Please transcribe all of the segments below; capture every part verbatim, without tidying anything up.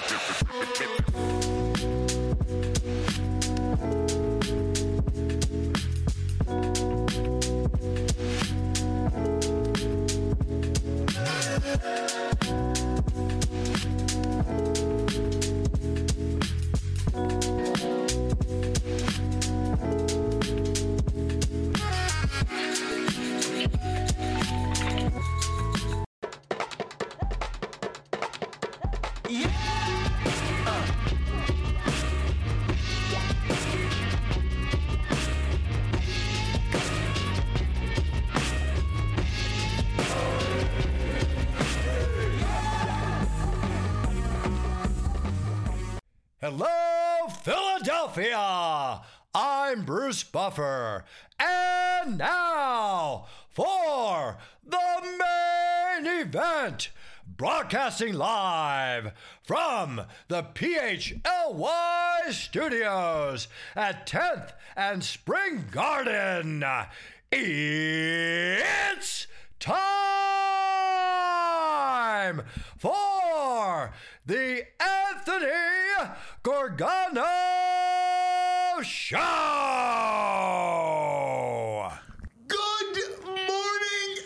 Hello, Philadelphia! I'm Bruce Buffer. And now for the main event, broadcasting live from the P H L Y studios at tenth and Spring Garden. It's time for the Anthony Gorgano Show! Good morning,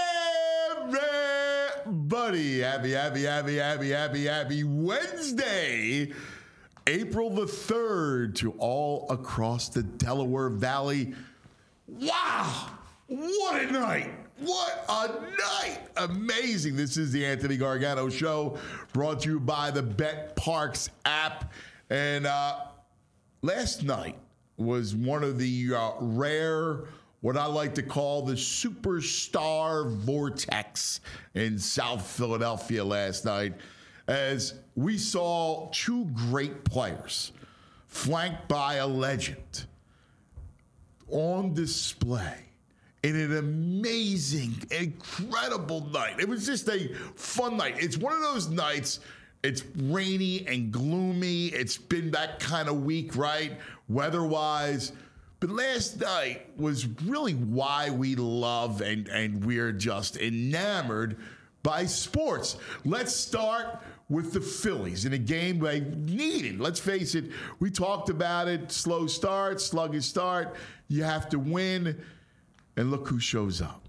everybody. Happy, happy, happy, happy, happy, happy Wednesday, April the third, to all across the Delaware Valley. Wow, what a night. What a night! Amazing. This is the Anthony Gargano Show, brought to you by the Bet Parks app. And uh, last night was one of the uh, rare, what I like to call the superstar vortex in South Philadelphia last night, as we saw two great players flanked by a legend on display in an amazing, incredible night. It was just a fun night. It's one of those nights, it's rainy and gloomy. It's been that kind of week, right? Weather-wise. But last night was really why we love and, and we're just enamored by sports. Let's start with the Phillies in a game they needed. Let's face it, we talked about it. Slow start, sluggish start. You have to win. And look who shows up.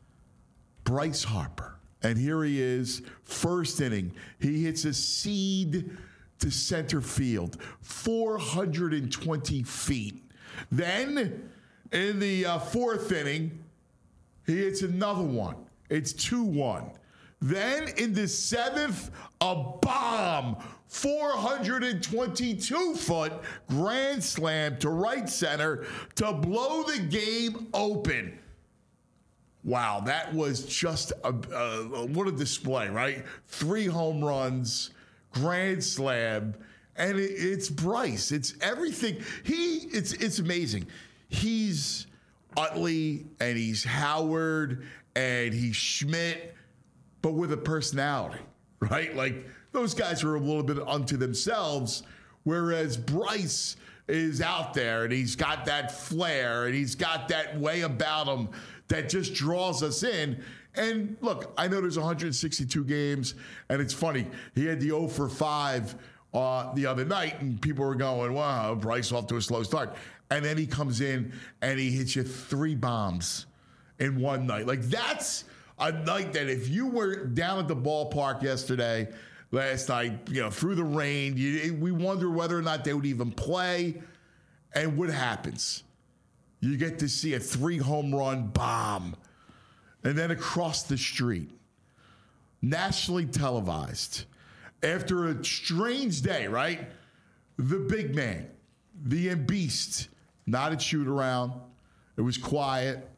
Bryce Harper. And here he is, first inning. He hits a seed to center field, four hundred twenty feet. Then, in the uh, fourth inning, he hits another one. It's two one. Then, in the seventh, a bomb. four hundred twenty-two foot grand slam to right center to blow the game open. Wow, that was just a, a what a display, right? Three home runs, grand slam, and it, it's Bryce. It's everything. He, it's it's amazing. He's Utley and he's Howard and he's Schmidt, but with a personality, right? Like, those guys are a little bit unto themselves, whereas Bryce is out there and he's got that flair and he's got that way about him that just draws us in. And look, I know there's one hundred sixty-two games, and it's funny. He had the oh for five uh, the other night, and people were going, wow, Bryce off to a slow start. And then he comes in and he hits you three bombs in one night. Like, that's a night that if you were down at the ballpark yesterday, last night, you know, through the rain, you, we wonder whether or not they would even play. And what happens? You get to see a three home run bomb. And then across the street, nationally televised, after a strange day, right? The big man, the beast, not a shoot around. It was quiet.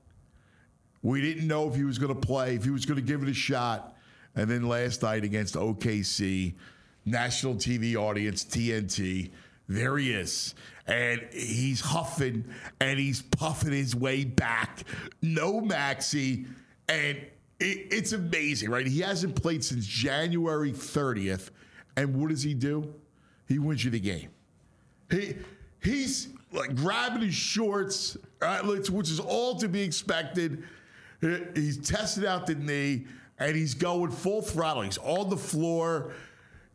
We didn't know if he was going to play, if he was going to give it a shot. And then last night against O K C, national T V audience, T N T, there he is. And he's huffing and he's puffing his way back. No Maxey. And it, it's amazing, right? He hasn't played since January thirtieth. And what does he do? He wins you the game. He He's like grabbing his shorts, right, which is all to be expected. He's tested out the knee. And he's going full throttle. He's on the floor.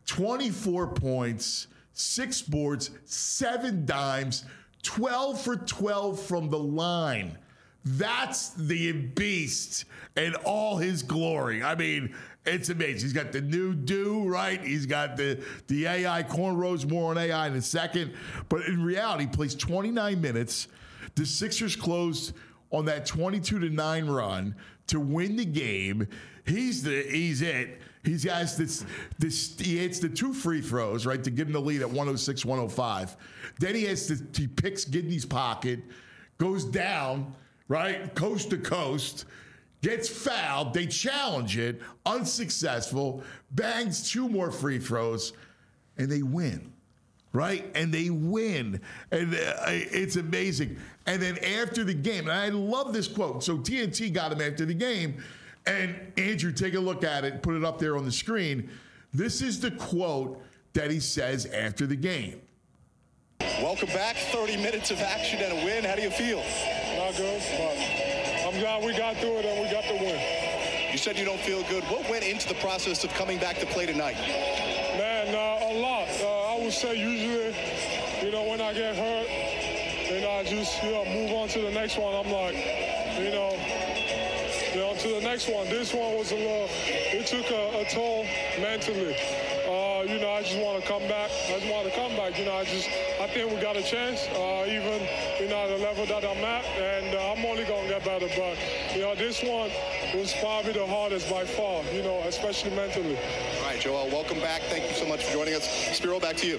twenty-four points, six boards, seven dimes, twelve for twelve from the line. That's the beast in all his glory. I mean, it's amazing. He's got the new do, right? He's got the, the A I cornrows, more on A I in a second. But in reality, he plays twenty-nine minutes. The Sixers closed on that twenty-two to nine run to win the game. He's the he's it. He has this this he hits the two free throws, right, to give him the lead at one oh six one oh five. Then he has to, he picks Gidney's pocket, goes down, right, coast to coast, gets fouled. They challenge it, unsuccessful, bangs two more free throws, and they win. Right? And they win. And uh, it's amazing. And then after the game, and I love this quote. So T N T got him after the game. And Andrew, take a look at it, put it up there on the screen. This is the quote that he says after the game. Welcome back. thirty minutes of action and a win. How do you feel? Not good, but I'm glad we got through it and we got the win. You said you don't feel good. What went into the process of coming back to play tonight? Man, uh, a lot. Uh, I would say usually, you know, when I get hurt, then I just, you know, move on to the next one. I'm like, you know, you know, to the next one. This one was a little, it took a, a toll mentally. Uh, you know, I just want to come back. I just want to come back. You know, I just, I think we got a chance, uh, even, you know, at the level that I'm at, and uh, I'm only going to get better. But, you know, this one was probably the hardest by far, you know, especially mentally. All right, Joel, welcome back. Thank you so much for joining us. Spiro, back to you.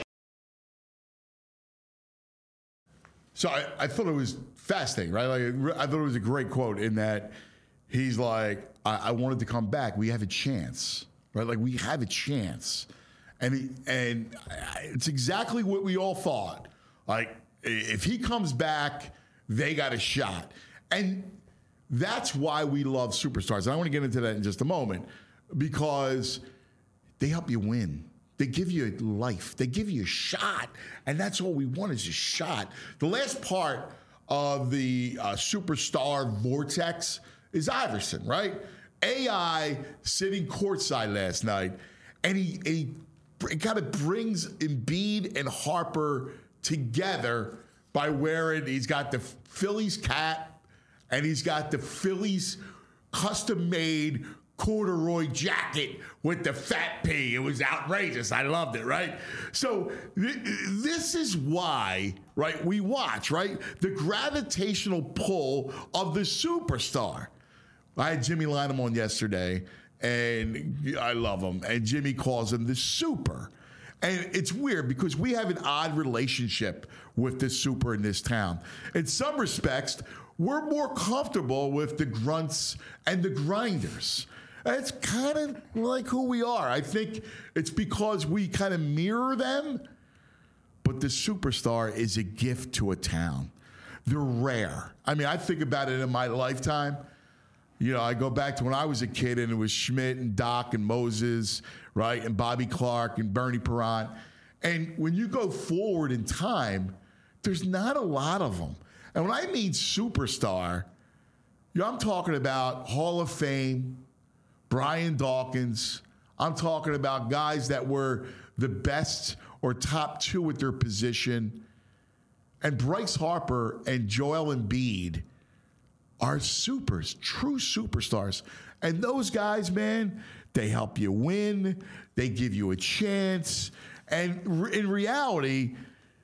So I, I thought it was fascinating, right? Like, I thought it was a great quote in that he's like, I, I wanted to come back. We have a chance, right? Like, we have a chance. And he, and it's exactly what we all thought. Like, if he comes back, they got a shot. And that's why we love superstars. And I want to get into that in just a moment, because they help you win. They give you life. They give you a shot. And that's all we want is a shot. The last part of the uh, superstar vortex is Iverson, right? A I sitting courtside last night, and he, he it kind of brings Embiid and Harper together by wearing, he's got the Phillies cap and he's got the Phillies custom-made corduroy jacket with the fat P. It was outrageous. I loved it, right? So th- this is why, right, we watch, right? The gravitational pull of the superstar. I had Jimmy Lynam on yesterday, and I love him. And Jimmy calls him the super. And it's weird because we have an odd relationship with the super in this town. In some respects, we're more comfortable with the grunts and the grinders. It's kind of like who we are. I think it's because we kind of mirror them. But the superstar is a gift to a town. They're rare. I mean, I think about it in my lifetime. You know, I go back to when I was a kid, and it was Schmidt and Doc and Moses, right, and Bobby Clark and Bernie Perrant. And when you go forward in time, there's not a lot of them. And when I mean superstar, you know, I'm talking about Hall of Fame, Brian Dawkins. I'm talking about guys that were the best or top two at their position. And Bryce Harper and Joel Embiid are supers, true superstars. And those guys, man, they help you win. They give you a chance. And in reality,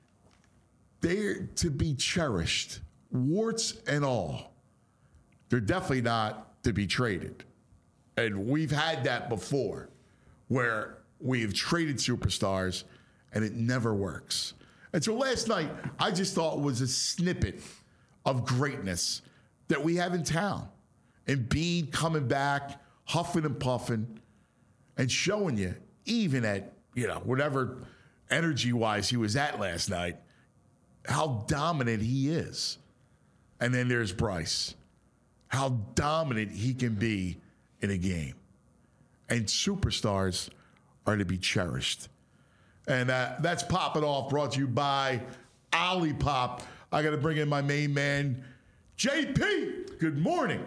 they're to be cherished, warts and all. They're definitely not to be traded. And we've had that before, where we've traded superstars and it never works. And so last night, I just thought was a snippet of greatness that we have in town. Embiid coming back, huffing and puffing, and showing you, even at, you know, whatever energy-wise he was at last night, how dominant he is. And then there's Bryce. How dominant he can be in a game. And superstars are to be cherished. And uh, that's Popping Off, brought to you by Olipop. I got to bring in my main man, J P. Good morning.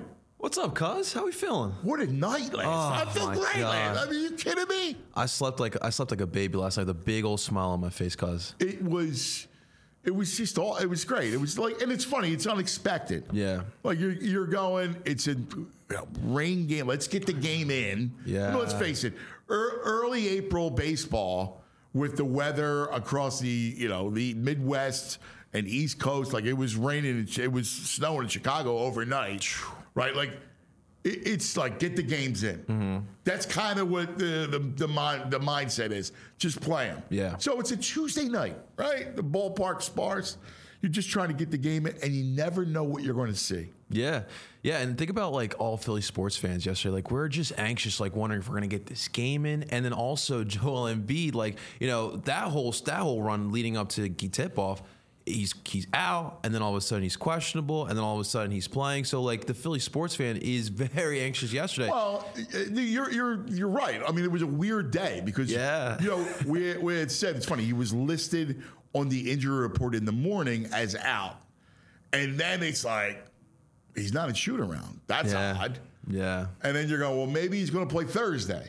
What's up, cuz? How we feeling? What a night last night. I feel my great, God. man. I mean, you kidding me? I slept like I slept like a baby last night with a big old smile on my face, cuz. It was, it was just all, it was great. It was like, and it's funny, it's unexpected. Yeah. Like you're, you're going, it's a you know, rain game. Let's get the game in. Yeah. I mean, let's face it, er, early April baseball with the weather across the, you know, the Midwest and East Coast, like it was raining, it was snowing in Chicago overnight, right? Like it, it's like get the games in. Mm-hmm. That's kind of what the the the, mind, the mindset is. Just play them. Yeah. So it's a Tuesday night, right? The ballpark sparse. You're just trying to get the game in, and you never know what you're going to see. Yeah. Yeah. And think about like all Philly sports fans yesterday. Like, we're just anxious, like wondering if we're going to get this game in. And then also Joel Embiid, like, you know, that whole, that whole run leading up to tip off, he's he's out, and then all of a sudden he's questionable, and then all of a sudden he's playing. So like the Philly sports fan is very anxious yesterday. Well, you're you're you're right. I mean, it was a weird day because Yeah. you know we we had said it's funny. He was listed on the injury report in the morning as out, and then it's like he's not in shoot around. That's Yeah. odd. Yeah. And then you're going, well, maybe he's going to play Thursday.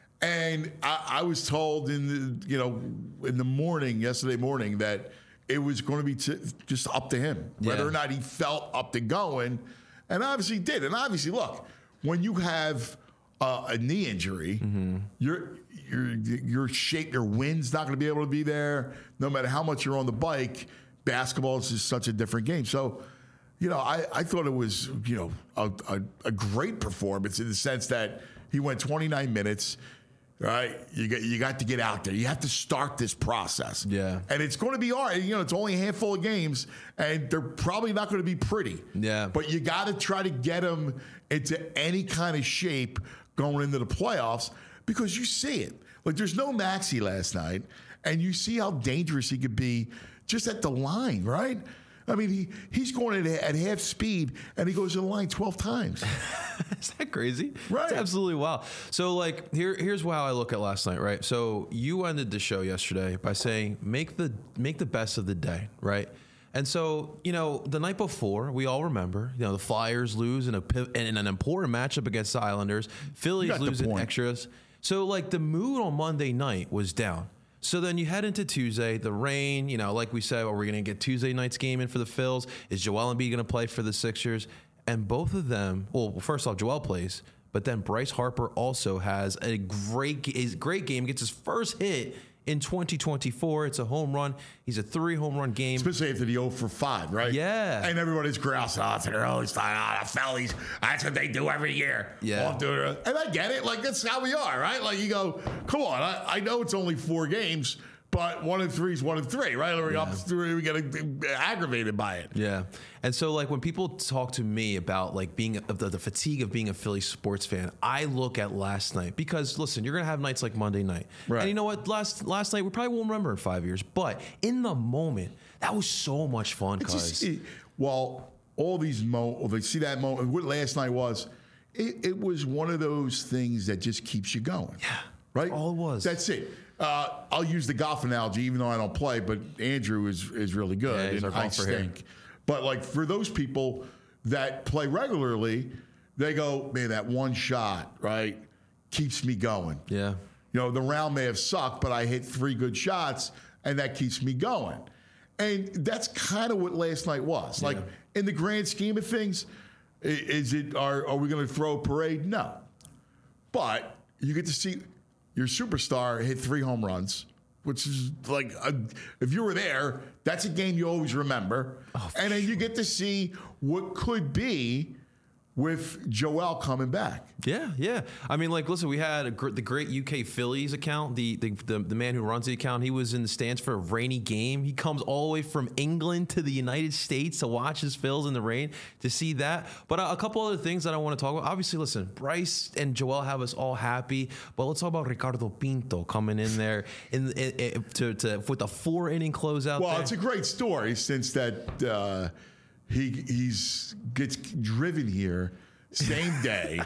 And I, I was told in the you know in the morning yesterday morning that it was going to be t- just up to him whether Yeah. or not he felt up to going, and obviously he did. And obviously, look, when you have uh, a knee injury, Mm-hmm. your your your shape, your wind's not going to be able to be there. No matter how much you're on the bike, basketball is just such a different game. So, you know, I, I thought it was you know a, a, a great performance in the sense that he went twenty-nine minutes. Right, you got you got to get out there. You have to start this process. Yeah. And it's going to be hard. You know, it's only a handful of games, and they're probably not going to be pretty. Yeah. But you got to try to get them into any kind of shape going into the playoffs because you see it. Like, there's no Maxey last night, and you see how dangerous he could be just at the line, right? I mean, he, he's going at, at half speed, and he goes to the line twelve times. Is that crazy? Right. It's absolutely wild. So, like, here, here's how I look at last night, right? So, you ended the show yesterday by saying, make the make the best of the day, right? And so, you know, the night before, we all remember, you know, the Flyers lose in a piv- in an important matchup against the Islanders. Phillies got the losing point. extras. So, like, the mood on Monday night was down. So then you head into Tuesday, the rain, you know, like we said, are we going to get Tuesday night's game in for the Phils? Is Joel Embiid going to play for the Sixers? And both of them, well, first off, Joel plays, but then Bryce Harper also has a great, a great game, gets his first hit in twenty twenty-four. It's a home run. He's a three home run game. Especially after the oh for five, right? Yeah. And everybody's grousing, oh, it's an early start. Oh, the Phillies, that's what they do every year. Yeah. Off to it. And I get it. Like, that's how we are, right? Like, you go, come on, I, I know it's only four games, but one and three is one and three, right? We're up to three, we get aggravated by it. Yeah. And so, like, when people talk to me about, like, being of the, the fatigue of being a Philly sports fan, I look at last night because, listen, you're going to have nights like Monday night. Right. And you know what? Last last night, we probably won't remember in five years. But in the moment, that was so much fun, It's guys. just, it, well, all these moments, they see that moment, what last night was, it, it was one of those things that just keeps you going. Yeah. Right? All it was. That's it. Uh, I'll use the golf analogy, even though I don't play, but Andrew is is really good. Yeah, he's and our I golfer here. stink. But like for those people that play regularly, they go, man, that one shot, right, keeps me going. Yeah. You know, the round may have sucked, but I hit three good shots, and that keeps me going. And that's kind of what last night was. Like, in the grand scheme of things, i- is it are, are we going to throw a parade? No. But you get to see your superstar hit three home runs, which is like, a, if you were there, that's a game you always remember. Oh, and then you get to see what could be with Joel coming back. Yeah, yeah. I mean, like, listen, we had a gr- the great U K Phillies account. The, the the the man who runs the account, he was in the stands for a rainy game. He comes all the way from England to the United States to watch his Phils in the rain to see that. But a, a couple other things that I want to talk about. Obviously, listen, Bryce and Joel have us all happy. But let's talk about Ricardo Pinto coming in there in, in, in to, to with a four inning closeout. Well, there. it's a great story since that uh, he he's gets driven here same day.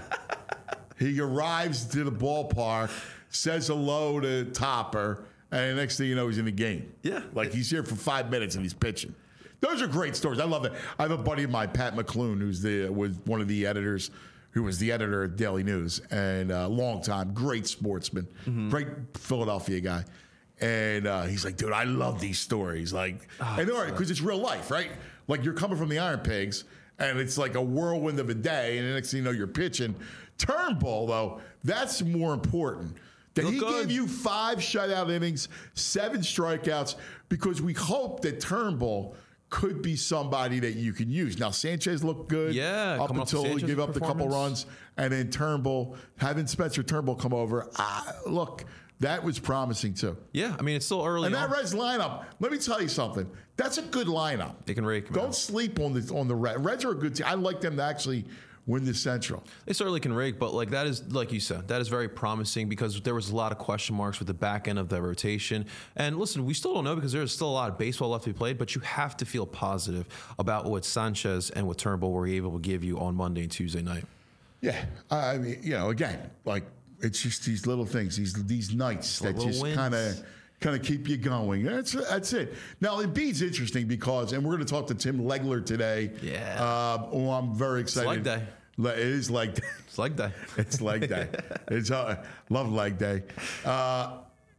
He arrives to the ballpark, says hello to Topper, and the next thing you know, he's in the game. Yeah. Like he's here for five minutes and he's pitching. Those are great stories. I love that. I have a buddy of mine, Pat McClune, who's the was one of the editors who was the editor at Daily News and a uh, long time, great sportsman, mm-hmm. great Philadelphia guy. And uh, he's like, dude, I love these stories. Like, oh, and all right, because it's real life, right? Like you're coming from the Iron Pigs, and it's like a whirlwind of a day, and the next thing you know, you're pitching. Turnbull, though, that's more important. That he good. gave you five shutout innings, seven strikeouts, because we hope that Turnbull could be somebody that you can use. Now, Sanchez looked good yeah, up until he gave up the couple runs, and then Turnbull, having Spencer Turnbull come over, ah, look, that was promising too. Yeah, I mean, it's still early. And on. that Reds lineup, let me tell you something. That's a good lineup. They can rake. Don't man. sleep on the on the Reds. Reds are a good team. I like them to actually win the Central. They certainly can rake, but like that is, like you said, that is very promising because there was a lot of question marks with the back end of the rotation. And listen, we still don't know because there's still a lot of baseball left to be played, but you have to feel positive about what Sanchez and what Turnbull were able to give you on Monday and Tuesday night. Yeah, I mean, you know, again, like it's just these little things, these these nights that just kind of kind of keep you going. That's that's it. Now, Embiid's interesting because, and we're going to talk to Tim Legler today. Yeah. Uh, oh, I'm very excited. It's leg day. It is leg day. It's leg day. It's leg day. It's uh, love leg day. Uh,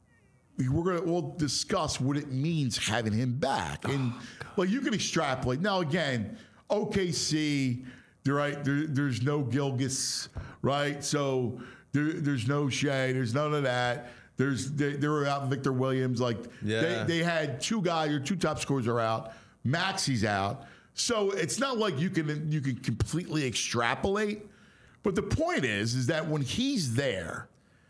we're going to we'll discuss what it means having him back, and oh, well, you can extrapolate. Now, again, O K C, right? There, there's no Gilgeous, right? So there, there's no Shea. There's none of that. There's they, they were out Victor Williams. Like yeah. they, they had two guys, or two top scorers are out. Maxi's out. So it's not like you can you can completely extrapolate. But the point is, is that when he's there,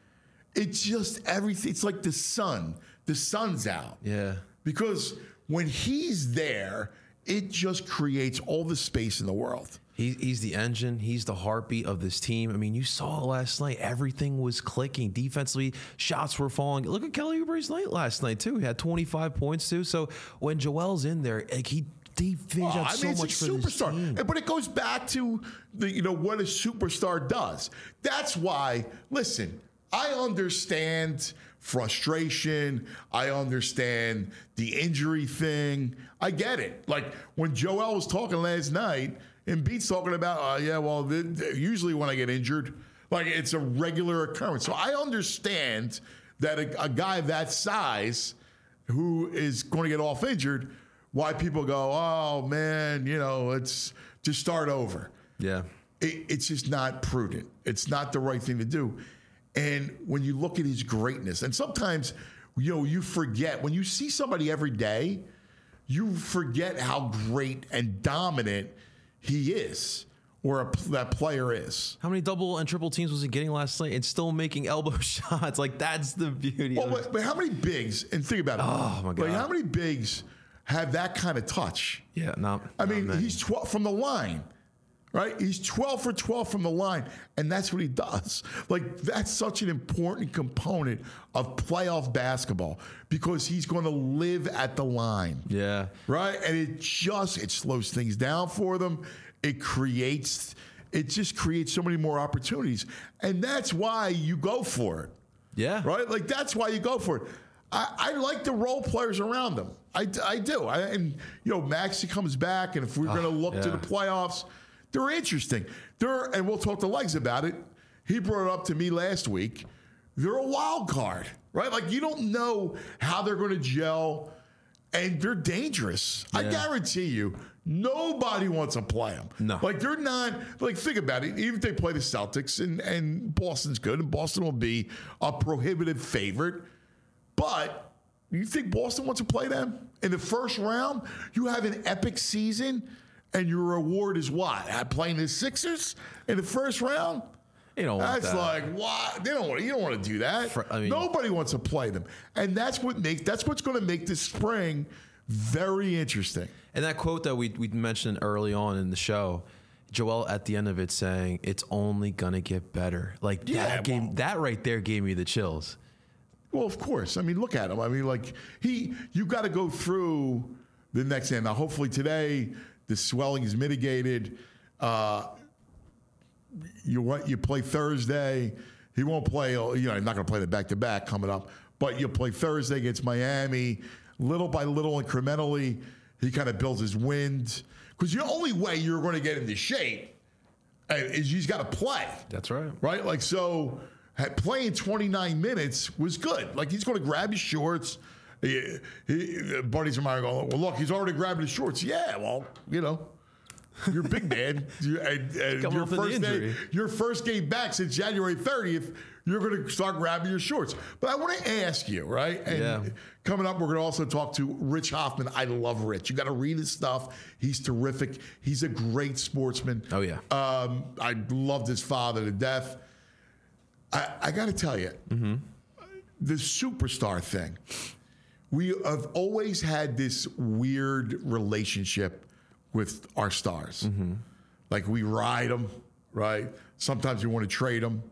it's just everything. It's like the sun. The sun's out. Yeah. Because when he's there, it just creates all the space in the world. He, he's the engine. He's the heartbeat of this team. I mean, you saw last night. Everything was clicking. Defensively, shots were falling. Look at Kelly Oubre's night last night, too. He had twenty-five points, too. So when Joel's in there, like he He figured oh, out I so mean, it's much a for superstar. this team. But it goes back to the, you know, what a superstar does. That's why, listen, I understand frustration. I understand the injury thing. I get it. Like when Joel was talking last night, and Embiid's talking about, uh, yeah, well, th- th- usually when I get injured, like it's a regular occurrence. So I understand that a, a guy that size who is going to get off injured, why people go, oh, man, you know, let's just start over. Yeah. It, it's just not prudent. It's not the right thing to do. And when you look at his greatness, and sometimes, you know, you forget, when you see somebody every day, you forget how great and dominant he is, or a, that player is. How many double and triple teams was he getting last night and still making elbow shots? Like, that's the beauty well, of it. But, but how many bigs, and think about it. Oh, my God. Like, how many bigs have that kind of touch? Yeah, no. I mean, many. He's twelve from the line, right? He's twelve for twelve from the line, and that's what he does. Like, that's such an important component of playoff basketball because he's going to live at the line. Yeah. Right? And it just, it slows things down for them. It creates, it just creates so many more opportunities. And that's why you go for it. Yeah. Right? Like, that's why you go for it. I, I like the role players around them. I, I do. I, and, you know, Maxey comes back, and if we're oh, going to look yeah. to the playoffs, they're interesting. They're, and we'll talk to Legs about it. He brought it up to me last week. They're a wild card, right? Like, you don't know how they're going to gel, and they're dangerous. Yeah. I guarantee you, nobody wants to play them. No. Like, they're not, like, think about it. Even if they play the Celtics, and, and Boston's good, and Boston will be a prohibitive favorite, but you think Boston wants to play them? In the first round, you have an epic season, and your reward is what? Playing the Sixers in the first round? You don't want that's that. like what? They don't want. You don't want to do that. For, I mean, Nobody wants to play them, and that's what makes. That's what's going to make this spring very interesting. And that quote that we we mentioned early on in the show, Joel at the end of it saying, "It's only gonna get better." Like yeah, that game, well, that right there gave me the chills. Well, of course. I mean, look at him. I mean, like he, you got to go through the next end. Now, hopefully today the swelling is mitigated. Uh, you what? You play Thursday. He won't play. You know, he's not going to play the back to back coming up. But you'll play Thursday against Miami. Little by little, incrementally, he kind of builds his wind. Because the only way you're going to get into shape and he's got to play. That's right. Right? Like, so playing twenty-nine minutes was good. Like, he's going to grab his shorts. He, he, buddies of mine go, well, look, he's already grabbing his shorts. Yeah, well, you know. You're big man. You, and, and your, first day, your first game back since January thirtieth, you're going to start grabbing your shorts. But I want to ask you, right? And yeah. coming up, we're going to also talk to Rich Hoffman. I love Rich. You got to read his stuff. He's terrific. He's a great sportsman. Oh, yeah. Um, I loved his father to death. I, I got to tell you, mm-hmm. the superstar thing, we have always had this weird relationship with our stars. Mm-hmm. Like, we ride them, right? Sometimes we want to trade them.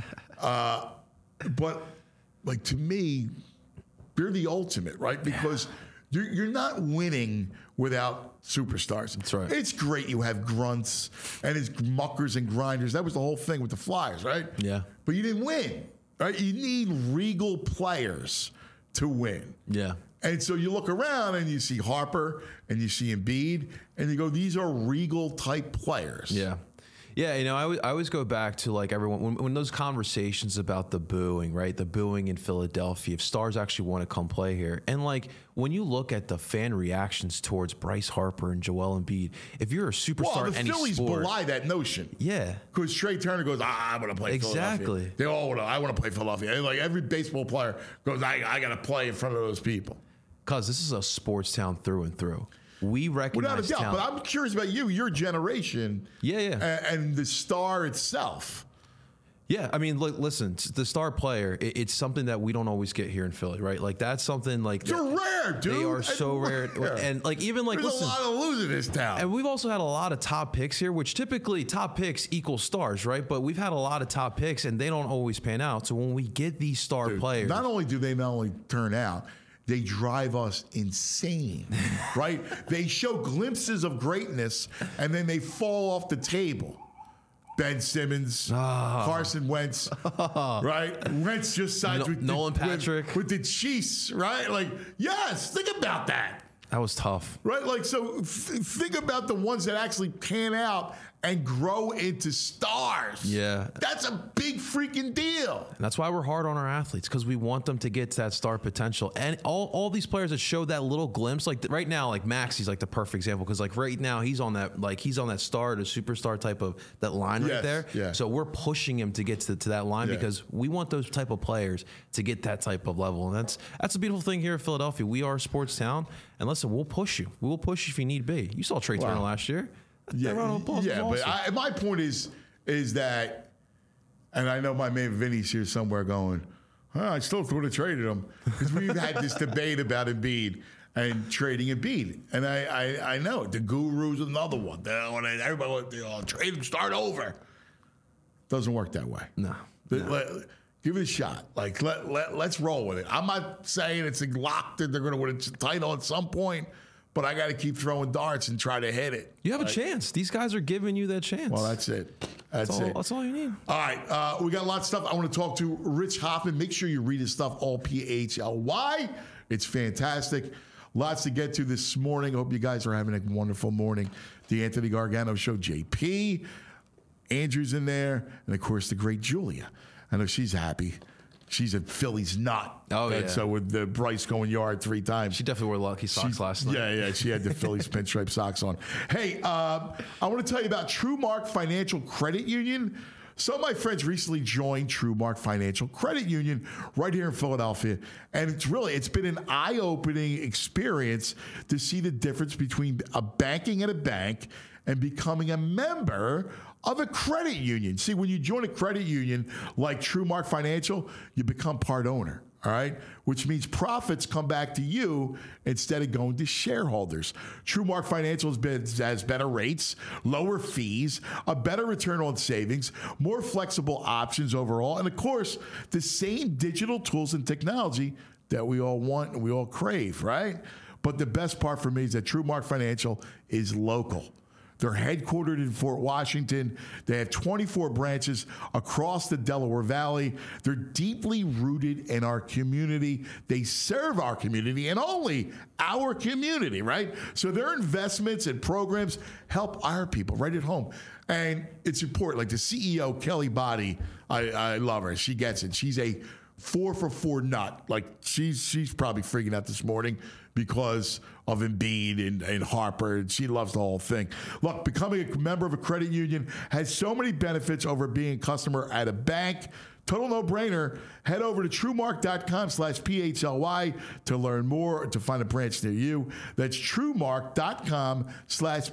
uh, but, like, to me, you're the ultimate, right? Because you're, you're not winning without superstars. That's right. It's great you have grunts and it's muckers and grinders. That was the whole thing with the Flyers, right? Yeah. But you didn't win, right? You need regal players to win. Yeah. And so you look around and you see Harper and you see Embiid and you go, these are regal type players. Yeah. Yeah, you know, I, w- I always go back to like everyone, when, when those conversations about the booing, right? The booing in Philadelphia, if stars actually want to come play here. And like when you look at the fan reactions towards Bryce Harper and Joel Embiid, if you're a superstar well, in the any Phillies sport, belie that notion. Yeah. Because Trey Turner goes, ah, I'm going to play exactly. Philadelphia. They all want to, I want to play Philadelphia. And like every baseball player goes, I, I got to play in front of those people. Because this is a sports town through and through. We recognize Without a doubt, talent. but I'm curious about you, your generation. Yeah, yeah. And, and the star itself. Yeah, I mean, look, listen, the star player, it, it's something that we don't always get here in Philly, right? Like, that's something like... They're rare, dude. They are so rare. rare. And, like, even, like, There's listen... a lot of losing this town. And we've also had a lot of top picks here, which typically top picks equal stars, right? But we've had a lot of top picks, and they don't always pan out. So when we get these star dude, players... Not only do they not only turn out... They drive us insane, right? They show glimpses of greatness, and then they fall off the table. Ben Simmons, oh. Carson Wentz, right? Wentz just signed no, with Nolan the, Patrick with, with the Chiefs, right? Like, yes, think about that. That was tough, right? Like, so th- think about the ones that actually pan out and grow into stars. Yeah. That's a big freaking deal. And that's why we're hard on our athletes, because we want them to get to that star potential. And all, all these players that show that little glimpse, like right now, like Maxi's like the perfect example, because like right now he's on that, like he's on that star to superstar type of that line yes, right there. Yeah. So we're pushing him to get to, to that line yeah. because we want those type of players to get that type of level. And that's that's a beautiful thing here in Philadelphia. We are a sports town. And listen, we'll push you. We will push you if you need be. You saw Trey wow. Turner last year. Yeah, yeah, but I, my point is, is that, and I know my man Vinny's here somewhere going, oh, I still would have traded him, because we've had this debate about Embiid and trading Embiid, and I, I, I know the Guru's another one. Everybody, you know, trade him, start over. Doesn't work that way. No. The, no. Let, give it a shot. Like let, let let's roll with it. I'm not saying it's locked that they're going to win a title at some point. But I got to keep throwing darts and try to hit it. You have right? a chance. These guys are giving you that chance. Well, that's it. That's, that's all, it. That's all you need. All right. Uh, we got a lot of stuff. I want to talk to Rich Hoffman. Make sure you read his stuff, all P H L Y. It's fantastic. Lots to get to this morning. I hope you guys are having a wonderful morning. The Anthony Gargano Show, J P. Andrew's in there. And, of course, the great Julia. I know she's happy. She's a Phillies nut. Oh, and yeah. So with the Bryce going yard three times. She definitely wore lucky socks she, last night. Yeah, yeah. She had the Phillies pinstripe socks on. Hey, uh, I want to tell you about TrueMark Financial Credit Union. Some of my friends recently joined TrueMark Financial Credit Union right here in Philadelphia. And it's really, it's been an eye-opening experience to see the difference between a banking at a bank and becoming a member of a credit union. See, when you join a credit union like TrueMark Financial, you become part owner, all right? Which means profits come back to you instead of going to shareholders. TrueMark Financial has, been, has better rates, lower fees, a better return on savings, more flexible options overall, and of course, the same digital tools and technology that we all want and we all crave, right? But the best part for me is that TrueMark Financial is local. They're headquartered in Fort Washington. They have twenty-four branches across the Delaware Valley. They're deeply rooted in our community. They serve our community and only our community, right? So their investments and programs help our people right at home. And it's important. Like the C E O, Kelly Body, I, I love her. She gets it. She's a four for four nut. Like she's she's probably freaking out this morning because of Embiid and, and Harper, and she loves the whole thing. Look, becoming a member of a credit union has so many benefits over being a customer at a bank. Total no-brainer. Head over to truemark.com slash PHLY to learn more, to find a branch near you. That's truemark.com slash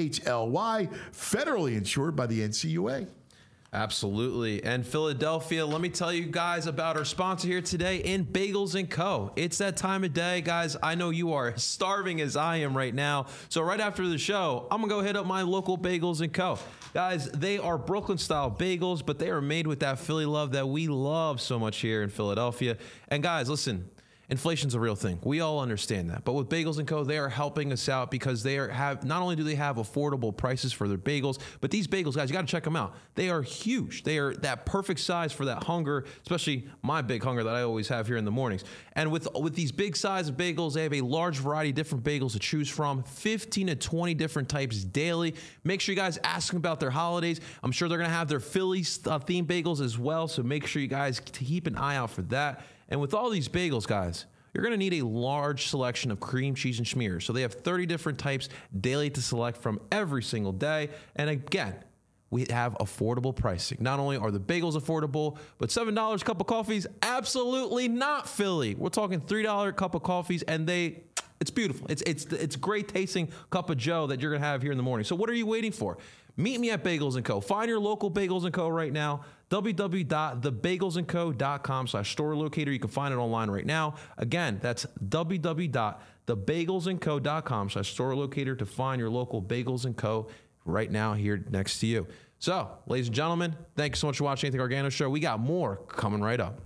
PHLY, federally insured by the N C U A. Absolutely. And Philadelphia, let me tell you guys about our sponsor here today in Bagels and Co. It's that time of day, guys. I know you are starving as I am right now. So right after the show, I'm going to go hit up my local Bagels and Co. Guys, they are Brooklyn-style bagels, but they are made with that Philly love that we love so much here in Philadelphia. And guys, listen, inflation's a real thing. We all understand that. But with Bagels and Co., they are helping us out because they are have not only do they have affordable prices for their bagels, but these bagels, guys, you got to check them out. They are huge. They are that perfect size for that hunger, especially my big hunger that I always have here in the mornings. And with with these big size of bagels, they have a large variety of different bagels to choose from, fifteen to twenty different types daily. Make sure you guys ask them about their holidays. I'm sure they're going to have their Philly uh, themed bagels as well, so make sure you guys keep an eye out for that. And with all these bagels, guys, you're going to need a large selection of cream cheese and schmears. So they have thirty different types daily to select from every single day. And again, we have affordable pricing. Not only are the bagels affordable, but seven dollars a cup of coffees, absolutely not Philly. We're talking three dollars a cup of coffees, and they... It's beautiful. It's it's it's great tasting cup of joe that you're going to have here in the morning. So what are you waiting for? Meet me at Bagels and Co. Find your local Bagels and Co. right now. w w w dot the bagels and co dot com slash store locator. You can find it online right now. Again, that's w w w dot the bagels and co dot com slash store locator to find your local Bagels and Co. right now here next to you. So, ladies and gentlemen, thank you so much for watching Anthony Gargano Show. We got more coming right up.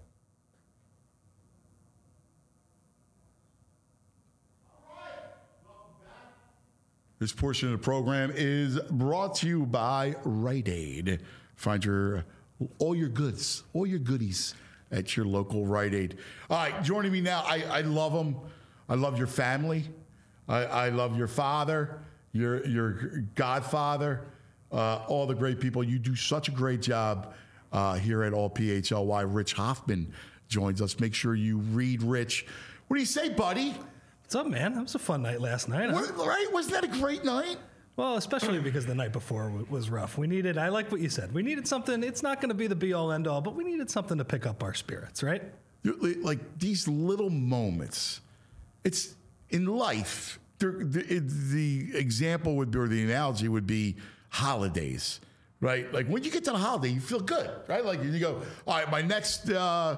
This portion of the program is brought to you by Rite Aid. Find your all your goods, all your goodies at your local Rite Aid. All right, joining me now, I, I love them. I love your family. I, I love your father, your your godfather, uh, all the great people. You do such a great job uh, here at All P H L Y. Rich Hoffman joins us. Make sure you read Rich. What do you say, buddy? What's up, man? That was a fun night last night. What, right? Wasn't that a great night? Well, especially because the night before w- was rough. We needed, I like what you said. We needed something. It's not going to be the be-all, end-all, but we needed something to pick up our spirits, right? Like these little moments. It's in life. The, the example would be, or the analogy would be holidays, right? Like when you get to the holiday, you feel good, right? Like you go, all right, my next... Uh,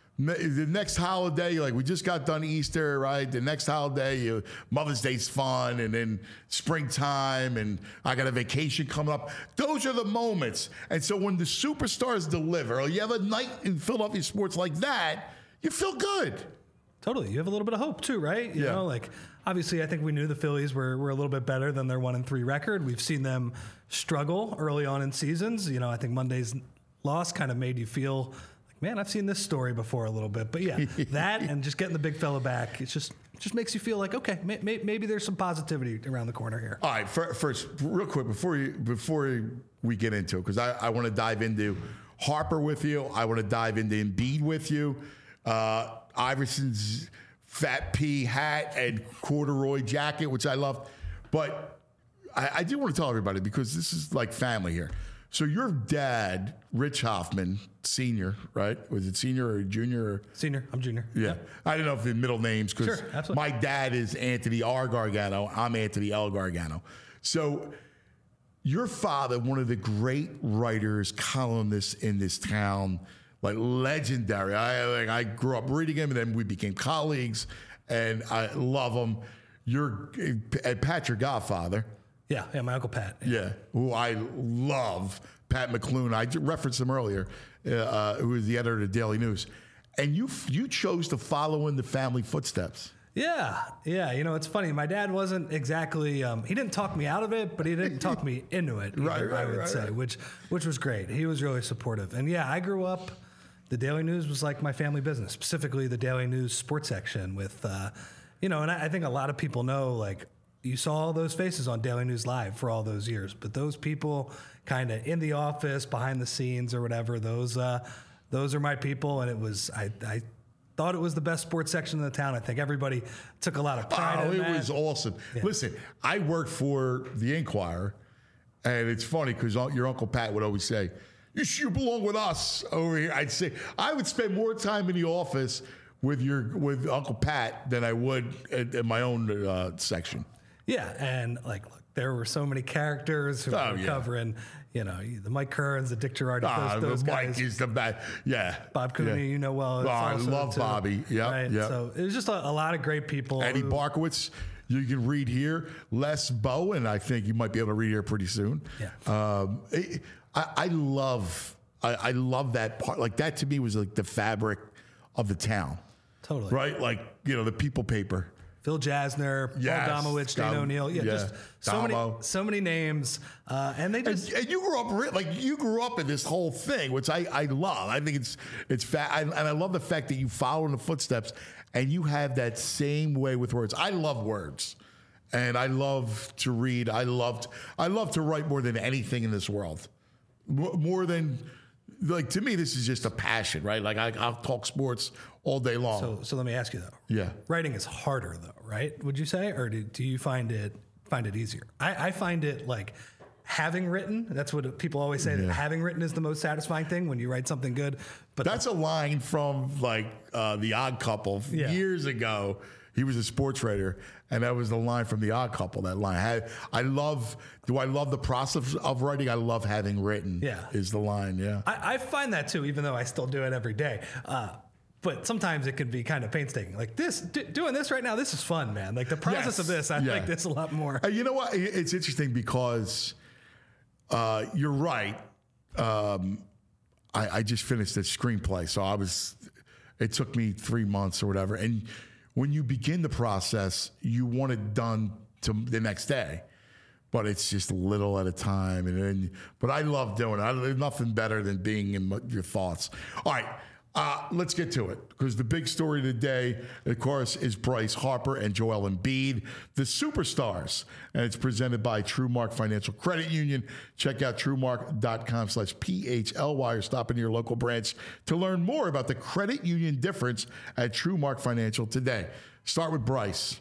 The next holiday, like we just got done Easter, right? The next holiday, you, Mother's Day's fun, and then springtime, and I got a vacation coming up. Those are the moments. And so when the superstars deliver, or you have a night in Philadelphia sports like that, you feel good. Totally. You have a little bit of hope too, right? You yeah. know, like obviously I think we knew the Phillies were, were a little bit better than their one and three record. We've seen them struggle early on in seasons. You know, I think Monday's loss kind of made you feel... Man, I've seen this story before a little bit, but yeah, that and just getting the big fella back, it just it just makes you feel like okay, may, may, maybe there's some positivity around the corner here. All right, first, real quick before you before we get into it, because I, I want to dive into Harper with you, I want to dive into Embiid with you, uh, Iverson's fat pea hat and corduroy jacket, which I love, but I, I do want to tell everybody because this is like family here. So your dad, Rich Hoffman, senior, right? Was it senior or junior? Or? Senior. I'm junior. Yeah. Yep. I don't know if the middle names, because sure, absolutely. My dad is Anthony R. Gargano. I'm Anthony L. Gargano. So your father, one of the great writers, columnists in this town, like legendary. I like I grew up reading him, and then we became colleagues, and I love him. You're and Pat, your godfather. Yeah, yeah, my Uncle Pat. Yeah, yeah who I love, Pat McClune. I referenced him earlier, uh, who was the editor of the Daily News. And you you chose to follow in the family footsteps. Yeah, yeah. You know, it's funny. My dad wasn't exactly. Um, he didn't talk me out of it, but he didn't talk me into it. Either, Right, right, I would right, say, right. which which was great. He was really supportive. And yeah, I grew up. The Daily News was like my family business, specifically the Daily News sports section. With, uh, you know, and I, I think a lot of people know, like, you saw all those faces on Daily News Live for all those years, but those people, kind of in the office, behind the scenes, or whatever, those uh, those are my people. And it was I. I thought it was the best sports section in the town. I think everybody took a lot of pride Oh, in it that. was awesome. Listen, I worked for the Inquirer, and it's funny because your Uncle Pat would always say, you should belong with us over here. I'd say, I would spend more time in the office with your with Uncle Pat than I would in, in my own uh, section. Yeah, and like, look, there were so many characters who Oh, were yeah. covering, you know, the Mike Kerns, the Dick Girardi, Ah, those, those Mike guys. is the best. Yeah. Bob Cooney, Yeah. you know well. Oh, I also love too, Bobby. Yep, right? yep. So it was just a, a lot of great people. Eddie who- Barkowitz, you can read here. Les Bowen, I think you might be able to read here pretty soon. Yeah. Um, it- I, I love, I, I love that part. Like that to me was like the fabric of the town, Totally. right? Like you know the People paper. Phil Jasner, Yes, Paul Domowitch, Dane Dom- O'Neill. Yeah, yeah, just so many, Damo. so many names. Uh, and they And, just, and you grew up re- like you grew up in this whole thing, which I, I love. I think it's it's fat, I, and I love the fact that you follow in the footsteps, and you have that same way with words. I love words, and I love to read. I loved I love to write more than anything in this world, Mo- more than like to me. This is just a passion, right? Like I, I'll talk sports all day long. so, so let me ask you though. Yeah. Writing is harder though, right? Would you say, or do, do you find it find it easier? I, I find it like having written. That's what people always say. That having written is the most satisfying thing when you write something good. But That's a line from like uh, The Odd Couple Yeah. years ago. He was a sports writer, and that was the line from The Odd Couple. That line. I, I love. Do I love the process of writing? I love having written. Yeah. is the line. Yeah. I, I find that too, even though I still do it every day. Uh, but sometimes it can be kind of painstaking. Like this, d- doing this right now, this is fun, man. Like the process Yes. of this, I Yeah. like this a lot more. Uh, you know what? It- It's interesting because uh, you're right. Um, I, I just finished a screenplay, so I was. It took me three months or whatever, and when you begin the process, you want it done to the next day, but it's just a little at a time. And then, but I love doing it. I, there's nothing better than being in my- your thoughts. All right. Uh, let's get to it because the big story today, of course, is Bryce Harper and Joel Embiid, the superstars, and it's presented by TrueMark Financial Credit Union. Check out TrueMark.com slash P H L Y or stop in your local branch to learn more about the credit union difference at TrueMark Financial today. Start with Bryce.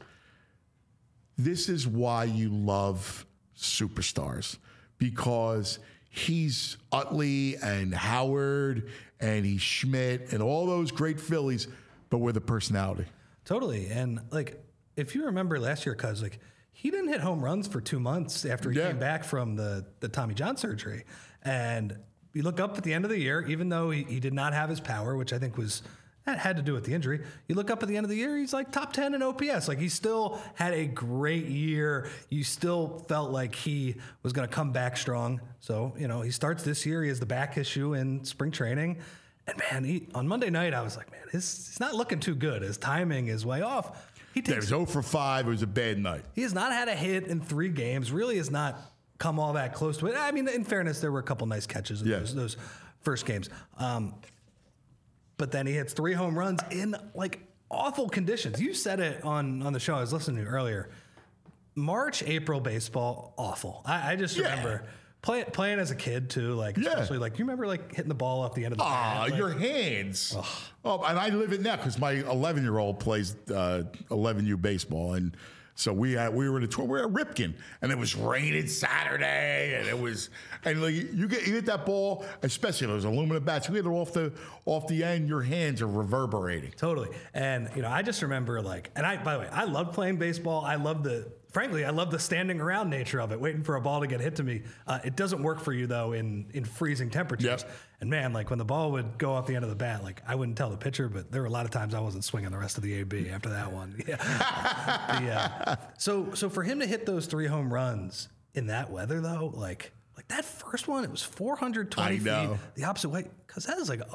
This is why you love superstars, because he's Utley and Howard and he's Schmidt and all those great Phillies, but with a personality. Totally. And like, if you remember last year, cuz like he didn't hit home runs for two months after he Yeah. came back from the, the Tommy John surgery. And you look up at the end of the year, even though he, he did not have his power, which I think was, that had to do with the injury. You look up at the end of the year, he's like top ten in O P S. Like he still had a great year. You still felt like he was going to come back strong. So, you know, he starts this year. He has the back issue in spring training. And man, he, on Monday night, I was like, man, his, he's not looking too good. His timing is way off. He Yeah, it takes was zero for five. It was a bad night. he has not had a hit in three games. Really has not come all that close to it. I mean, in fairness, there were a couple nice catches in Yeah. those, those first games. Um, but then he hits three home runs in like awful conditions. You said it on, on the show I was listening to earlier. March, April baseball, awful. I, I just Yeah. remember play, playing as a kid too. Like, Yeah. especially like, you remember like hitting the ball off the end of the Ah, bat? Like, your hands. Oh, and I live it now because my eleven-year-old plays uh, eleven U baseball, and so we had, we were in a tour. We were at Ripken, and it was raining Saturday, and it was and like you get you hit that ball, especially those aluminum bats. You hit it off the off the end, your hands are reverberating. Totally. And, you know, I just remember like, and I, by the way, I love playing baseball. I love the, frankly, I love the standing around nature of it, waiting for a ball to get hit to me. Uh, it doesn't work for you though in, in freezing temperatures. Yep. And man, like when the ball would go off the end of the bat, like I wouldn't tell the pitcher, but there were a lot of times I wasn't swinging the rest of the A B after that one. Yeah. the, uh, so, so for him to hit those three home runs in that weather though, like, like that first one, it was four hundred twenty I know. feet the opposite way. Cause that is like a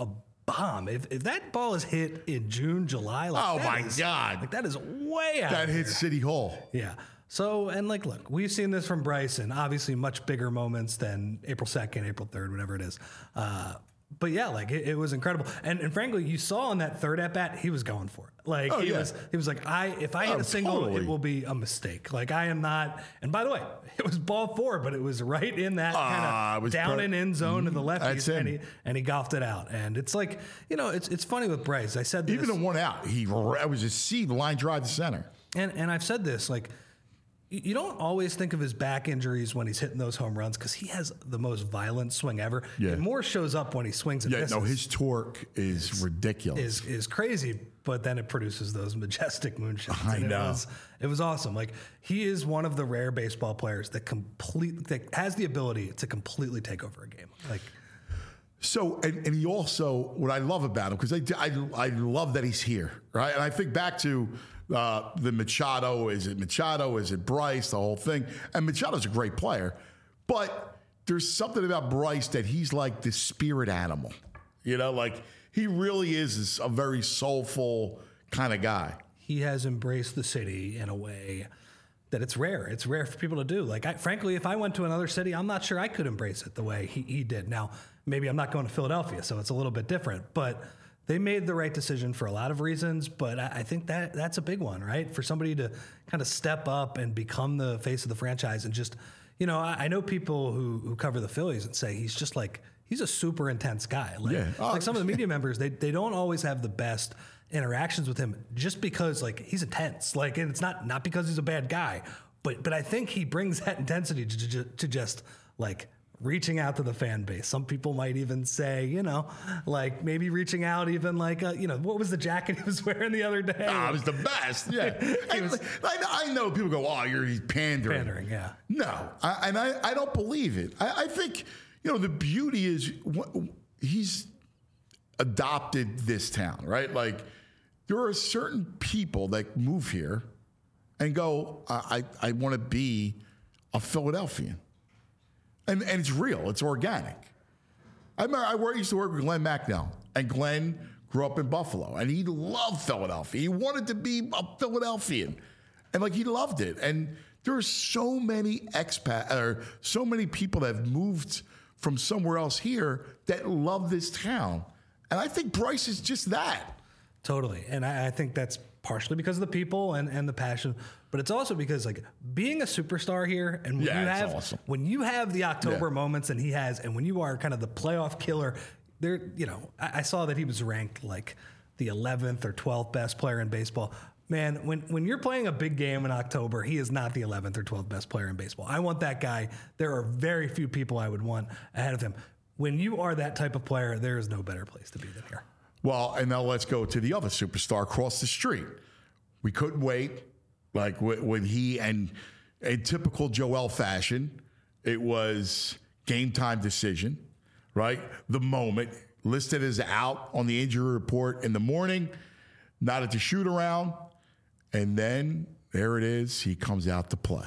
bomb. If, if that ball is hit in June, July, like Oh, that my is- God. like that is way out. That there. hits City Hall. Yeah. So, and like, look, we've seen this from Bryson, obviously much bigger moments than April second, April third, whatever it is. Uh, but yeah, like it, it was incredible. And, and frankly, you saw on that third at bat, he was going for it. Like Oh, he yeah. was, he was like, I, if I hit Oh, a single, totally. it will be a mistake. Like I am not, and by the way, it was ball four, but it was right in that Ah, it kind was of down per- and in zone to the That's lefties, him. and he, and he golfed it out. And it's like, you know, it's, it's funny with Bryce. I said this. Even the one out, he it was a seed line drive to center. And and I've said this, like, you you don't always think of his back injuries when he's hitting those home runs because he has the most violent swing ever. Yeah. It more shows up when he swings and Yeah, misses. no, his torque is ridiculous. is is crazy, but then it produces those majestic moonshots. I and it know. was it was awesome. Like he is one of the rare baseball players that complete that has the ability to completely take over a game. Like So, and, and he also, what I love about him, because I, I, I love that he's here, right? And I think back to uh, the Machado, is it Machado, is it Bryce, the whole thing. And Machado's a great player, but there's something about Bryce that he's like the spirit animal. You know, like he really is a very soulful kind of guy. he has embraced the city in a way that it's rare. It's rare for people to do. Like, I, frankly, if I went to another city, I'm not sure I could embrace it the way he, he did. Now, maybe I'm not going to Philadelphia, so it's a little bit different. But they made the right decision for a lot of reasons. But I, I think that that's a big one, right? For somebody to kind of step up and become the face of the franchise and just, you know, I, I know people who, who cover the Phillies and say he's just like, he's a super intense guy. Like, Yeah. Oh, like some of the media members, they, they don't always have the best interactions with him just because like he's intense. Like, and it's not not because he's a bad guy, but but I think he brings that intensity to, to, to just like reaching out to the fan base. Some people might even say, you know, like maybe reaching out even like, uh, you know, what was the jacket he was wearing the other day? Ah, it was the best. Yeah. And was- I, I know people go, oh, you're pandering. Pandering, yeah. No, I, and I, I don't believe it. I, I think, you know, the beauty is wh- he's adopted this town, right? Like, there are certain people that move here and go, I, I, I want to be a Philadelphian. And, and it's real. It's organic. I remember I worked, used to work with Glenn Macnell, and Glenn grew up in Buffalo, and he loved Philadelphia. He wanted to be a Philadelphian, and like he loved it. And there are so many expat, or so many people that have moved from somewhere else here that love this town. And I think Bryce is just that. Totally. And I, I think that's partially because of the people and, and the passion, but it's also because like being a superstar here and when Yeah, you it's have awesome. when you have the October Yeah. moments and he has, and when you are kind of the playoff killer, there, you know, I, I saw that he was ranked like the eleventh or twelfth best player in baseball. Man, when, when you're playing a big game in October, he is not the eleventh or twelfth best player in baseball. I want that guy. There are very few people I would want ahead of him. When you are that type of player, there is no better place to be than here. Well, and now let's go to the other superstar across the street. We couldn't wait. Like wh- when he, and in typical Joel fashion, it was game time decision, right? The moment, listed as out on the injury report in the morning, not at the shoot around. And then there it is. He comes out to play.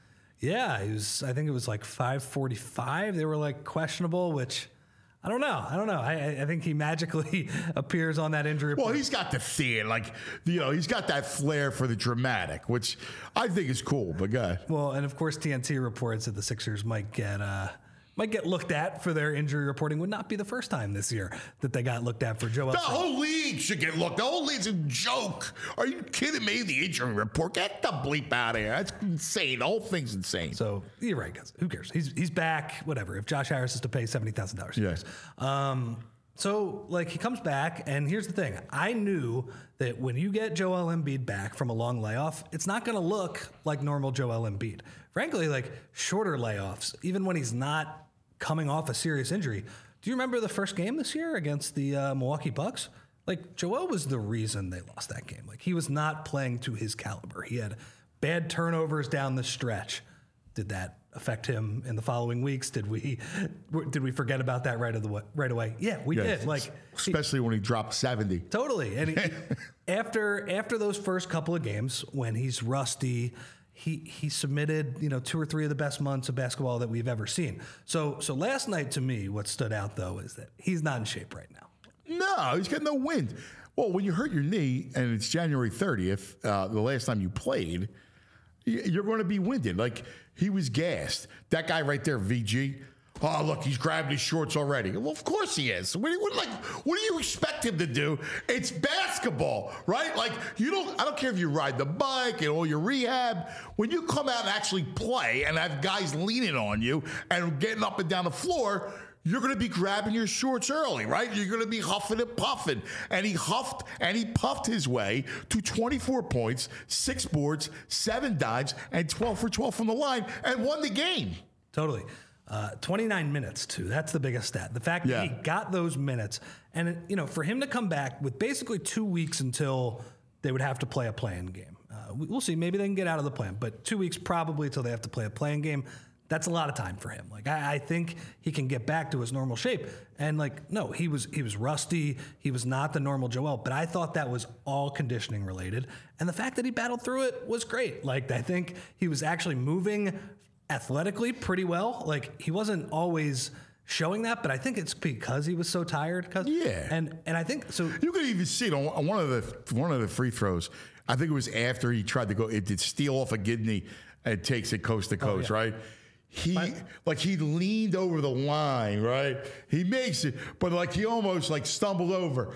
Yeah, he was. I think it was like five forty-five. They were like questionable, which I don't know. I don't know. I, I think he magically appears on that injury report. Well, he's got the theater, like, you know, he's got that flair for the dramatic, which I think is cool, but go ahead. Well, and of course, T N T reports that the Sixers might get uh, might get looked at for their injury reporting. Would not be the first time this year that they got looked at for Joel. The whole league should get looked. The whole league's a joke. Are you kidding me? The injury report. Get the bleep out of here. That's insane. The whole thing's insane. So you're right, guys. Who cares? He's he's back. Whatever. If Josh Harris is to pay seventy thousand dollars, Yes. Um, so like he comes back, and here's the thing: I knew that when you get Joel Embiid back from a long layoff, it's not going to look like normal Joel Embiid. Frankly, like shorter layoffs, even when he's not coming off a serious injury. Do you remember the first game this year against the uh, Milwaukee Bucks? Like Joel was the reason they lost that game. Like he was not playing to his caliber. He had bad turnovers down the stretch. Did that affect him in the following weeks? Did we did we forget about that right of the right away? Yeah, we Yes. did. Like he- especially when he dropped seventy. totally. And he, after after those first couple of games when he's rusty, he he submitted, you know, two or three of the best months of basketball that we've ever seen. So so last night to me, what stood out though is that he's not in shape right now. No, No, he's got no wind. Well, when you hurt your knee and it's January thirtieth, uh, the last time you played, you're going to be winded. Like, he was gassed. That guy right there, V G. Oh, look, he's grabbing his shorts already. Well, of course he is. What do you, what, like, what do you expect him to do? It's basketball, right? Like, you don't, I don't care if you ride the bike and all your rehab. When you come out and actually play and have guys leaning on you and getting up and down the floor, you're going to be grabbing your shorts early, right? You're going to be huffing and puffing. And he huffed and he puffed his way to twenty-four points, six boards, seven dimes, and twelve for twelve from the line and won the game. Totally. Uh, twenty-nine minutes, too. That's the biggest stat. The fact Yeah. that he got those minutes. And, you know, for him to come back with basically two weeks until they would have to play a play-in game. Uh, we- we'll see. Maybe they can get out of the plan. But two weeks probably until they have to play a play-in game. That's a lot of time for him. Like, I, I think he can get back to his normal shape. And, like, no, he was he was rusty. He was not the normal Joel. But I thought that was all conditioning related. And the fact that he battled through it was great. Like, I think he was actually moving athletically pretty well. Like, he wasn't always showing that, but I think it's because he was so tired. 'Cause, Yeah. And and I think so. You could even see it on, on one of the one of the free throws. I think it was after he tried to go. It did steal off a Gidney and takes it coast to coast, yeah. right? He like he leaned over the line, right? He makes it, but like he almost like stumbled over.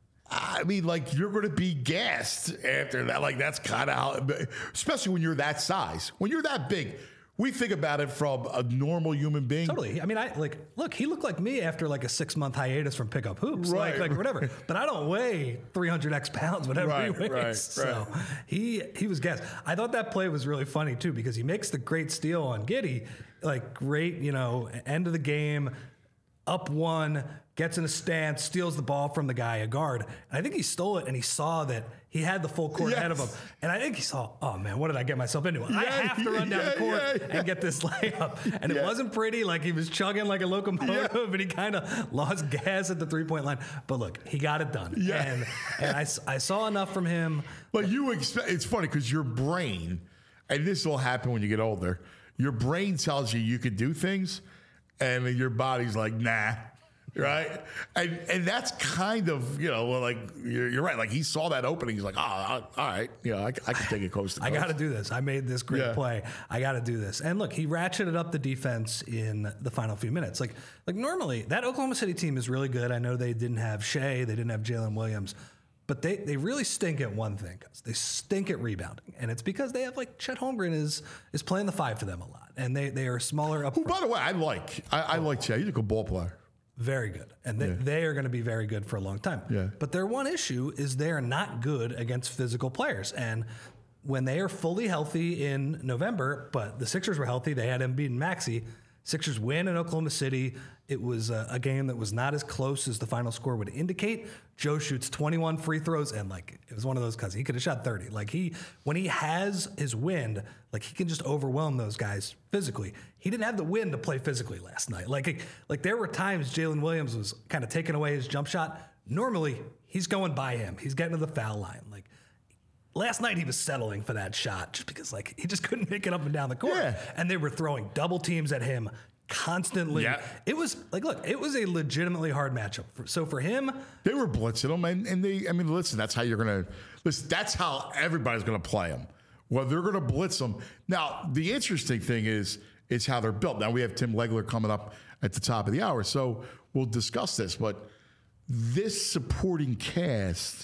I mean, like, you're going to be gassed after that. Like, that's kind of how, especially when you're that size, when you're that big. We think about it from a normal human being. Totally. I mean, I like look. He looked like me after like a six month hiatus from pickup hoops, Right. like like whatever. But I don't weigh three hundred x pounds, whatever Right, he weighs. right, So right. he he was gassed. I thought that play was really funny too because he makes the great steal on Giddey, like great, you know, end of the game, up one, gets in a stance, steals the ball from the guy, a guard. And I think he stole it and he saw that he had the full court Yes. ahead of him. And I think he saw, oh man, what did I get myself into? I Yeah, have to run down yeah, the court yeah, yeah. and get this layup. And Yeah. it wasn't pretty. Like he was chugging like a locomotive and he kind of lost gas at the three point line. But look, he got it done. Yeah. And, and I, s- I saw enough from him. Like you expect, it's funny because your brain, and this will happen when you get older, your brain tells you you could do things, and then your body's like, nah, right? And and that's kind of, you know, well, like, you're, you're right. Like, he saw that opening. He's like, oh, all right, you know, I, I can take it coast to I coast. got to do this. I made this great Yeah. play. I got to do this. And look, he ratcheted up the defense in the final few minutes. Like, like normally, that Oklahoma City team is really good. I know they didn't have Shea, they didn't have Jalen Williams, but they, they really stink at one thing. Guys. They stink at rebounding, and it's because they have like Chet Holmgren is is playing the five for them a lot, and they they are smaller up Who, front. by the way, I like. I, I like Chad. He's a good ball player. Very good. And they, Yeah. they are going to be very good for a long time. Yeah. But their one issue is they're not good against physical players. And when they are fully healthy in November, but the Sixers were healthy, they had Embiid and Maxey. Sixers win in Oklahoma City. It was a, a game that was not as close as the final score would indicate. Joe shoots twenty-one free throws, and like it was one of those because he could have shot thirty. Like he, when he has his wind, like he can just overwhelm those guys physically. He didn't have the wind to play physically last night. Like like there were times Jalen Williams was kind of taking away his jump shot. Normally he's going by him. He's getting to the foul line. Like last night he was settling for that shot just because like he just couldn't make it up and down the court. Yeah. And they were throwing double teams at him constantly. Yeah. It was like, look, it was a legitimately hard matchup. For, so for him, They were blitzing him, and, and they, I mean, listen, that's how you're going to, listen, that's how everybody's going to play him. Well, they're going to blitz them. Now, the interesting thing is, is how they're built. Now, we have Tim Legler coming up at the top of the hour, so we'll discuss this, but this supporting cast,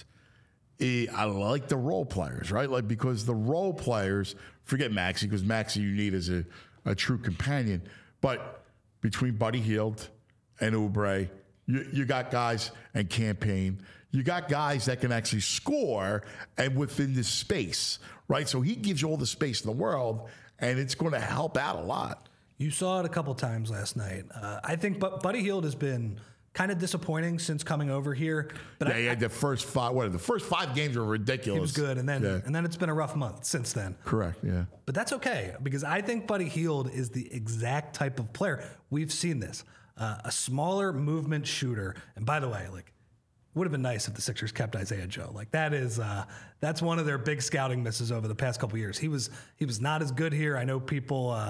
eh, I like the role players, right? Like, because the role players, forget Maxey, because Maxey you need as a, a true companion, but between Buddy Hield and Oubre, you, you got guys and Campaign. You got guys that can actually score and within this space, right? So he gives you all the space in the world, and it's going to help out a lot. you saw it a couple times last night. Uh, I think but Buddy Hield has been kind of disappointing since coming over here. But Yeah, I, he had the first five. What the first five games were ridiculous. he was good, and then Yeah. and then it's been a rough month since then. Correct. Yeah. But that's okay because I think Buddy Hield is the exact type of player. We've seen this. Uh, a smaller movement shooter. And by the way, like, would have been nice if the Sixers kept Isaiah Joe. Like that is uh, that's one of their big scouting misses over the past couple years. He was he was not as good here. I know people uh,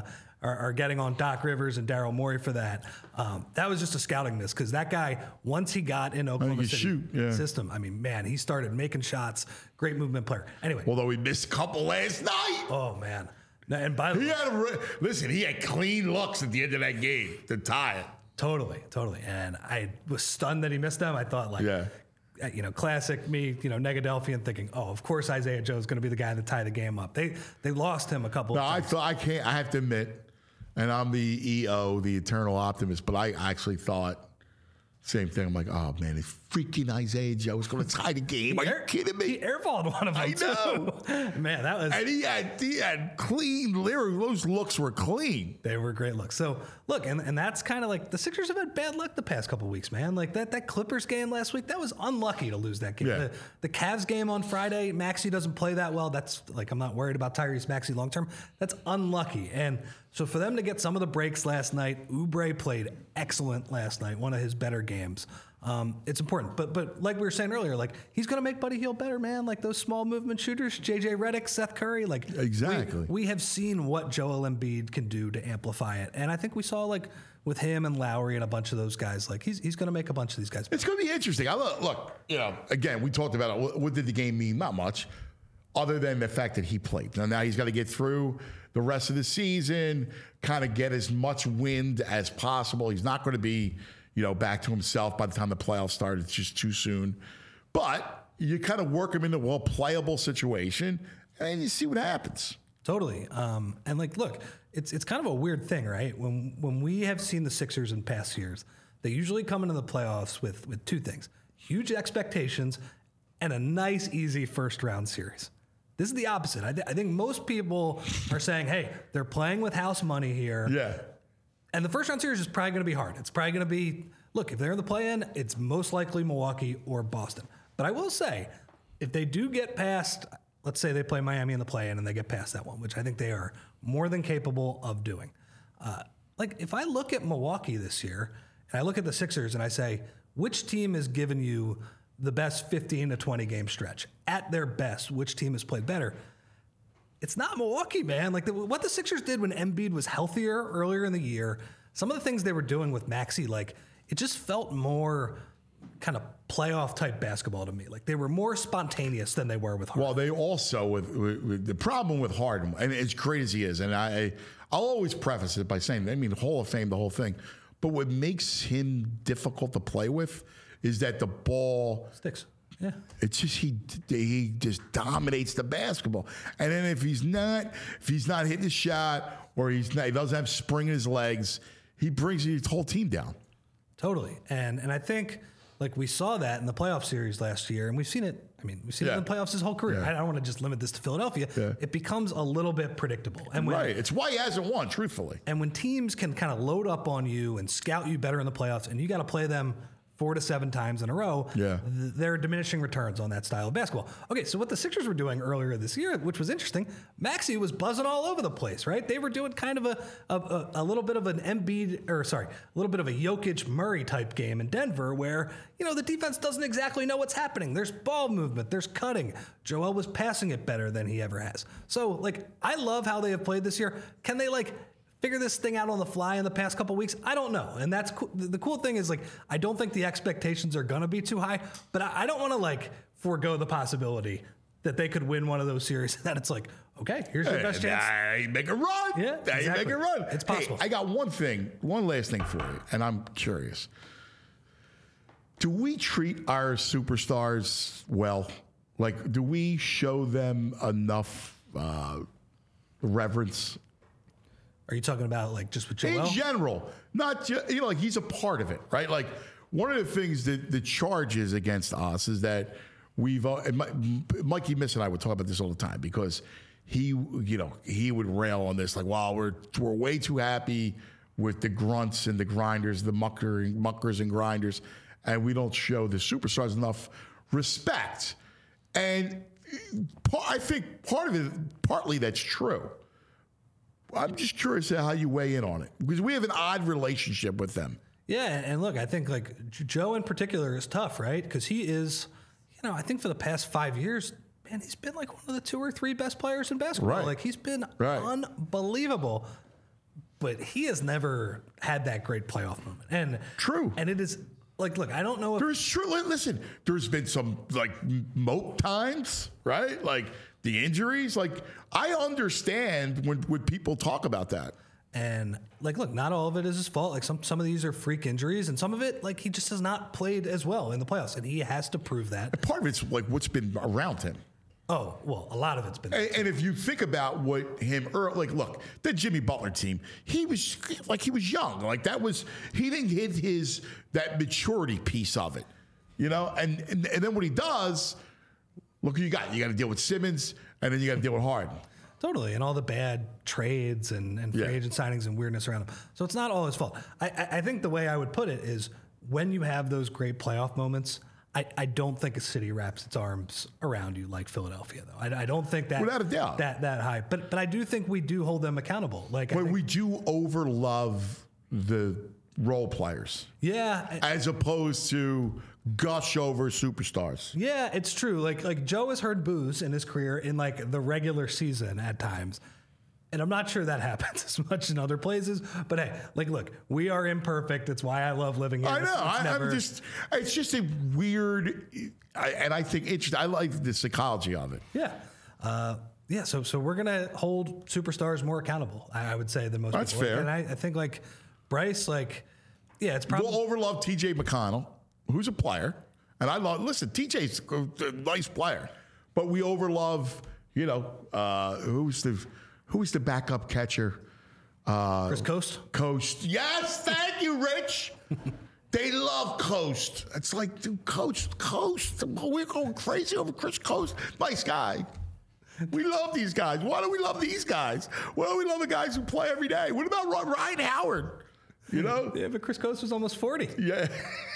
are, are getting on Doc Rivers and Daryl Morey for that. Um, that was just a scouting miss because that guy, once he got in Oklahoma could City shoot, yeah. system, I mean, man, he started making shots. Great movement player. Anyway. Although he missed a couple last night. Oh, man. No, and by the He way, had a re- listen. He had clean looks at the end of that game to tie it. totally, totally. And I was stunned that he missed them. I thought, like, Yeah. uh, you know, classic me, you know, Negadelphian thinking, oh, of course Isaiah Joe is going to be the guy to tie the game up. They they lost him a couple No, of I times. thought I can't. I have to admit, and I'm the E O, the eternal optimist, but I actually thought same thing. I'm like, oh man, if freaking Isaiah Joe is going to tie the game. Are you kidding me? He airballed one of them, I know. too. Man, that was... And he had he had clean lyrics. Those looks were clean. They were great looks. So, look, and, and that's kind of like the Sixers have had bad luck the past couple weeks, man. Like that that Clippers game last week, that was unlucky to lose that game. Yeah. The, the Cavs game on Friday, Maxey doesn't play that well. That's like, I'm not worried about Tyrese Maxey long term. That's unlucky. And so for them to get some of the breaks last night, Oubre played excellent last night, one of his better games. Um, it's important. But but like we were saying earlier, like he's going to make Buddy Hield better, man. Like those small movement shooters, J J Redick, Seth Curry. Like Exactly. We, we have seen what Joel Embiid can do to amplify it. And I think we saw like with him and Lowry and a bunch of those guys, like he's he's going to make a bunch of these guys better. It's going to be interesting. I look, look, you know, again, we talked about it. What, what did the game mean? Not much, other than the fact that he played. Now, now he's got to get through the rest of the season, kind of get as much wind as possible. He's not going to be, you know, back to himself by the time the playoffs start. It's just too soon. But you kind of work him into a well playable situation, and you see what happens. Totally. Um, and like, look, it's it's kind of a weird thing, right? When when we have seen the Sixers in past years, they usually come into the playoffs with with two things: huge expectations and a nice, easy first round series. This is the opposite. I, th- I think most people are saying, hey, they're playing with house money here. Yeah. And the first round series is probably going to be hard. It's probably going to be, look, if they're in the play-in, it's most likely Milwaukee or Boston. But I will say, if they do get past, let's say they play Miami in the play-in and they get past that one, which I think they are more than capable of doing. Uh, like, if I look at Milwaukee this year, and I look at the Sixers and I say, which team has given you the best fifteen to twenty game stretch? At their best, which team has played better? It's not Milwaukee, man. Like the, what the Sixers did when Embiid was healthier earlier in the year, some of the things they were doing with Maxey, like it just felt more kind of playoff type basketball to me. Like they were more spontaneous than they were with Harden. Well, they also with, with, with the problem with Harden, and as great as he is, and I, I'll always preface it by saying, I mean, Hall of Fame, the whole thing. But what makes him difficult to play with is that the ball Sticks. Yeah. It's just he he just dominates the basketball, and then if he's not if he's not hitting his shot or he's not, he doesn't have spring in his legs, he brings his whole team down. Totally. And and I think like we saw that in the playoff series last year, and we've seen it. I mean, we've seen Yeah. it in the playoffs his whole career. Yeah. I don't want to just limit this to Philadelphia. Yeah. It becomes a little bit predictable. And when, Right. It's why he hasn't won, truthfully. And when teams can kind of load up on you and scout you better in the playoffs, and you got to play them four to seven times in a row, Yeah. th- there are diminishing returns on that style of basketball. Okay, so what the Sixers were doing earlier this year, which was interesting, Maxey was buzzing all over the place, right? They were doing kind of a a, a, a little bit of an Embiid, or sorry, a little bit of a Jokic Murray type game in Denver where, you know, the defense doesn't exactly know what's happening. There's ball movement, there's cutting. Joel was passing it better than he ever has. So, like, I love how they have played this year. Can they, like, figure this thing out on the fly in the past couple weeks? I don't know. And that's cool. The cool thing is, like, I don't think the expectations are going to be too high, but I, I don't want to, like, forego the possibility that they could win one of those series. And then it's like, okay, here's your best chance. Now you make a run. Yeah, Now you exactly. make a run. It's Hey, possible. I got one thing, one last thing for you, and I'm curious. Do we treat our superstars well? Like, do we show them enough uh, reverence? Are you talking about, like, just with Joel? In general, not just, you know, like he's a part of it, right? Like one of the things that the charge is against us is that we've, uh, and Mi- Mikey Miss and I would talk about this all the time because he, you know, he would rail on this like, wow, we're we're way too happy with the grunts and the grinders, the mucker, muckers and grinders, and we don't show the superstars enough respect. And pa- I think part of it, partly that's true. I'm just curious how you weigh in on it because we have an odd relationship with them. Yeah, and look, I think, like, J- Joe in particular is tough, right? Because he is, you know, I think for the past five years, man, he's been like one of the two or three best players in basketball. Right. Like, he's been Right. unbelievable. but he has never had that great playoff moment. And True. And it is like, look, I don't know if There's true. Listen, there's been some like mope times, right? Like the injuries. Like I understand when when people talk about that. And like, look, not all of it is his fault. Like some some of these are freak injuries, and some of it, like he just has not played as well in the playoffs, and he has to prove that. Part of it's like what's been around him. Oh well, a lot of it's been. And, and if you think about what him, or like, look, the Jimmy Butler team, he was like he was young. Like that was he didn't hit his that maturity piece of it, you know. And and, and then what he does, look, who you got. You got to deal with Simmons, and then you got to deal with Harden. Totally, and all the bad trades and, and free Yeah. agent signings and weirdness around him. So it's not all his fault. I, I, I think the way I would put it is when you have those great playoff moments, I, I don't think a city wraps its arms around you like Philadelphia, though. I, I don't think that Without a doubt. that that high. But but I do think we do hold them accountable. Like, I But think, we do overlove the role players yeah, I- as opposed to gush over superstars. yeah, it's true. Like like Joe has heard boos in his career in like the regular season at times. And I'm not sure that happens as much in other places. But hey, like, look, we are imperfect. It's why I love living here. I know. It's- it's I, never- I'm just. It's just a weird, I, and I think interesting. I like the psychology of it. Yeah. Uh, yeah, so so we're gonna hold superstars more accountable, I, I would say, than most That's people. fair. And I, I think like Bryce, like, yeah, it's probably We'll overlove T J McConnell, who's a player, and I love. Listen, T J's a nice player, but we overlove. You know, uh, who's the who's the backup catcher? Uh, Chris Coast. Coast. Yes, thank you, Rich. They love Coast. It's like, dude, Coast, Coast. We're going crazy over Chris Coast. Nice guy. We love these guys. Why do we love these guys? Why do we love the guys who play every day? What about Ryan Howard? You know? Yeah, but Chris Coast was almost forty. Yeah.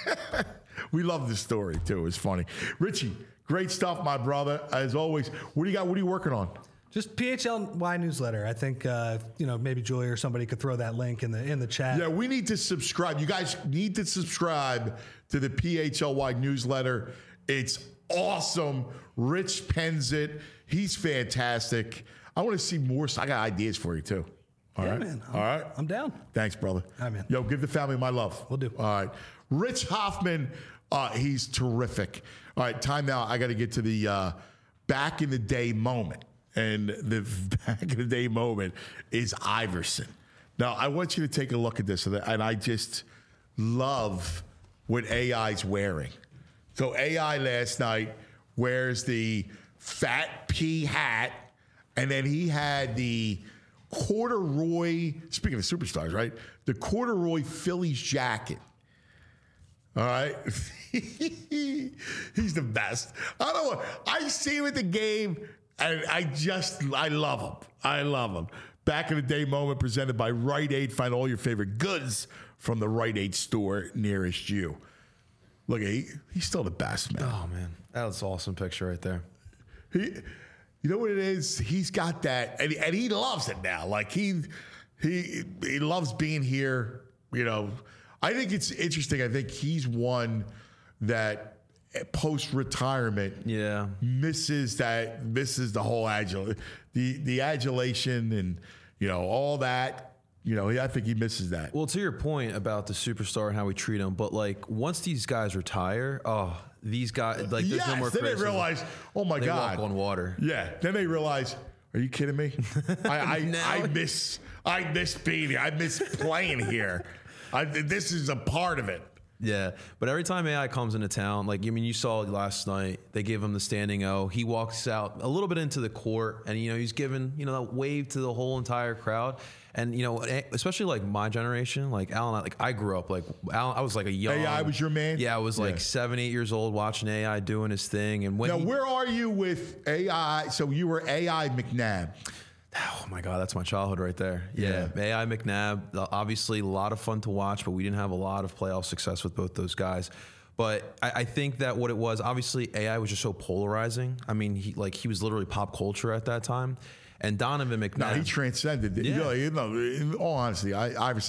We love this story, too. It's funny. Richie, great stuff, my brother. As always, what do you got? What are you working on? Just P H L Y newsletter. I think uh, you know maybe Julia or somebody could throw that link in the in the chat. Yeah, we need to subscribe. You guys need to subscribe to the P H L Y newsletter. It's awesome. Rich pens it. He's fantastic. I want to see more. I got ideas for you, too. All Yeah, right. man. I'm, All right. I'm down. Thanks, brother. All right, man. Yo, give the family my love. Will do. All right. Rich Hoffman, uh, he's terrific. All right, time now. I got to get to the uh, back in the day moment. And the back in the day moment is Iverson. Now, I want you to take a look at this. And I just love what A I's wearing. So A I last night wears the fat pea hat. And then he had the corduroy, speaking of superstars, right? The corduroy Phillies jacket. All right. He's the best. I don't know. I see him at the game, and I just, I love him. I love him. Back in the day moment presented by Rite Aid. Find all your favorite goods from the Rite Aid store nearest you. Look, he, he's still the best, man. Oh man, that was an awesome picture right there. He, you know what it is? He's got that, and, and he loves it now. Like he, he, he loves being here. You know, I think it's interesting. I think he's one that post retirement, Yeah. misses that, misses the whole adul, the the adulation, and you know all that. You know, I think he misses that. Well, to your point about the superstar and how we treat them, but like once these guys retire, oh, these guys like there's yes, no more. then they criticism. realize, oh my They God, walk on water. Yeah, then they realize, are you kidding me? I I, Now- I miss I miss being here. I miss playing here. I, this is a part of it. Yeah, but every time A I comes into town, like I mean, you saw last night, they gave him the standing O. He walks out a little bit into the court, and you know he's giving you know that wave to the whole entire crowd. And you know, especially like my generation, like Alan, like I grew up like Alan. I was like a young. A I was your man? Yeah, I was like Yeah. seven, eight years old watching A I doing his thing. And when Now, he, where are you with A I? So you were A I McNabb. oh my God, that's my childhood right there. Yeah, A I McNabb, uh, obviously a lot of fun to watch, but we didn't have a lot of playoff success with both those guys. But I, I think that what it was, obviously A I was just so polarizing. I mean, he like he was literally pop culture at that time. And Donovan McNabb. No, he transcended. it. Yeah. You know, you know, in all honesty, I, Iverson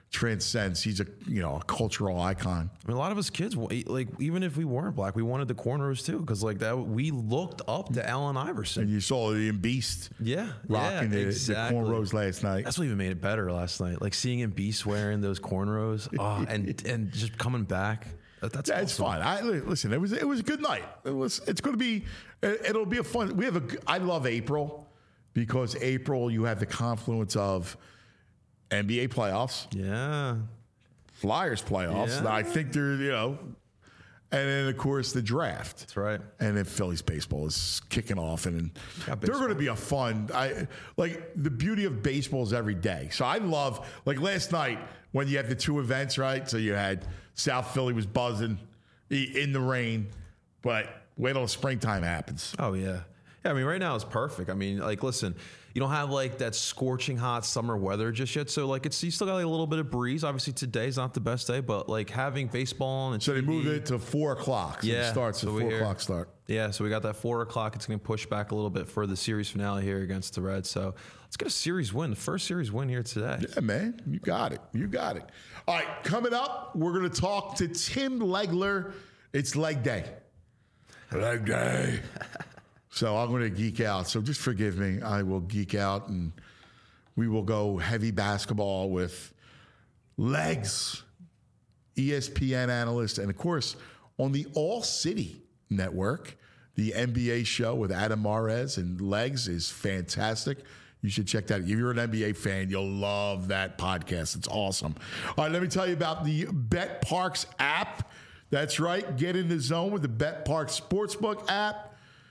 transcends. He's a you know a cultural icon. I mean, a lot of us kids, like even if we weren't black, we wanted the cornrows too, because like that we looked up to Allen Iverson. And you saw the Beast, yeah, rocking yeah, the, exactly. the cornrows last night. That's what even made it better last night. Like seeing him Beast wearing those cornrows, oh, and and just coming back. That, that's yeah, awesome. it's fun. I listen. It was it was a good night. It was. It's going to be. It, it'll be a fun. We have a. I love April because April you have the confluence of N B A playoffs. Yeah. Flyers playoffs. Yeah. I think they're, you know, and then of course the draft. That's right. And then Phillies baseball is kicking off, and Got they're baseball. going to be a fun. I like the beauty of baseball is every day. So I love like last night when you have the two events, right? So you had South Philly was buzzing in the rain, but wait till springtime happens. Oh yeah. Yeah, I mean, right now it's perfect. I mean, like, listen, you don't have like that scorching hot summer weather just yet, so like it's you still got like a little bit of breeze. Obviously, today's not the best day, but like having baseball on and So they T V, moved it to four o'clock. So Yeah, it starts so at we four hear- o'clock start. Yeah, so we got that four o'clock. It's going to push back a little bit for the series finale here against the Reds. So let's get a series win, the first series win here today. Yeah, man, you got it. You got it. All right, coming up, we're going to talk to Tim Legler. It's leg day. Leg day. So I'm going to geek out. So just forgive me. I will geek out, and we will go heavy basketball with Legs, E S P N analyst, and of course, on the All City Network, the N B A show with Adam Mares and Legs is fantastic. You should check that out. If you're an N B A fan, you'll love that podcast. It's awesome. All right, let me tell you about the Bet Parks app. That's right. Get in the zone with the Bet Parks Sportsbook app.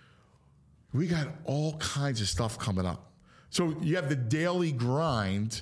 We got all kinds of stuff coming up. So you have the daily grind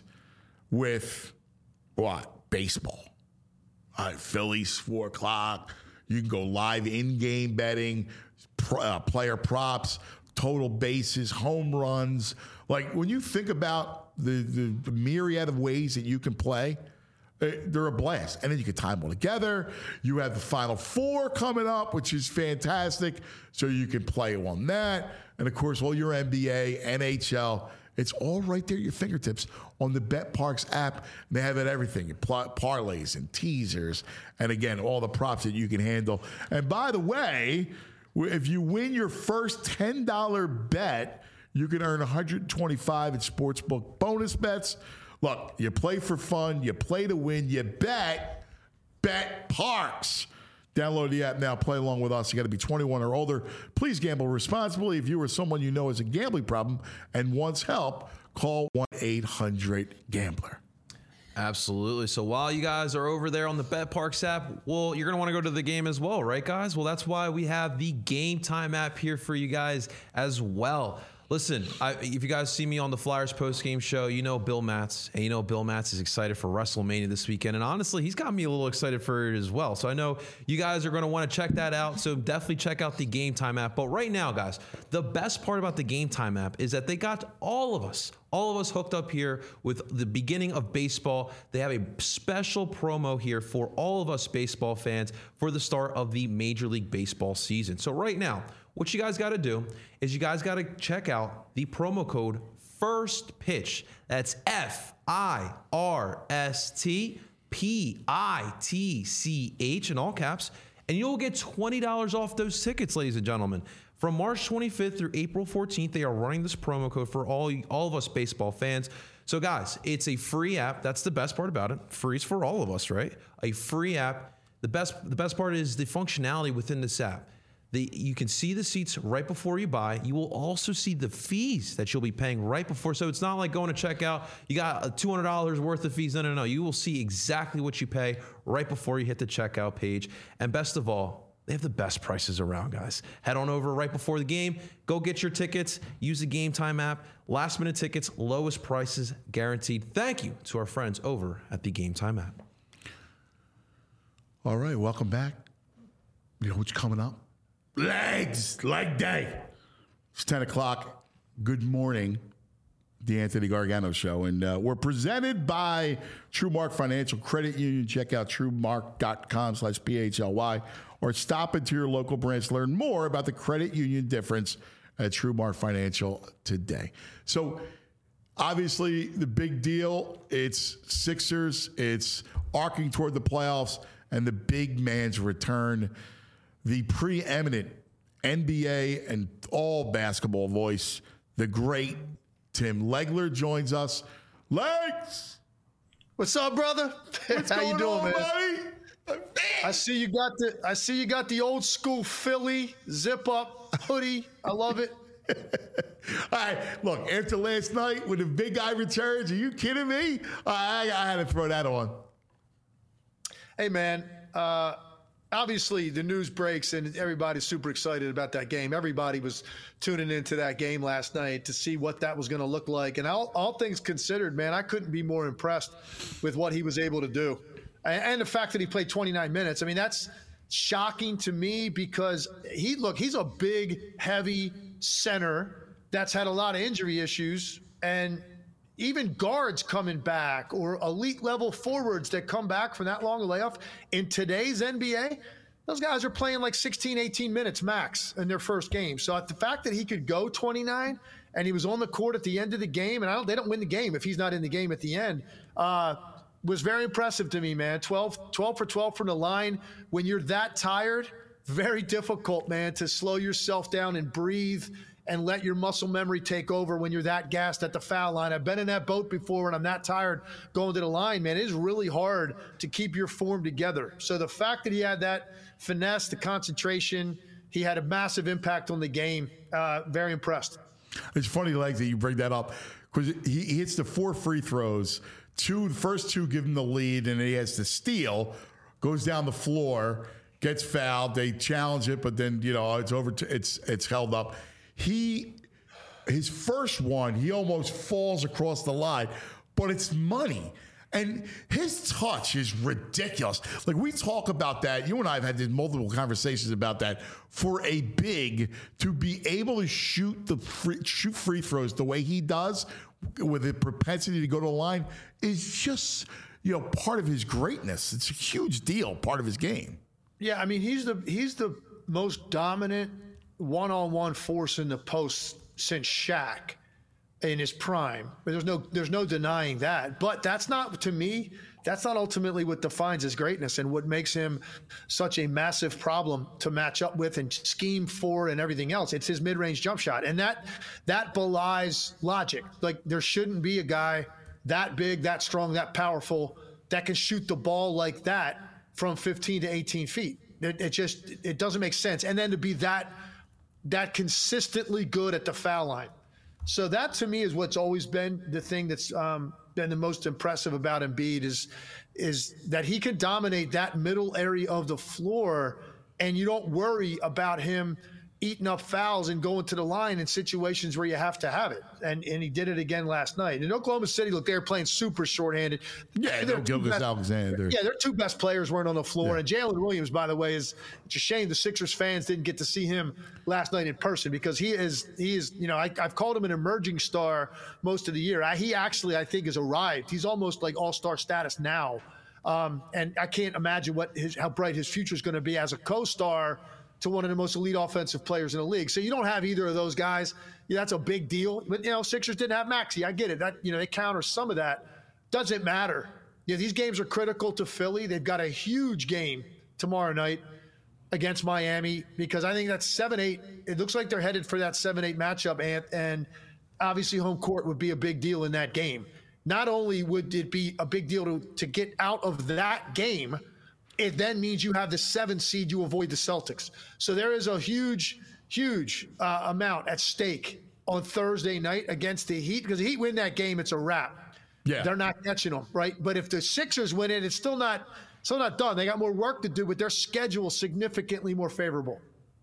with what? Baseball. All right, Phillies, four o'clock. You can go live in-game betting, pr- uh, player props, total bases, home runs. Like when you think about the, the, the myriad of ways that you can play, uh, they're a blast. And then you can tie them all together. You have the Final Four coming up, which is fantastic. So you can play on that. And of course, all your N B A, N H L, it's all right there at your fingertips on the Bet Parks app. They have it everything, pl- parlays and teasers, and again, all the props that you can handle. And by the way, if you win your first ten dollars bet, you can earn one hundred twenty-five dollars in sportsbook bonus bets. Look, you play for fun, you play to win, you bet, Bet Parks. Download the app now. Play along with us. You got to be twenty-one or older. Please gamble responsibly. If you or someone you know has a gambling problem and wants help, call one eight hundred gambler. Absolutely. So while you guys are over there on the Bet Parks app, well, you're going to want to go to the game as well, right, guys? Well, that's why we have the Game Time app here for you guys as well. Listen, I, if you guys see me on the Flyers post-game show, you know Bill Matz, and you know Bill Matz is excited for WrestleMania this weekend, and honestly, he's got me a little excited for it as well. So I know you guys are going to want to check that out, so definitely check out the Game Time app. But right now, guys, the best part about the Game Time app is that they got all of us, all of us hooked up here with the beginning of baseball. They have a special promo here for all of us baseball fans for the start of the Major League Baseball season. So right now, what you guys got to do is you guys got to check out the promo code First Pitch. That's F I R S T P I T C H in all caps. And you'll get twenty dollars off those tickets, ladies and gentlemen. From March twenty-fifth through April fourteenth, they are running this promo code for all, all of us baseball fans. So guys, it's a free app. That's the best part about it. Free's for all of us, right? A free app. The best, the best part is the functionality within this app. The, you can see the seats right before you buy. You will also see the fees that you'll be paying right before. So it's not like going to checkout. You got two hundred dollars worth of fees. No, no, no. You will see exactly what you pay right before you hit the checkout page. And best of all, they have the best prices around, guys. Head on over right before the game. Go get your tickets. Use the Game Time app. Last minute tickets, lowest prices guaranteed. Thank you to our friends over at the Game Time app. All right, welcome back. You know what's coming up? Legs, leg day. It's ten o'clock. Good morning. The Anthony Gargano Show. And uh, we're presented by TrueMark Financial Credit Union. Check out TrueMark.com slash P H L Y or stop into your local branch. Learn more about the credit union difference at TrueMark Financial today. So Obviously, the big deal, it's Sixers, it's arcing toward the playoffs, and the big man's return. The preeminent N B A and all basketball voice, the great Tim Legler joins us. Legs! What's up, brother? What's How going you doing, on, man? buddy? I see you got the I see you got the old school Philly zip up hoodie. I love it. All right, look, after last night when the big guy returns, are you kidding me? I, I had to throw that on. Hey, man, uh, obviously the news breaks and everybody's super excited about that game. Everybody was tuning into that game last night to see what that was going to look like. And all, all things considered, man, I couldn't be more impressed with what he was able to do. And, and the fact that he played twenty-nine minutes, I mean, that's shocking to me because he, look, he's a big, heavy center that's had a lot of injury issues, and even guards coming back or elite level forwards that come back from that long a layoff in today's N B A, those guys are playing like sixteen, eighteen minutes max in their first game. So the fact that he could go twenty-nine and he was on the court at the end of the game, and I don't, they don't win the game if he's not in the game at the end, uh, was very impressive to me, man. twelve, twelve for twelve from the line. When you're that tired, very difficult, man, to slow yourself down and breathe and let your muscle memory take over when you're that gassed at the foul line. I've been in that boat before when I'm that tired going to the line, man. It is really hard to keep your form together. So the fact that he had that finesse, the concentration, he had a massive impact on the game. Uh, very impressed. It's funny, Legs, that you bring that up because he, he hits the four free throws. Two, the first two give him the lead, and he has to steal, goes down the floor, gets fouled. They challenge it, but then, you know, it's over. To, it's it's held up. He, his first one, he almost falls across the line, but it's money. And his touch is ridiculous. Like, we talk about that. You and I have had multiple conversations about that. For a big to be able to shoot the free, shoot free throws the way he does with a propensity to go to the line is just, you know, part of his greatness. It's a huge deal, part of his game. Yeah, I mean, he's the he's the most dominant one-on-one force in the post since Shaq in his prime. There's no there's no denying that. But that's not, to me, that's not ultimately what defines his greatness and what makes him such a massive problem to match up with and scheme for and everything else. It's his mid-range jump shot. And that that belies logic. Like, there shouldn't be a guy that big, that strong, that powerful that can shoot the ball like that from fifteen to eighteen feet. It, it just it doesn't make sense. And then to be that that consistently good at the foul line. So that, to me, is what's always been the thing that's um, been the most impressive about Embiid is, is that he can dominate that middle area of the floor, and you don't worry about him eating up fouls and going to the line in situations where you have to have it. And and he did it again last night. In Oklahoma City, look, they're playing super shorthanded. Yeah, they're Gilgeous-Alexander. Yeah, their two best players weren't on the floor. Yeah. And Jalen Williams, by the way, is it's a shame the Sixers fans didn't get to see him last night in person because he is, he is you know, I, I've called him an emerging star most of the year. I, he actually, I think, has arrived. He's almost like all-star status now. Um, and I can't imagine what his, how bright his future is going to be as a co-star to one of the most elite offensive players in the league. So you don't have either of those guys. Yeah, that's a big deal. But, you know, Sixers didn't have Maxey. I get it. That, you know, they counter some of that. Doesn't matter. Yeah, these games are critical to Philly. They've got a huge game tomorrow night against Miami because I think that's seven eight. It looks like they're headed for that seven eight matchup, and, and obviously home court would be a big deal in that game. Not only would it be a big deal to, to get out of that game, it then means you have the seventh seed, you avoid the Celtics. So there is a huge, huge uh, amount at stake on Thursday night against the Heat, because the Heat win that game, it's a wrap. Yeah. They're not catching them, right? But if the Sixers win it, it's still not still not done. They got more work to do, but their schedule is significantly more favorable.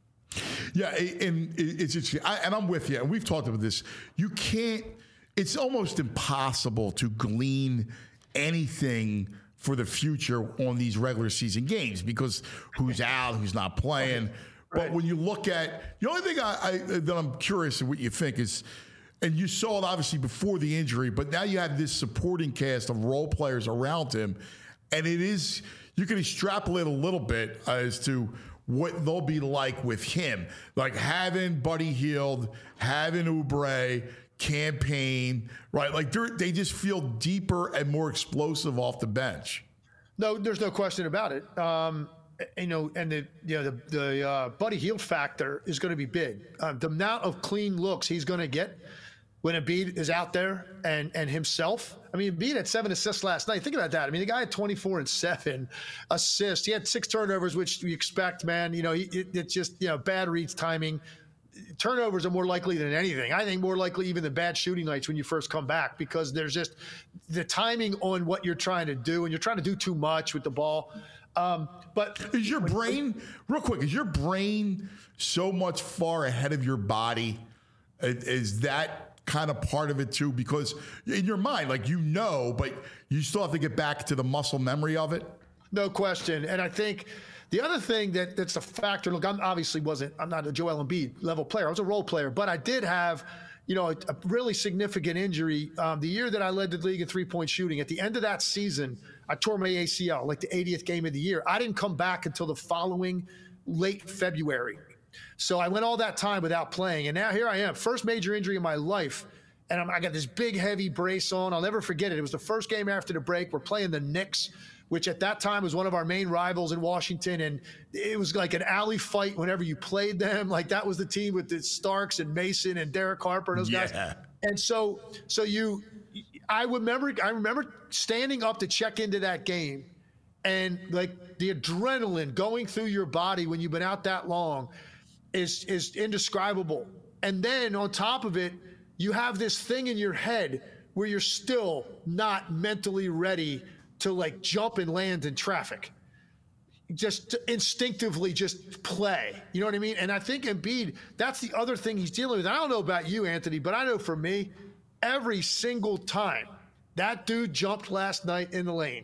Yeah, and it's interesting. I, and I'm with you. And we've talked about this. You can't, it's almost impossible to glean anything for the future on these regular season games because who's out, who's not playing. Right. But when you look at, the only thing I, I, that I'm curious of what you think is, and you saw it obviously before the injury, but now you have this supporting cast of role players around him. And it is, you can extrapolate a little bit as to what they'll be like with him. Like having Buddy Hield, having Oubre, campaign, right? Like they're, they just feel deeper and more explosive off the bench. No, there's no question about it. Um, you know, and the you know the the uh, Buddy Hield factor is going to be big. Um, the amount of clean looks he's going to get when Embiid is out there and and himself. I mean, Embiid had seven assists last night. Think about that. I mean, the guy had twenty-four and seven assists. He had six turnovers, which you expect, man. You know, he, it, it's just, you know, bad reads, timing. Turnovers are more likely than anything. I think more likely even than bad shooting nights when you first come back, because there's just the timing on what you're trying to do, and you're trying to do too much with the ball. Um, but is your brain, real quick, is your brain so much far ahead of your body? Is that kind of part of it too? Because in your mind, like, you know, but you still have to get back to the muscle memory of it. No question. And I think the other thing that that's a factor, look, I'm obviously wasn't, I'm not a Joel Embiid level player. I was a role player, but I did have, you know, a, a really significant injury. Um, the year that I led the league in three-point shooting, at the end of that season, I tore my A C L, like the eightieth game of the year. I didn't come back until the following late February. So I went all that time without playing. And now here I am, first major injury in my life. And I'm, I got this big, heavy brace on. I'll never forget it. It was the first game after the break. We're playing the Knicks, which at that time was one of our main rivals in Washington. And it was like an alley fight whenever you played them. Like, that was the team with the Starks and Mason and Derek Harper and those yeah. guys. And so, so you, I remember, I remember standing up to check into that game, and like the adrenaline going through your body when you've been out that long is, is indescribable. And then on top of it, you have this thing in your head where you're still not mentally ready to like jump and land in traffic. Just instinctively just play. You know what I mean? And I think Embiid, that's the other thing he's dealing with. I don't know about you, Anthony, but I know for me, every single time that dude jumped last night in the lane,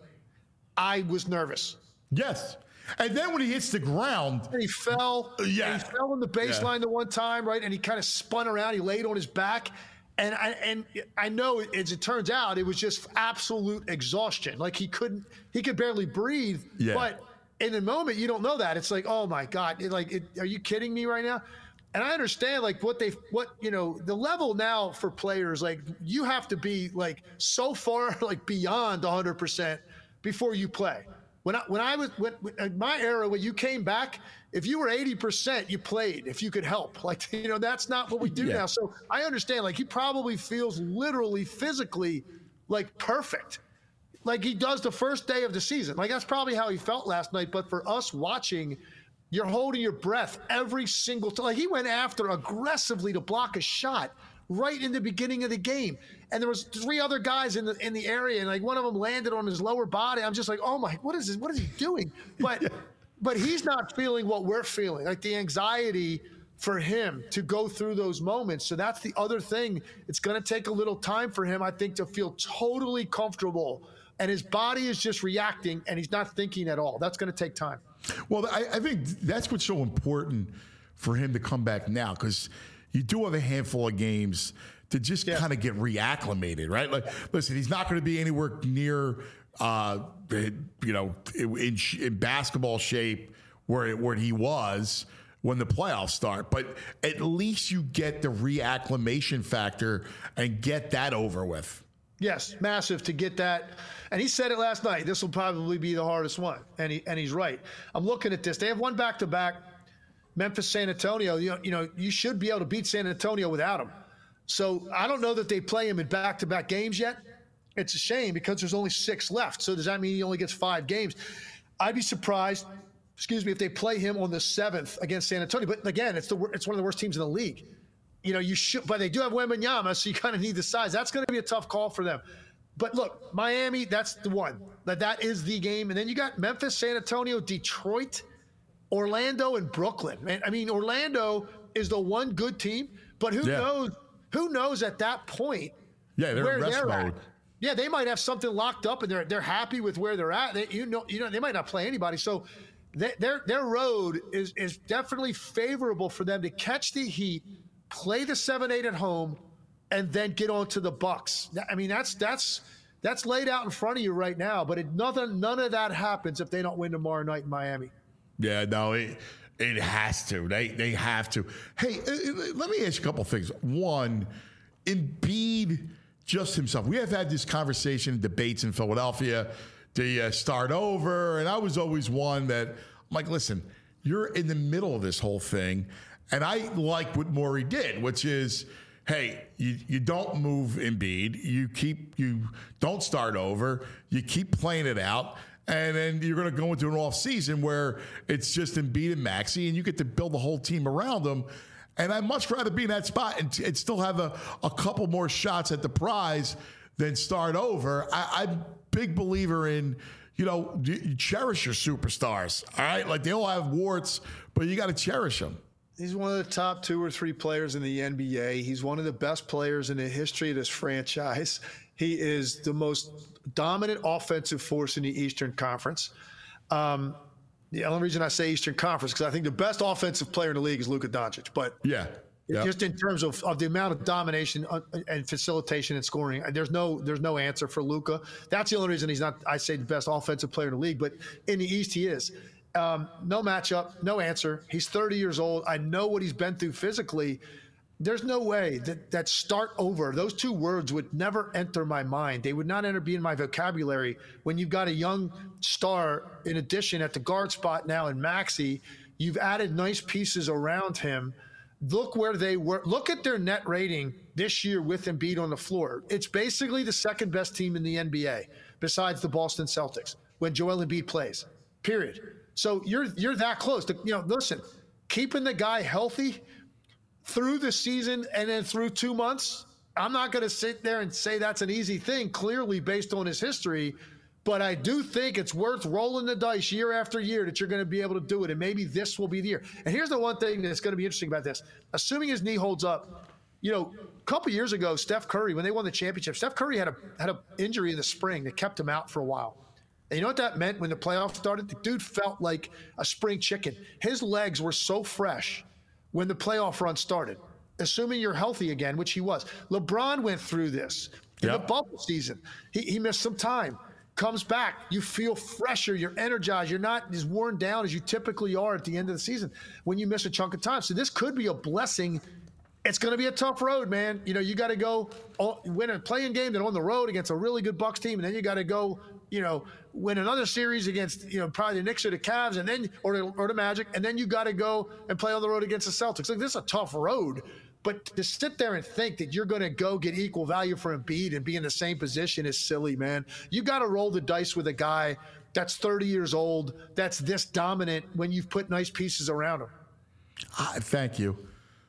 I was nervous. Yes. And then when he hits the ground, and he fell. Yeah. And he fell on the baseline yeah. the one time, right? And he kind of spun around. He laid on his back. And I and I know, as it turns out, it was just absolute exhaustion. Like, he couldn't, he could barely breathe. Yeah. But in the moment, you don't know that. It's like, oh my God, it, like, it, are you kidding me right now? And I understand, like, what they, what, you know, the level now for players, like, you have to be like so far, like, beyond one hundred percent before you play. When I, when I was, when, in my era, when you came back, if you were eighty percent, you played if you could help. Like, you know, that's not what we do yeah. now. So I understand, like, he probably feels literally, physically, like, perfect. Like he does the first day of the season. Like, that's probably how he felt last night. But for us watching, you're holding your breath every single time. Like, he went after aggressively to block a shot right in the beginning of the game. And there was three other guys in the in the area, and like one of them landed on his lower body. I'm just like, oh my, what is this? What is he doing? But yeah. but he's not feeling what we're feeling, like the anxiety for him to go through those moments. So that's the other thing. It's going to take a little time for him, I think, to feel totally comfortable. And his body is just reacting, and he's not thinking at all. That's going to take time. Well, I, I think that's what's so important for him to come back now, because you do have a handful of games to just yeah. kind of get reacclimated, right? Like, listen, he's not going to be anywhere near, uh, you know, in, in basketball shape where where he was when the playoffs start. But at least you get the reacclimation factor and get that over with. Yes, massive to get that. And he said it last night. This will probably be the hardest one, and he and he's right. I'm looking at this. They have one back to back. Memphis, San Antonio, you know, you know, you should be able to beat San Antonio without him. So I don't know that they play him in back-to-back games yet. It's a shame because there's only six left. So does that mean he only gets five games? I'd be surprised, excuse me, if they play him on the seventh against San Antonio. But again, it's the it's one of the worst teams in the league. You know, you should, but they do have Wembanyama, so you kind of need the size. That's going to be a tough call for them. But look, Miami, that's the one. That that is the game. And then you got Memphis, San Antonio, Detroit, Orlando, and Brooklyn. Man, I mean, Orlando is the one good team, but who yeah. knows? Who knows at that point? Yeah, they're where in rest they're mode. At. Yeah, they might have something locked up, and they're they're happy with where they're at. They, you know, you know, they might not play anybody. So they, their their road is is definitely favorable for them to catch the Heat, play the seven eight at home, and then get on to the Bucks. I mean, that's that's that's laid out in front of you right now. But it, nothing, none of that happens if they don't win tomorrow night in Miami. Yeah, no, it it has to. They they have to. Hey, let me ask you a couple things. One, Embiid just himself. We have had this conversation, debates in Philadelphia. Do you start over? And I was always one that I'm like, listen, you're in the middle of this whole thing. And I like what Morey did, which is, hey, you, you don't move Embiid. You keep, you don't start over. You keep playing it out. And then you're going to go into an off season where it's just Embiid and Maxey, and you get to build the whole team around them. And I'd much rather be in that spot and, and still have a, a couple more shots at the prize than start over. I, I'm a big believer in, you know, you cherish your superstars. All right, like they all have warts, but you got to cherish them. He's one of the top two or three players in the N B A. He's one of the best players in the history of this franchise. He is the most dominant offensive force in the Eastern Conference. Um, the only reason I say Eastern Conference because I think the best offensive player in the league is Luka Doncic. But yeah, yep. just in terms of, of the amount of domination and facilitation and scoring, there's no there's no answer for Luka. That's the only reason he's not, I say, the best offensive player in the league. But in the East, he is. Um, no matchup, no answer. He's thirty years old. I know what he's been through physically. There's no way that that start over, those two words would never enter my mind. They would not enter be in my vocabulary when you've got a young star in addition at the guard spot now in Maxey. You've added nice pieces around him. Look where they were. Look at their net rating this year with Embiid on the floor. It's basically the second best team in the N B A besides the Boston Celtics when Joel Embiid plays, period. So you're you're that close to, you know, listen, keeping the guy healthy through the season and then through two months, I'm not going to sit there and say that's an easy thing, clearly based on his history, but I do think it's worth rolling the dice year after year that you're going to be able to do it, and maybe this will be the year. And here's the one thing that's going to be interesting about this. Assuming his knee holds up, you know, a couple years ago, Steph Curry, when they won the championship, Steph Curry had a had an injury in the spring that kept him out for a while. And you know what that meant when the playoffs started? The dude felt like a spring chicken. His legs were so fresh when the playoff run started, assuming you're healthy again, which he was. LeBron went through this in yep. the bubble season. He, he missed some time, comes back. You feel fresher. You're energized. You're not as worn down as you typically are at the end of the season when you miss a chunk of time. So this could be a blessing. It's going to be a tough road, man. You know, you got to go win a playing game, then on the road against a really good Bucks team, and then you got to go, you know, win another series against, you know, probably the Knicks or the Cavs, and then or the, or the Magic, and then you got to go and play on the road against the Celtics. Like, this is a tough road, but to sit there and think that you're going to go get equal value for Embiid and be in the same position is silly, man. You got to roll the dice with a guy that's thirty years old, that's this dominant when you've put nice pieces around him. Uh, thank you.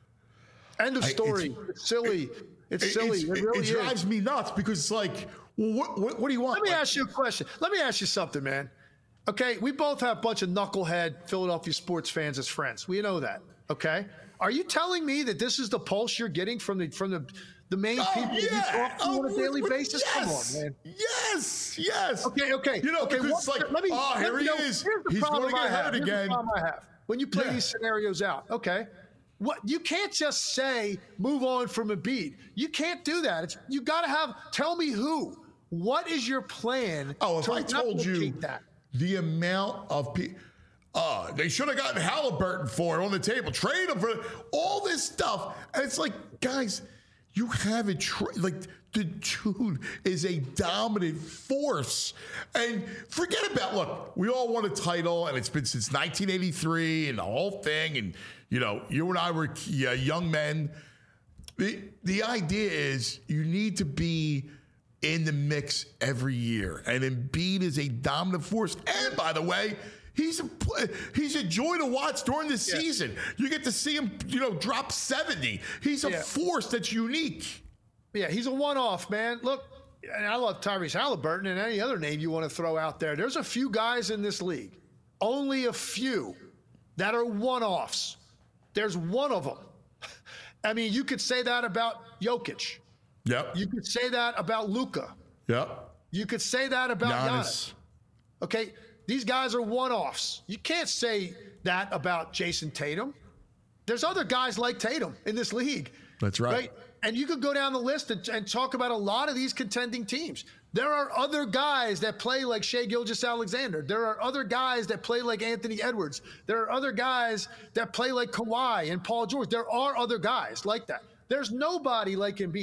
End of story. I, it's, it's silly. It's it, silly. It's, it really it drives is. me nuts because it's like, well, what, what, what do you want? Let me like, ask you a question. Let me ask you something, man. Okay, we both have a bunch of knucklehead Philadelphia sports fans as friends. We know that. Okay, are you telling me that this is the pulse you're getting from the from the the main oh, people yeah. you talk to oh, on a daily what, basis? Yes. Come on, man. Yes, yes. Okay, okay. You know, okay, because what, it's like, let me, oh, let here me he know. is. Here's the He's going to get hurt Here's again. The problem I have. When you play Yeah. these scenarios out, okay. What you can't just say move on from Embiid. You can't do that. It's you got to have. Tell me who. What is your plan? Oh, if to I told you replicate that? the amount of people, uh, they should have gotten Halliburton for it on the table, trade him for all this stuff, and it's like, guys, you have a tra- like the dude is a dominant force, and forget about look. We all won a title, and it's been since nineteen eighty-three, and the whole thing, and. You know, you and I were uh, young men. The, the idea is you need to be in the mix every year. And Embiid is a dominant force. And by the way, he's a, he's a joy to watch during the yeah. season. You get to see him, you know, drop seventy. He's a yeah. force that's unique. Yeah, he's a one-off, man. Look, and I love Tyrese Halliburton and any other name you want to throw out there. There's a few guys in this league, only a few, that are one-offs. There's one of them. I mean, you could say that about Jokic. Yep. You could say that about Luka. Yep. You could say that about Giannis. Giannis. Okay, these guys are one-offs. You can't say that about Jason Tatum. There's other guys like Tatum in this league. That's right. right? And you could go down the list and, and talk about a lot of these contending teams. There are other guys that play like Shai Gilgeous-Alexander. There are other guys that play like Anthony Edwards. There are other guys that play like Kawhi and Paul George. There are other guys like that. There's nobody like Embiid.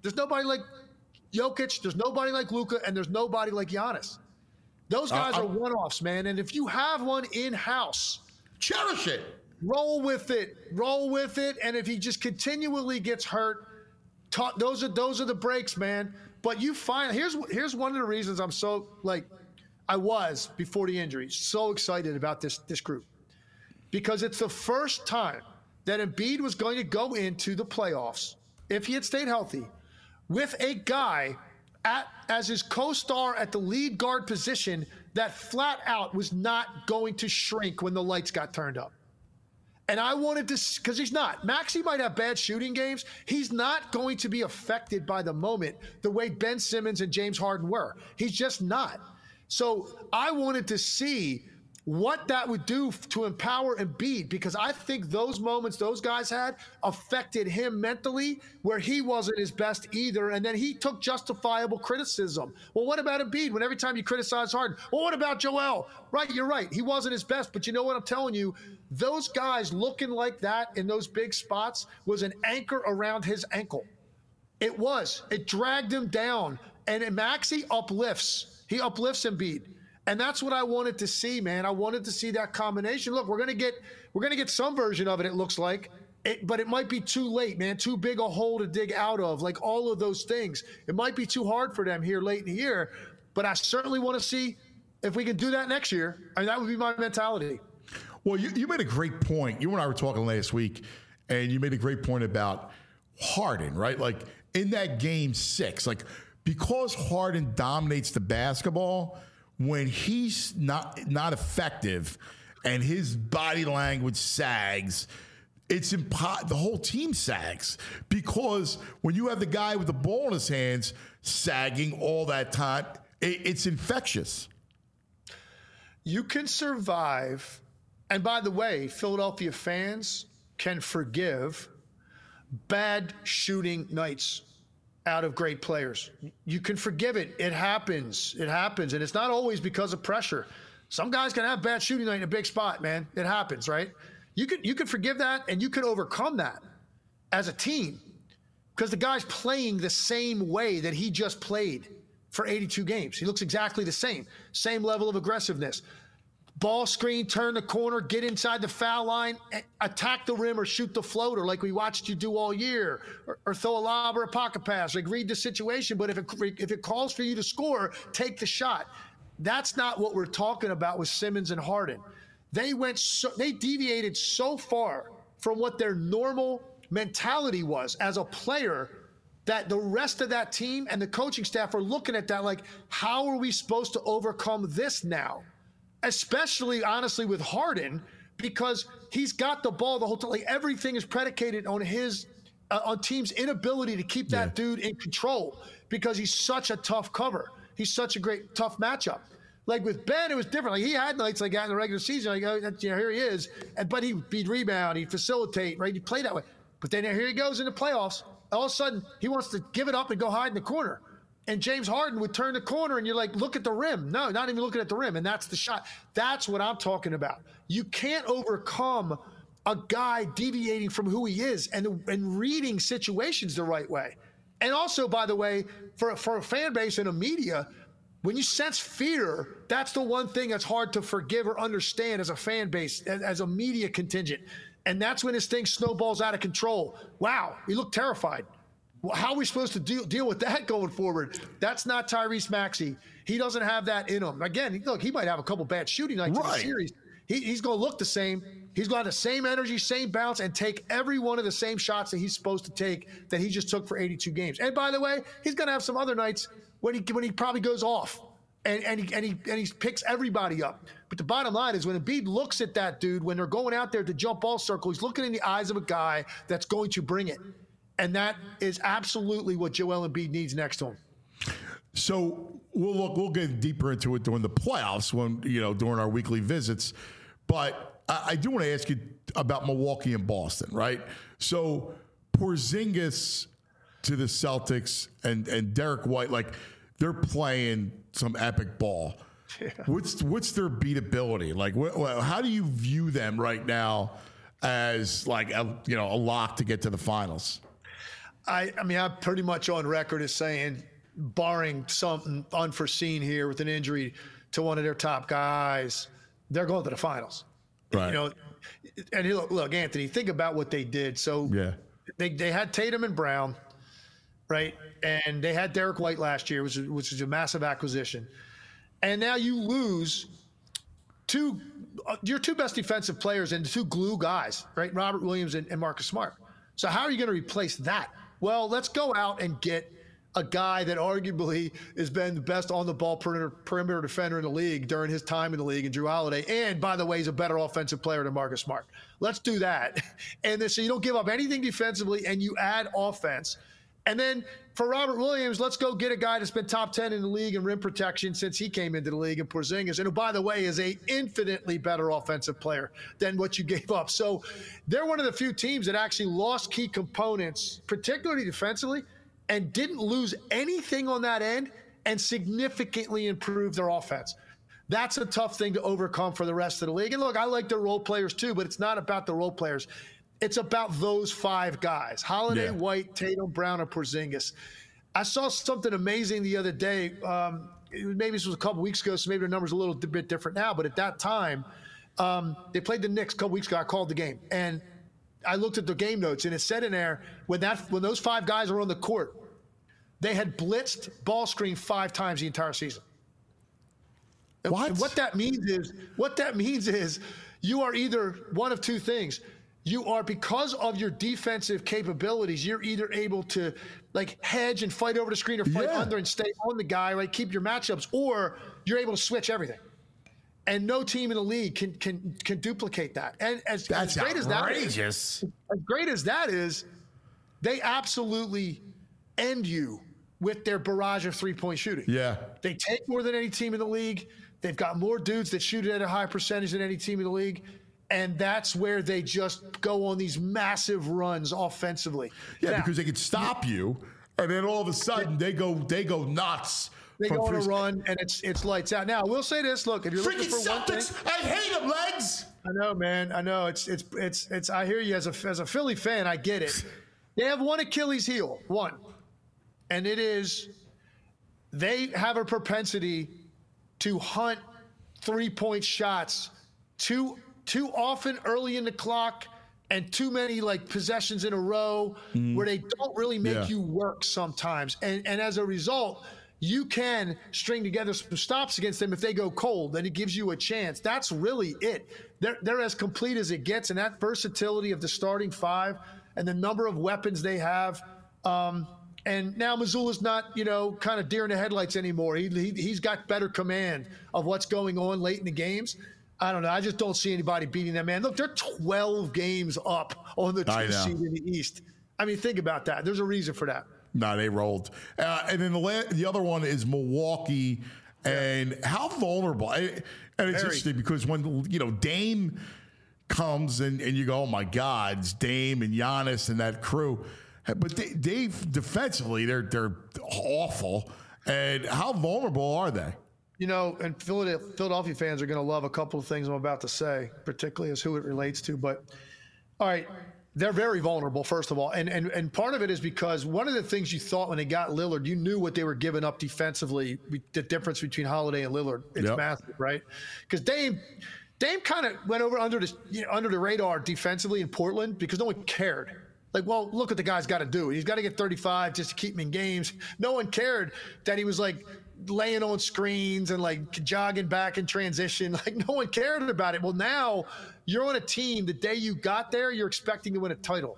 There's nobody like Jokic. There's nobody like Luka, and there's nobody like Giannis. Those guys uh, are one-offs, man. And if you have one in-house, cherish it. Roll with it. Roll with it. And if he just continually gets hurt, ta- those are those are the breaks, man. But you find here's here's one of the reasons I'm so like I was before the injury so excited about this this group, because it's the first time that Embiid was going to go into the playoffs if he had stayed healthy with a guy at as his co-star at the lead guard position that flat out was not going to shrink when the lights got turned up. And I wanted to, because he's not. Maxey might have bad shooting games. He's not going to be affected by the moment the way Ben Simmons and James Harden were. He's just not. So I wanted to see what that would do to empower Embiid, because I think those moments those guys had affected him mentally where he wasn't his best either. And then he took justifiable criticism. Well, what about Embiid when every time you criticize Harden? Well, what about Joel? Right, you're right. He wasn't his best. But you know what I'm telling you? Those guys looking like that in those big spots was an anchor around his ankle. It was. It dragged him down. And Maxey uplifts. He uplifts Embiid. And that's what I wanted to see, man. I wanted to see that combination. Look, we're gonna get we're gonna get some version of it. It looks like, it, but it might be too late, man. Too big a hole to dig out of. Like all of those things, it might be too hard for them here late in the year. But I certainly want to see if we can do that next year. I mean, that would be my mentality. Well, you, you made a great point. You and I were talking last week, and you made a great point about Harden, right? Like in that game six, like because Harden dominates the basketball. When he's not not effective and his body language sags, it's impo- the whole team sags, because when you have the guy with the ball in his hands sagging all that time, it, it's infectious. You can survive, and by the way, Philadelphia fans can forgive bad shooting nights out of great players. You can forgive it. It happens. It happens. And it's not always because of pressure. Some guys can have bad shooting night in a big spot, man. It happens, right? You can you can forgive that, and you can overcome that as a team, because the guy's playing the same way that he just played for eighty-two games. He looks exactly the same. Same level of aggressiveness. Ball screen, turn the corner, get inside the foul line, attack the rim or shoot the floater like we watched you do all year, or, or throw a lob or a pocket pass. Like, read the situation, but if it, if it calls for you to score, take the shot. That's not what we're talking about with Simmons and Harden. They went so, they deviated so far from what their normal mentality was as a player that the rest of that team and the coaching staff are looking at that like, how are we supposed to overcome this now? Especially, honestly, with Harden, because he's got the ball the whole time. Like, everything is predicated on his, uh, on team's inability to keep that yeah. dude in control, because he's such a tough cover. He's such a great, tough matchup. Like with Ben, it was different. Like, he had nights like that in the regular season. Like, oh, you know, here he is. And, but he'd, he'd rebound, he'd facilitate, right? He'd play that way. But then here he goes in the playoffs. All of a sudden, he wants to give it up and go hide in the corner. And James Harden would turn the corner, and you're like, look at the rim. No, not even looking at the rim. And that's the shot. That's what I'm talking about. You can't overcome a guy deviating from who he is and, and reading situations the right way. And also, by the way, for, for a fan base and a media, when you sense fear, that's the one thing that's hard to forgive or understand as a fan base, as, as a media contingent. And that's when this thing snowballs out of control. Wow, we look terrified. How are we supposed to deal, deal with that going forward? That's not Tyrese Maxey. He doesn't have that in him. Again, look, he might have a couple bad shooting nights right. in the series. He, he's going to look the same. He's got the same energy, same bounce, and take every one of the same shots that he's supposed to take that he just took for eighty-two games. And by the way, he's going to have some other nights when he when he probably goes off and, and, he, and, he, and he picks everybody up. But the bottom line is, when Embiid looks at that dude, when they're going out there to jump ball circle, he's looking in the eyes of a guy that's going to bring it. And that is absolutely what Joel Embiid needs next to him. So we'll look. We'll get deeper into it during the playoffs, when you know during our weekly visits. But I, I do want to ask you about Milwaukee and Boston, right? So Porzingis to the Celtics and and Derek White, like, they're playing some epic ball. Yeah. What's what's their beatability? Like, wh- how do you view them right now as like a, you know a lock to get to the finals? I, I mean, I'm pretty much on record as saying, barring something unforeseen here with an injury to one of their top guys, they're going to the finals. Right. You know, and look, look, Anthony, think about what they did. So Yeah. they, they had Tatum and Brown, right? And they had Derek White last year, which, which is a massive acquisition. And now you lose two, uh, your two best defensive players and two glue guys, right? Robert Williams and, and Marcus Smart. So how are you going to replace that? Well, let's go out and get a guy that arguably has been the best on the ball perimeter, perimeter defender in the league during his time in the league, and Drew Holiday. And by the way, he's a better offensive player than Marcus Smart. Let's do that. And then so you don't give up anything defensively and you add offense. And then for Robert Williams, let's go get a guy that's been top ten in the league in rim protection since he came into the league in Porzingis, and who, by the way, is a infinitely better offensive player than what you gave up. So they're one of the few teams that actually lost key components, particularly defensively, and didn't lose anything on that end and significantly improved their offense. That's a tough thing to overcome for the rest of the league. And look, I like the role players too, but it's not about the role players. It's about those five guys: Holiday, Yeah. White, Tatum, Brown, and Porzingis. I saw something amazing the other day. Um, it was- maybe this was a couple weeks ago, so maybe the number's a little bit different now. But at that time, um, they played the Knicks a couple weeks ago. I called the game, and I looked at the game notes, and it said in there when that when those five guys were on the court, they had blitzed ball screen five times the entire season. And- What? and what that means is what that means is you are either one of two things. You are, because of your defensive capabilities, you're either able to like hedge and fight over the screen or fight Yeah. under and stay on the guy, right? Keep your matchups, or you're able to switch everything. And no team in the league can can can duplicate that. And as, That's as great as that is, outrageous. as great as that is, they absolutely end you with their barrage of three-point shooting. Yeah. They take more than any team in the league. They've got more dudes that shoot it at a high percentage than any team in the league. And that's where they just go on these massive runs offensively. Yeah, Now, because they could stop you, and then all of a sudden they go they go nuts. they from go on a three- run, and it's it's lights out. Now, I will say this. Look, if you're looking Freaking for one thing, Celtics! I hate them, legs. I know, man. I know. It's it's it's it's. I hear you as a as a Philly fan. I get it. They have one Achilles heel, one, and it is they have a propensity to hunt three point shots too too often early in the clock, and too many like possessions in a row where they don't really make Yeah. you work sometimes, and and as a result, you can string together some stops against them if they go cold, then it gives you a chance. That's really it. They're, they're as complete as it gets, and that versatility of the starting five and the number of weapons they have. Um, and now Missoula's not, you know, kind of deer in the headlights anymore. He, he, he's got better command of what's going on late in the games. I don't know. I just don't see anybody beating them, man. Look, they're twelve games up on the I two know. seed in the East. I mean, think about that. There's a reason for that. No, they rolled. Uh, and then the la- the other one is Milwaukee, and how vulnerable. I, and it's Very. interesting because when you know Dame comes and, and you go, oh my God, it's Dame and Giannis and that crew, but they, they defensively they're they're awful. And how vulnerable are they? You know, and Philadelphia, Philadelphia fans are going to love a couple of things I'm about to say, particularly as who it relates to. But, all right, they're very vulnerable, first of all. And, and, and part of it is because one of the things you thought when they got Lillard, you knew what they were giving up defensively, the difference between Holiday and Lillard. It's Yep. massive, right? Because Dame, Dame kind of went over under the, you know, under the radar defensively in Portland because no one cared. Like, well, look what the guy's got to do. He's got to get thirty-five just to keep him in games. No one cared that he was like laying on screens and like jogging back in transition. Like, no one cared about it. Well, now you're on a team. The day you got there, you're expecting to win a title.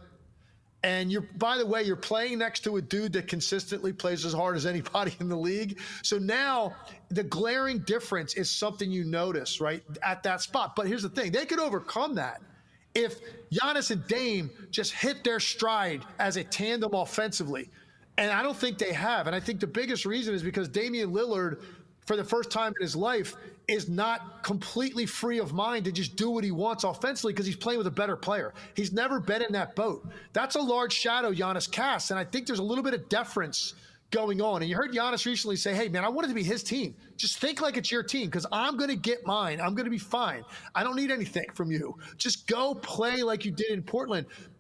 And you're, by the way, you're playing next to a dude that consistently plays as hard as anybody in the league. So now the glaring difference is something you notice, right, at that spot. But here's the thing. They could overcome that if Giannis and Dame just hit their stride as a tandem offensively. And I don't think they have. And I think the biggest reason is because Damian Lillard, for the first time in his life, is not completely free of mind to just do what he wants offensively because he's playing with a better player. He's never been in that boat. That's a large shadow Giannis casts. And I think there's a little bit of deference going on. And you heard Giannis recently say, hey, man, I want it to be his team. Just think like it's your team because I'm going to get mine. I'm going to be fine. I don't need anything from you. Just go play like you did in Portland.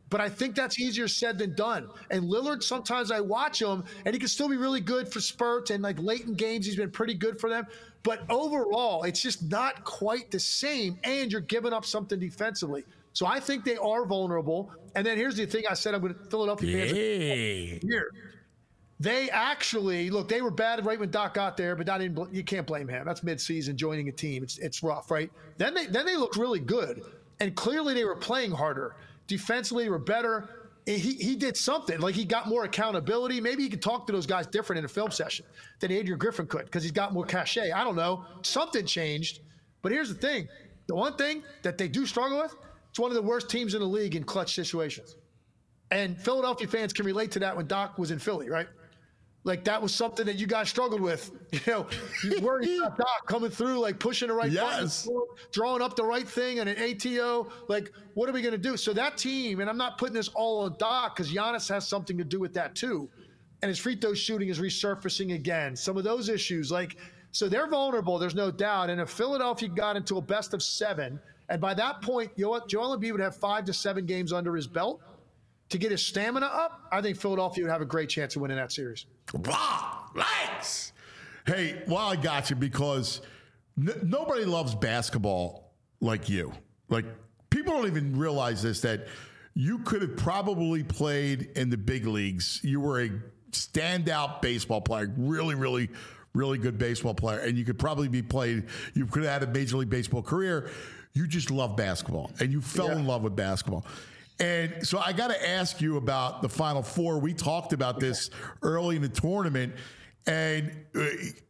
But I think that's easier said than done. And Lillard, sometimes I watch him, and he can still be really good for spurts, and like late in games, he's been pretty good for them. But overall, it's just not quite the same, and you're giving up something defensively. So I think they are vulnerable. And then here's the thing I said I'm going to Philadelphia fans Hey. here. They actually look. They were bad right when Doc got there, but I didn't. You can't blame him. That's midseason joining a team. It's it's rough, right? Then they then they looked really good, and clearly they were playing harder. Defensively, they were better. He he did something like he got more accountability. Maybe he could talk to those guys different in a film session than Adrian Griffin could because he's got more cachet. I don't know. Something changed. But here's the thing: the one thing that they do struggle with, it's one of the worst teams in the league in clutch situations. And Philadelphia fans can relate to that when Doc was in Philly, right? Like that was something that you guys struggled with. You know, you worried about Doc coming through, like pushing the right Yes. button, drawing up the right thing and an A T O. Like, what are we going to do? So that team, and I'm not putting this all on Doc because Giannis has something to do with that too. And his free throw shooting is resurfacing again. Some of those issues, like, so they're vulnerable, there's no doubt. And if Philadelphia got into a best of seven, and by that point, you know what, Joel Embiid would have five to seven games under his belt to get his stamina up, I think Philadelphia would have a great chance of winning that series. Wow, thanks. Hey, well, I got you because n- nobody loves basketball like you. Like, people don't even realize this, that you could have probably played in the big leagues. You were a standout baseball player, really, really, really good baseball player, and you could probably be played, you could have had a Major League Baseball career. You just love basketball, and you fell Yeah. in love with basketball. And so I got to ask you about the Final Four. We talked about this early in the tournament, and uh,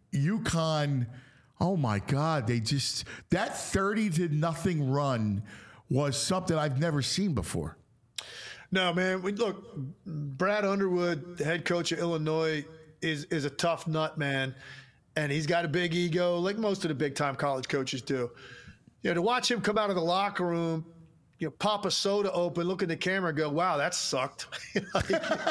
UConn, oh my God, they just, that thirty to nothing run was something I've never seen before. No, man. We, look, Brad Underwood, the head coach of Illinois, is is a tough nut, man. And he's got a big ego, like most of the big-time college coaches do. You know, to watch him come out of the locker room, you know, pop a soda open, look at the camera and go, wow, that sucked. Like,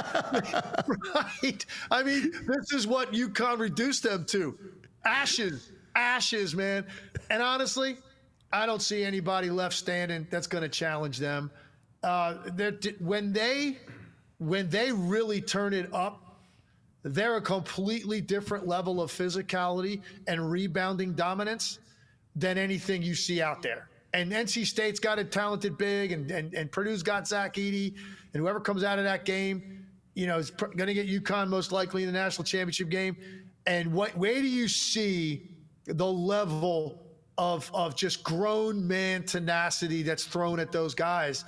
right? I mean, this is what UConn reduced them to. Ashes, ashes, man. And honestly, I don't see anybody left standing that's going to challenge them. Uh, when they when they really turn it up, they're a completely different level of physicality and rebounding dominance than anything you see out there. And N C State's got a talented big, and, and, and Purdue's got Zach Edey, and whoever comes out of that game, you know, is pr- going to get UConn most likely in the national championship game. And what, where do you see the level of of just grown man tenacity that's thrown at those guys?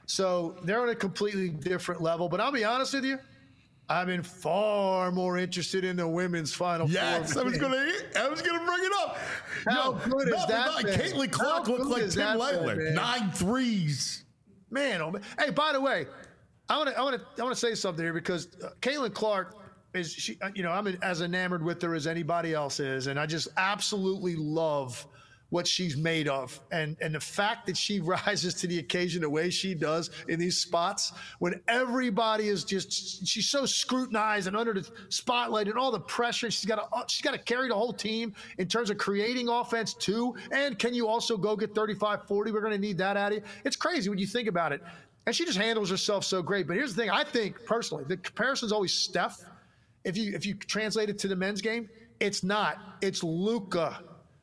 So they're on a completely different level. But I'll be honest with you, I've been far more interested in the women's Final Yes, Four. I was gonna, I was gonna bring it up. How good is no, that no, been? Caitlin Clark How looked good like is Tim that been, Legler, man? nine threes. Man, oh man. Hey, by the way, I want to I want to I want to say something here because uh, Caitlin Clark is she uh, you know, I'm as enamored with her as anybody else is, and I just absolutely love what she's made of, and and the fact that she rises to the occasion the way she does in these spots when everybody is just, she's so scrutinized and under the spotlight and all the pressure. She's got to she's got to carry the whole team in terms of creating offense too. And can you also go get thirty-five, forty? We're going to need that out of you. It's crazy when you think about it. And she just handles herself so great. But here's the thing: I think personally, the comparison's always Steph. If you if you translate it to the men's game, it's not. It's Luka.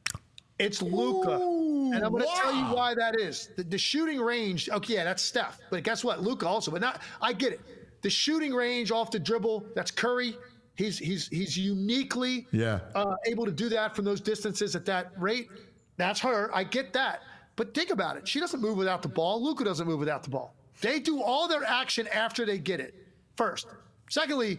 It's Luka. And I'm going to wow. tell you why that is. The, the shooting range, okay, yeah, that's Steph. But guess what? Luka also. But not, I get it. The shooting range off the dribble, that's Curry. He's he's he's uniquely Yeah. uh, able to do that from those distances at that rate. That's her. I get that. But think about it. She doesn't move without the ball. Luka doesn't move without the ball. They do all their action after they get it, first. Secondly,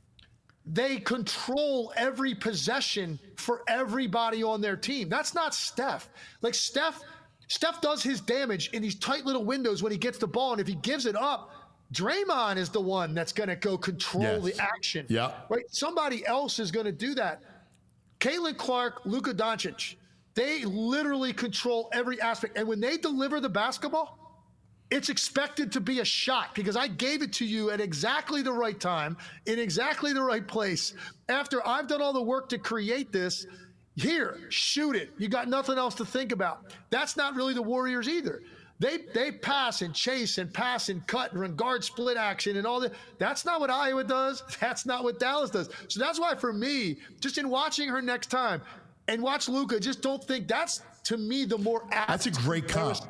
they control every possession for everybody on their team. That's not Steph. Like Steph, Steph does his damage in these tight little windows when he gets the ball, and if he gives it up, Draymond is the one that's going to go control Yes. the action. Yeah. Right? Somebody else is going to do that. Caitlin Clark, Luka Doncic, they literally control every aspect. And when they deliver the basketball, it's expected to be a shot because I gave it to you at exactly the right time, in exactly the right place. After I've done all the work to create this, here, shoot it. You got nothing else to think about. That's not really the Warriors either. They they pass and chase and pass and cut and run guard split action and all that. That's not what Iowa does. That's not what Dallas does. So that's why for me, just in watching her next time and watch Luka, just don't think that's, to me, the more apt. That's a great comp.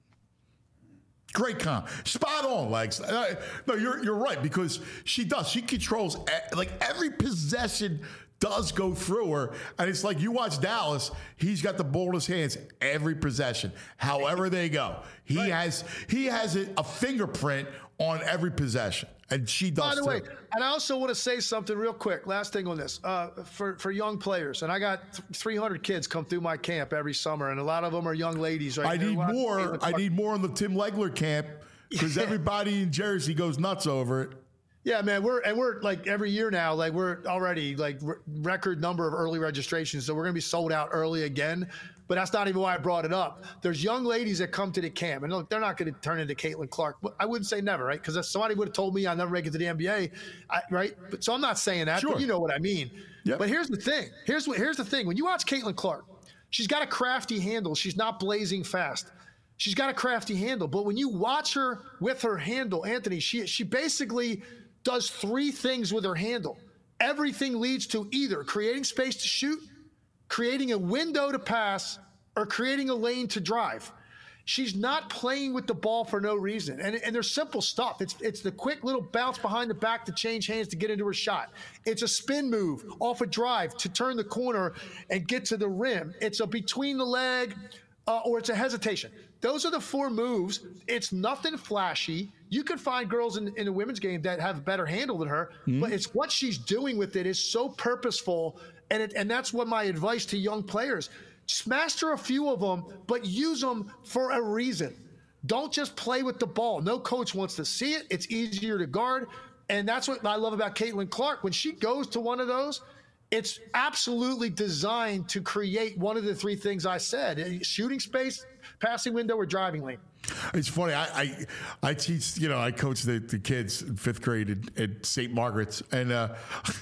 Great comp. Spot on, Legs. Uh, no, you're you're right, because she does. She controls, like, every possession does go through her. And it's like, you watch Dallas, he's got the ball in his hands every possession, however they go. He right. has he has a, a fingerprint on every possession. And she does. By the too. way, and I also want to say something real quick. Last thing on this, uh, for for young players, and I got th- three hundred kids come through my camp every summer, and a lot of them are young ladies. Right? I need more. I need more on the Tim Legler camp, because yeah. everybody in Jersey goes nuts over it. Yeah, man, we're and we're like every year now, like we're already like r- record number of early registrations, so we're gonna be sold out early again. But that's not even why I brought it up. There's young ladies that come to the camp, and look, they're not going to turn into Caitlin Clark. I wouldn't say never, right? Because if somebody would have told me I'll never make it to the N B A, I, right? But so I'm not saying that, sure. but you know what I mean. Yep. But here's the thing. Here's what. Here's the thing. When you watch Caitlin Clark, she's got a crafty handle. She's not blazing fast. She's got a crafty handle. But when you watch her with her handle, Anthony, she she basically does three things with her handle. Everything leads to either creating space to shoot, creating a window to pass, or creating a lane to drive. She's not playing with the ball for no reason. And, and there's simple stuff. It's it's the quick little bounce behind the back to change hands to get into her shot. It's a spin move off a drive to turn the corner and get to the rim. It's a between the leg, uh, or it's a hesitation. Those are the four moves. It's nothing flashy. You can find girls in, in the women's game that have a better handle than her, mm-hmm. but it's what she's doing with it is so purposeful. And it, and that's what my advice to young players. Just master a few of them, but use them for a reason. Don't just play with the ball. No coach wants to see it. It's easier to guard. And that's what I love about Caitlin Clark. When she goes to one of those, it's absolutely designed to create one of the three things I said: shooting space, passing window, or driving lane. It's funny. I I, I teach, you know, I coach the, the kids in fifth grade at, at Saint Margaret's. And uh,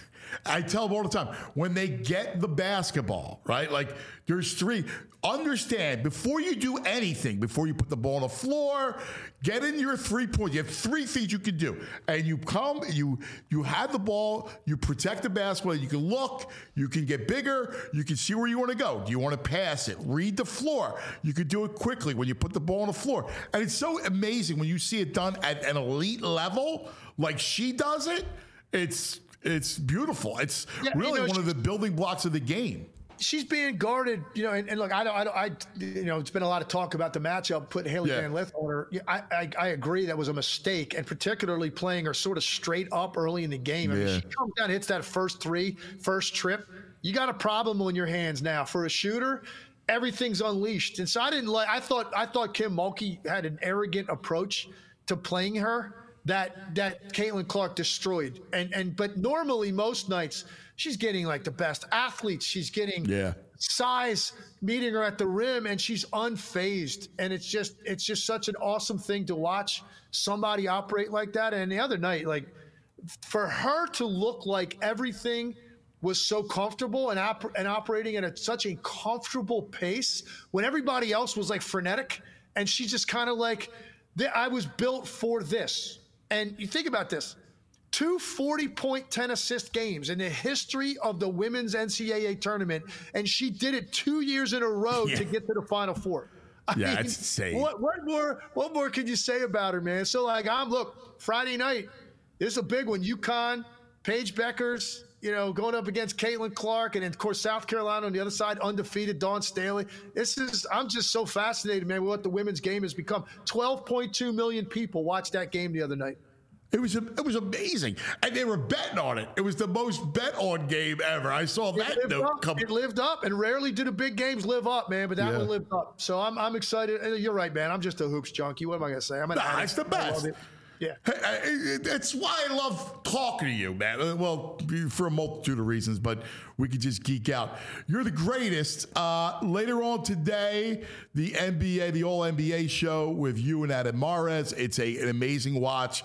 I tell them all the time, when they get the basketball, right? Like, there's three. Understand, before you do anything, before you put the ball on the floor, get in your three points. You have three things you can do. And you come, you you have the ball, you protect the basketball, you can look, you can get bigger, you can see where you want to go. Do you want to pass it? Read the floor. You can do it quickly when you put the ball on the floor. And it's so amazing when you see it done at an elite level, like she does it. It's it's beautiful. It's yeah, really you know, one of the building blocks of the game. She's being guarded, you know, and, and look, I don't, I don't, I, you know, it's been a lot of talk about the matchup, put Haley yeah. Van Lith on her. I, I, I agree that was a mistake, and particularly playing her sort of straight up early in the game. I mean, yeah. she comes down, hits that first three, first trip. You got a problem on your hands now. For a shooter, everything's unleashed. And so I didn't like, I thought, I thought Kim Mulkey had an arrogant approach to playing her that, that Caitlin Clark destroyed. And, and, but normally most nights, she's getting like the best athletes. She's getting yeah. size meeting her at the rim, and she's unfazed. And it's just, it's just such an awesome thing to watch somebody operate like that. And the other night, like for her to look like everything was so comfortable and, op- and operating at a, such a comfortable pace when everybody else was like frenetic, and she just kind of like, I was built for this. And you think about this. Two forty-point, ten-assist games in the history of the women's N C double A tournament, and she did it two years in a row yeah. to get to the Final Four. I yeah, mean, that's insane. What, what more? What more could you say about her, man? So, like, I'm look Friday night. This is a big one. UConn, Paige Beckers, you know, going up against Caitlin Clark, and then, of course, South Carolina on the other side, undefeated Dawn Staley. This is. I'm just so fascinated, man, with what the women's game has become. twelve point two million people watched that game the other night. It was it was amazing, and they were betting on it. It was the most bet on game ever. I saw that it note up. come. It lived up, and rarely do the big games live up, man. But that yeah. one lived up. So I'm I'm excited. You're right, man. I'm just a hoops junkie. What am I gonna say? I'm an nah, it's the best. It. Yeah, that's why I love talking to you, man. Well, for a multitude of reasons, but we could just geek out. You're the greatest. Uh, later on today, the N B A, the All N B A show with you and Adam Mares. It's a, an amazing watch.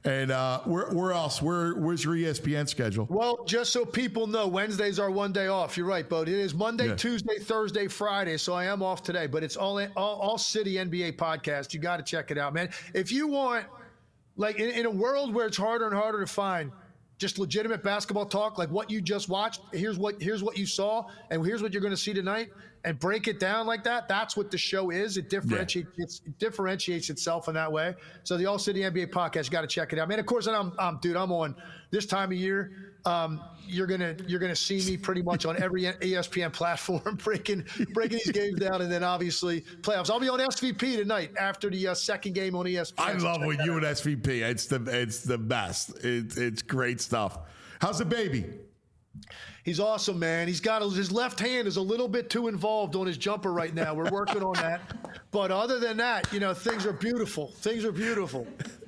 And uh, where, where else? Where, where's your E S P N schedule? Well, just so people know, Wednesdays are one day off. You're right, Bo. It is Monday, Yeah. Tuesday, Thursday, Friday. So I am off today, but it's all all, all City N B A podcast. You got to check it out, man. If you want, like, in, in a world where it's harder and harder to find just legitimate basketball talk, like what you just watched, here's what here's what you saw, and here's what you're going to see tonight, and break it down like that. That's what the show is. It differentiates yeah. it differentiates itself in that way. So the All City N B A podcast, you got to check it out, man. Of course, and I'm, I'm dude, I'm on this time of year. Um, you're gonna you're gonna see me pretty much on every E S P N platform breaking breaking these games down, and then obviously playoffs. I'll be on S V P tonight after the uh, second game on E S P N. I love when you and S V P. It's the it's the best. It's it's great stuff. How's the baby? He's awesome, man. He's got a, his left hand is a little bit too involved on his jumper right now. We're working on that, but other than that, you know, things are beautiful. Things are beautiful.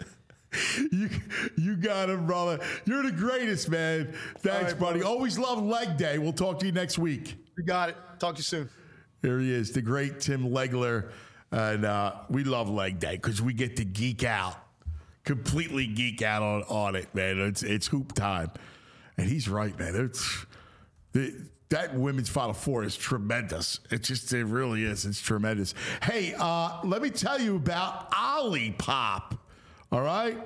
You you got him, brother. You're the greatest, man. Thanks, right, buddy. Brother. Always love leg day. We'll talk to you next week. You got it. Talk to you soon. Here he is, the great Tim Legler. And uh, we love leg day because we get to geek out, completely geek out on, on it, man. It's it's hoop time. And he's right, man. It's the, that women's Final Four is tremendous. It just, it really is. It's tremendous. Hey, uh, let me tell you about Olipop. All right?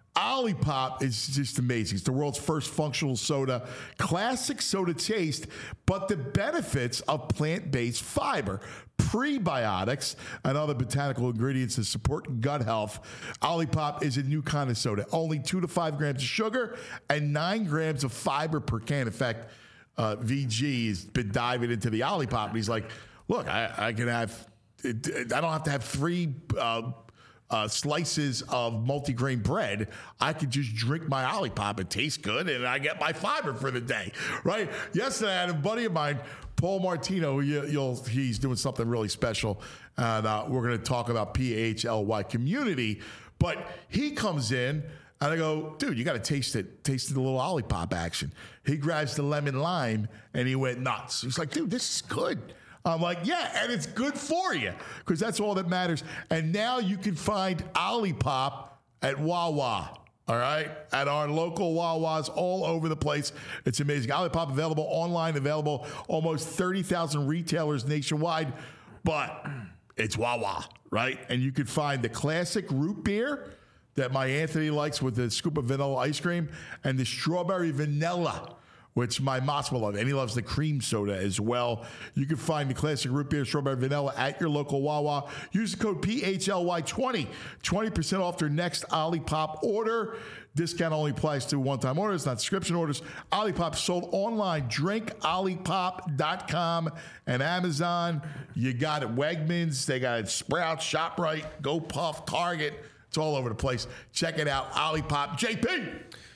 Olipop is just amazing. It's the world's first functional soda. Classic soda taste, but the benefits of plant-based fiber, prebiotics, and other botanical ingredients to support gut health. Olipop is a new kind of soda. Only two to five grams of sugar and nine grams of fiber per can. In fact, uh, V G has been diving into the Olipop, and he's like, look, I, I can have, I don't have to have three uh, Uh, slices of multigrain bread. I could just drink my Olipop. It tastes good, and I get my fiber for the day, right? Yesterday, I had a buddy of mine, Paul Martino. You, you'll, he's doing something really special, and uh, we're going to talk about P H L Y community. But he comes in, and I go, dude, you got to taste it. Taste the little Olipop action. He grabs the lemon lime, and he went nuts. He's like, dude, this is good. I'm like, yeah, and it's good for you because that's all that matters. And now you can find Olipop at Wawa, all right? At our local Wawas all over the place. It's amazing. Olipop available online, available almost thirty thousand retailers nationwide, but it's Wawa, right? And you can find the classic root beer that my Anthony likes with the scoop of vanilla ice cream and the strawberry vanilla, which my Moss will love, and he loves the cream soda as well. You can find the classic root beer strawberry vanilla at your local Wawa. Use the code P H L Y twenty, twenty percent off their next Olipop order. Discount only applies to one-time orders, not subscription orders. Olipop sold online, drink olipop dot com and Amazon. You got it, Wegmans, they got it, Sprouts, ShopRite, GoPuff, Target. It's all over the place. Check it out, Olipop. J P!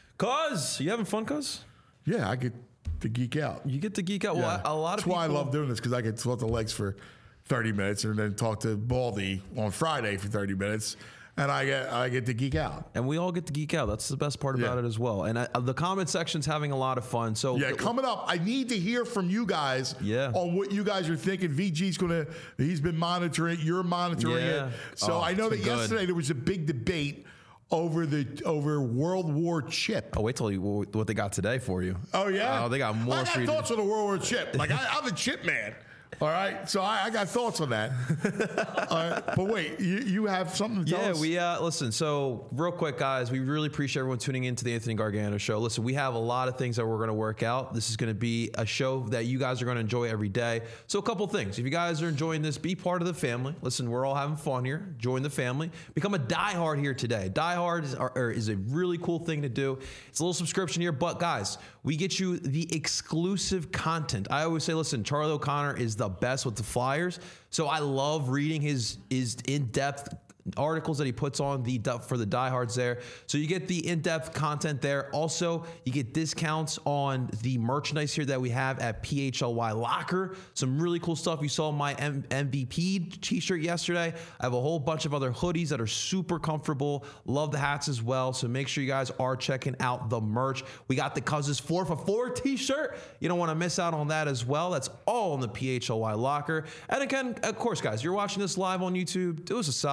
Cuz, you having fun, cuz? Yeah, I get to geek out. You get to geek out. Yeah. Well, a lot of That's people. why I love doing this because I get to talk to Legs for thirty minutes and then talk to Baldy on Friday for thirty minutes, and I get I get to geek out. And we all get to geek out. That's the best part about Yeah. it as well. And I, the comment section's having a lot of fun. So Yeah, coming up, I need to hear from you guys Yeah. on what you guys are thinking. V G's gonna he's been monitoring it. You're monitoring Yeah. it. So Oh, I know it's that been good. yesterday there was a big debate over the over World War Chip. Oh, wait till you what they got today for you. Oh yeah, Oh, they got more I got for you to- thoughts on the World War Chip. Like I, I'm a chip man. All right, so I, I got thoughts on that. All right, but wait, you, you have something to tell Yeah, us? we uh, listen. So, real quick, guys, we really appreciate everyone tuning in to the Anthony Gargano Show. Listen, we have a lot of things that we're going to work out. This is going to be a show that you guys are going to enjoy every day. So, a couple things. If you guys are enjoying this, be part of the family. Listen, we're all having fun here. Join the family. Become a diehard here today. Diehard is, are, is a really cool thing to do. It's a little subscription here, but guys, we get you the exclusive content. I always say, listen, Charlie O'Connor is the best with the Flyers. So I love reading his, his in-depth articles that he puts on the for the diehards there. So you get the in-depth content there. Also, you get discounts on the merchandise here that we have at P H L Y Locker. Some really cool stuff. You saw my M- MVP t-shirt yesterday. I have a whole bunch of other hoodies that are super comfortable. Love the hats as well. So make sure you guys are checking out the merch. We got the Cousins four for four t-shirt. You don't want to miss out on that as well. That's all in the P H L Y Locker. And again, of course, guys, you're watching this live on YouTube. Do us a solid. Hit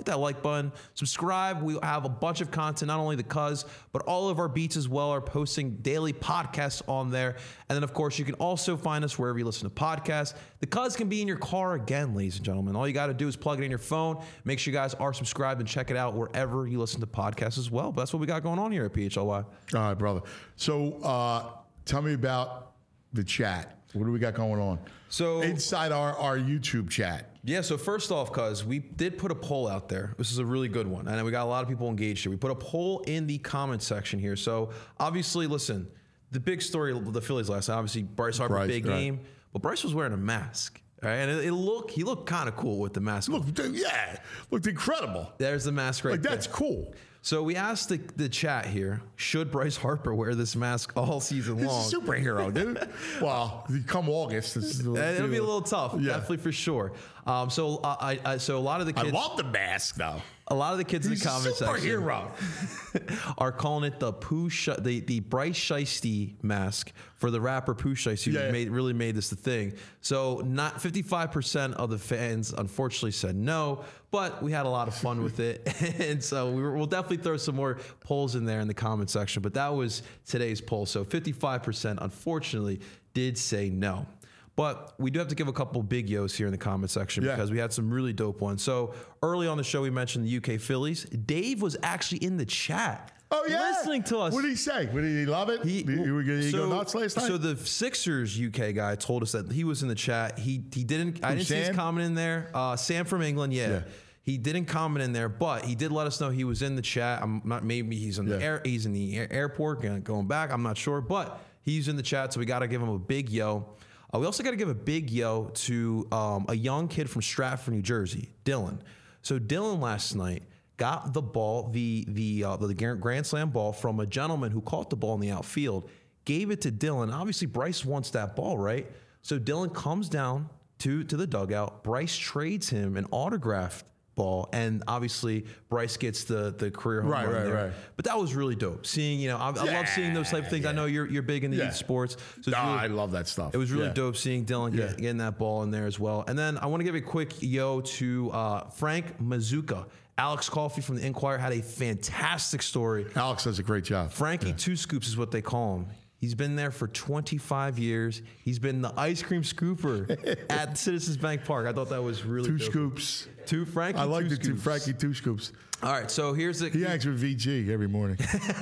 that like button, subscribe. We have a bunch of content, not only the Cuz, but all of our beats as well are posting daily podcasts on there. And then, of course, you can also find us wherever you listen to podcasts. The Cuz can be in your car again, ladies and gentlemen. All you got to do is plug it in your phone. Make sure you guys are subscribed and check it out wherever you listen to podcasts as well. But that's what we got going on here at P H L Y. All right, brother. So uh, tell me about the chat. What do we got going on? So inside our, our YouTube chat. Yeah, so first off, Cuz, we did put a poll out there. This is a really good one. And we got a lot of people engaged here. We put a poll in the comment section here. So obviously, listen, the big story of the Phillies last night, obviously Bryce Harper, Bryce, big right. game. But Bryce was wearing a mask. Right? And it, it looked, he looked kind of cool with the mask. Look, yeah, looked incredible. There's the mask right Like, there. that's cool. So we asked the, the chat here, should Bryce Harper wear this mask all season long? He's a superhero, dude. Well, come August, this is, Uh, It'll be a little tough, Yeah. definitely for sure. Um, so uh, I, I, so a lot of the I kids, love the mask, though. a lot of the kids He's in the a comment section superhero. are calling it the Pooh, Sh- the the Bryce Shiesty mask for the rapper Pooh Shiesty, Yeah. who made really made this the thing. So not fifty-five percent of the fans unfortunately said no, but we had a lot of fun with it, and so we were, we'll definitely throw some more polls in there in the comment section. But that was today's poll. So fifty-five percent unfortunately did say no. But we do have to give a couple big yos here in the comment section Yeah. because we had some really dope ones. So early on the show, we mentioned the U K Phillies. Dave was actually in the chat. Oh, yeah. Listening to us. What did he say? What, did he love it? He, he, he, he go nuts last night? So the Sixers U K guy told us that he was in the chat. He he didn't. I Who, didn't see his Sam? comment in there. Uh, Sam from England, yeah. Yeah. He didn't comment in there, but he did let us know he was in the chat. I'm not. Maybe he's in the Yeah. air. He's in the air, airport going going back. I'm not sure, but he's in the chat, so we got to give him a big yo. Uh, we also got to give a big yo to um, a young kid from Stratford, New Jersey, Dylan. So Dylan last night got the ball, the the uh, the Grand Slam ball from a gentleman who caught the ball in the outfield, gave it to Dylan. Obviously, Bryce wants that ball, right? So Dylan comes down to to the dugout. Bryce trades him an autographed ball, and obviously Bryce gets the the career home Right, run right, there. right. But that was really dope. Seeing, you know, I, I Yeah, love seeing those type of things. I know you're you're big into Yeah. youth sports, so it's Nah, really- I love that stuff. it was really Yeah. dope seeing Dylan get, Yeah. getting that ball in there as well. And then I want to give a quick yo to uh, Frank Mazuka. Alex Coffey from the Inquirer had a fantastic story. Alex does a great job. Frankie Two Scoops is what they call him. He's been there for twenty-five years. He's been the ice cream scooper at Citizens Bank Park. I thought that was really Two dope. scoops. Two Frankie I like Two the two Scoops. Frankie two scoops. All right, so here's the He hangs with V G every morning.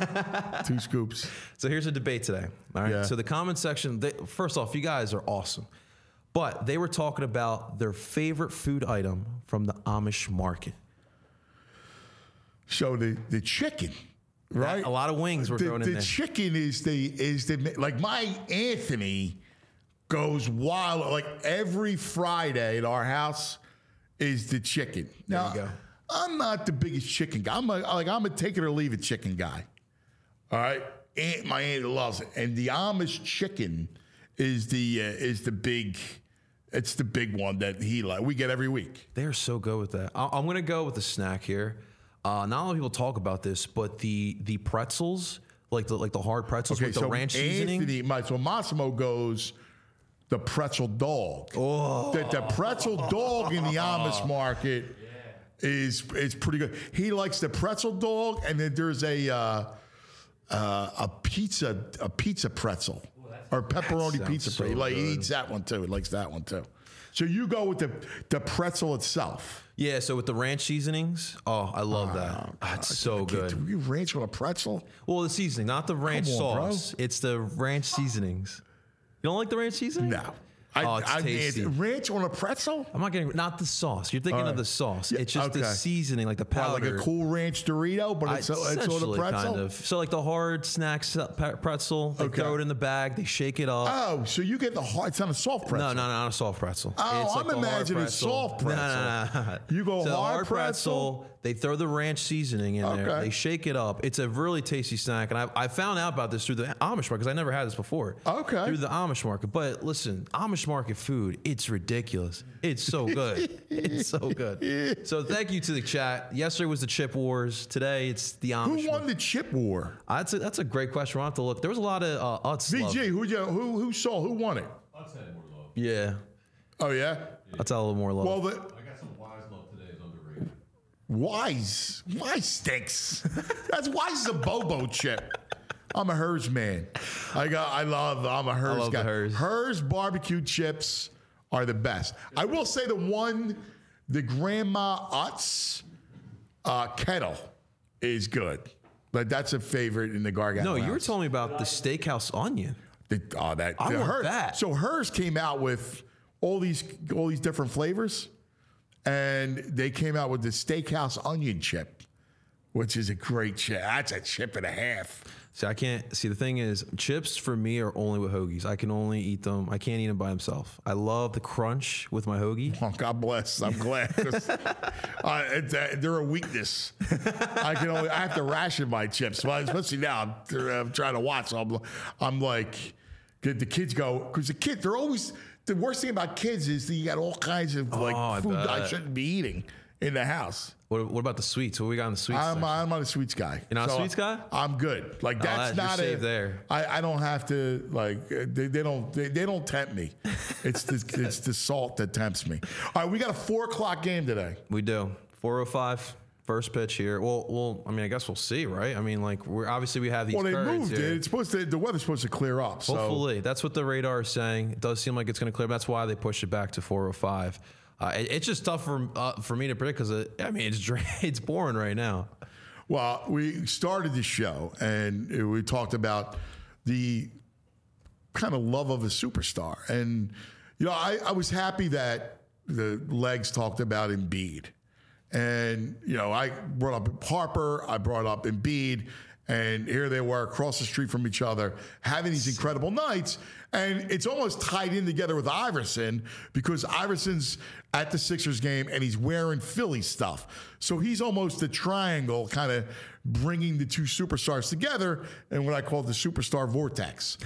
Two scoops. So here's a debate today. All right. Yeah. So the comment section, they, first off, you guys are awesome. But they were talking about their favorite food item from the Amish market. So the, the chicken, right? A lot of wings were the, thrown in the there. chicken is the is the like my Anthony goes wild. Like every Friday at our house is the chicken. Now, you go. I'm not the biggest chicken guy. I'm a, like I'm a take it or leave it chicken guy. All right, Aunt, my aunt loves it, and the Amish chicken is the uh, is the big. It's the big one that he like. We get every week. They're so good with that. I- I'm going to go with the snack here. Uh, not a lot of people talk about this, but the the pretzels, like the like the hard pretzels with the ranch seasoning. Anthony, my, so Massimo goes the pretzel dog. Oh. The, the pretzel dog in the Amish market is is pretty good. He likes the pretzel dog, and then there's a uh, uh, a pizza a pizza pretzel or pepperoni sounds pizza so pretzel. Like, he good. eats that one too. He likes that one too. So you go with the the pretzel itself. Yeah, so with the ranch seasonings, oh, I love that. Ah, it's so good. Do you ranch on a pretzel? Well, the seasoning, not the ranch Come on, bro. sauce. It's the ranch seasonings. You don't like the ranch seasoning? No. Oh, it's I, tasty. I, ranch on a pretzel? I'm not getting not the sauce. You're thinking All of right. the sauce. Yeah, It's just the okay. seasoning, like the Wow, powder. like a Cool Ranch Dorito, but I- it's, it's on a essentially, pretzel? kind of. So like the hard snacks uh, pe- pretzel, they Okay. throw it in the bag, they shake it up. Oh, so you get the hard, it's not a soft pretzel. No, no, no, not a soft pretzel. Oh, It's I'm the hard imagining pretzel. soft No, pretzel. no, no, no. You go So the hard pretzel? They throw the ranch seasoning in there. Okay. They shake it up. It's a really tasty snack, and I, I found out about this through the Amish market because I never had this before. Okay. Through the Amish market, but listen, Amish market food, it's ridiculous. It's so good. It's so good. So thank you to the chat. Yesterday was the Chip Wars. Today it's the Amish. Who won the chip war? Uh, That's a, that's a great question. We'll have to look. There was a lot of uh, Utz love. V G, who, you, who, who saw, who won it? Yeah, Oh, yeah? that's a little more love. Well, the, I got some wise love today is underrated. Wise. Wise stinks. That's Wise is a Bobo chip. I'm a Hers man. I got. I love. I'm a Hers I love guy. the Hers. Hers barbecue chips are the best. I will say the one, the Grandma Utz uh, kettle is good. But that's a favorite in the Gargano. No, you were house. telling me about the steakhouse onion. The, oh, that. I the want Hers- that. So Hers came out with all these all these different flavors, and they came out with the steakhouse onion chip, which is a great chip. That's a chip and a half. See, I can't see. The thing is, chips for me are only with hoagies. I can only eat them. I can't eat them by themselves. I love the crunch with my hoagie. Oh, God bless. I'm glad. 'Cause, uh, it's, uh, they're a weakness. I can only. I have to ration my chips. Well, especially now, I'm, I'm trying to watch. So I'm, I'm like, the, the kids go because the kids. They're always the worst thing about kids is that you got all kinds of like Oh, I food I bet. shouldn't be eating in the house. What, what about the sweets? What we got in the sweets? I'm, section? I'm not a sweets guy. You're not a So sweets guy? I'm good. Like that's that- you're not safe a. there. I, I don't have to like. uh, They, they don't. They, they don't tempt me. It's the it's the salt that tempts me. All right, we got a four o'clock game today. We do. four oh five, first pitch here. Well, well, I mean, I guess we'll see, right? I mean, like, we're obviously we have these Well, they currents moved here. it. It's supposed to. The weather's supposed to clear up. So Hopefully. That's what the radar is saying. It does seem like it's going to clear. That's why they pushed it back to four oh five. Uh, it, it's just tough for uh, for me to predict because, I mean, it's dra- it's boring right now. Well, we started the show and we talked about the kind of love of a superstar. And, you know, I, I was happy that the legs talked about Embiid. And, you know, I brought up Harper, I brought up Embiid, and here they were across the street from each other having these incredible nights. And it's almost tied in together with Iverson because Iverson's at the Sixers game and he's wearing Philly stuff. So he's almost a triangle kind of bringing the two superstars together in what I call the superstar vortex.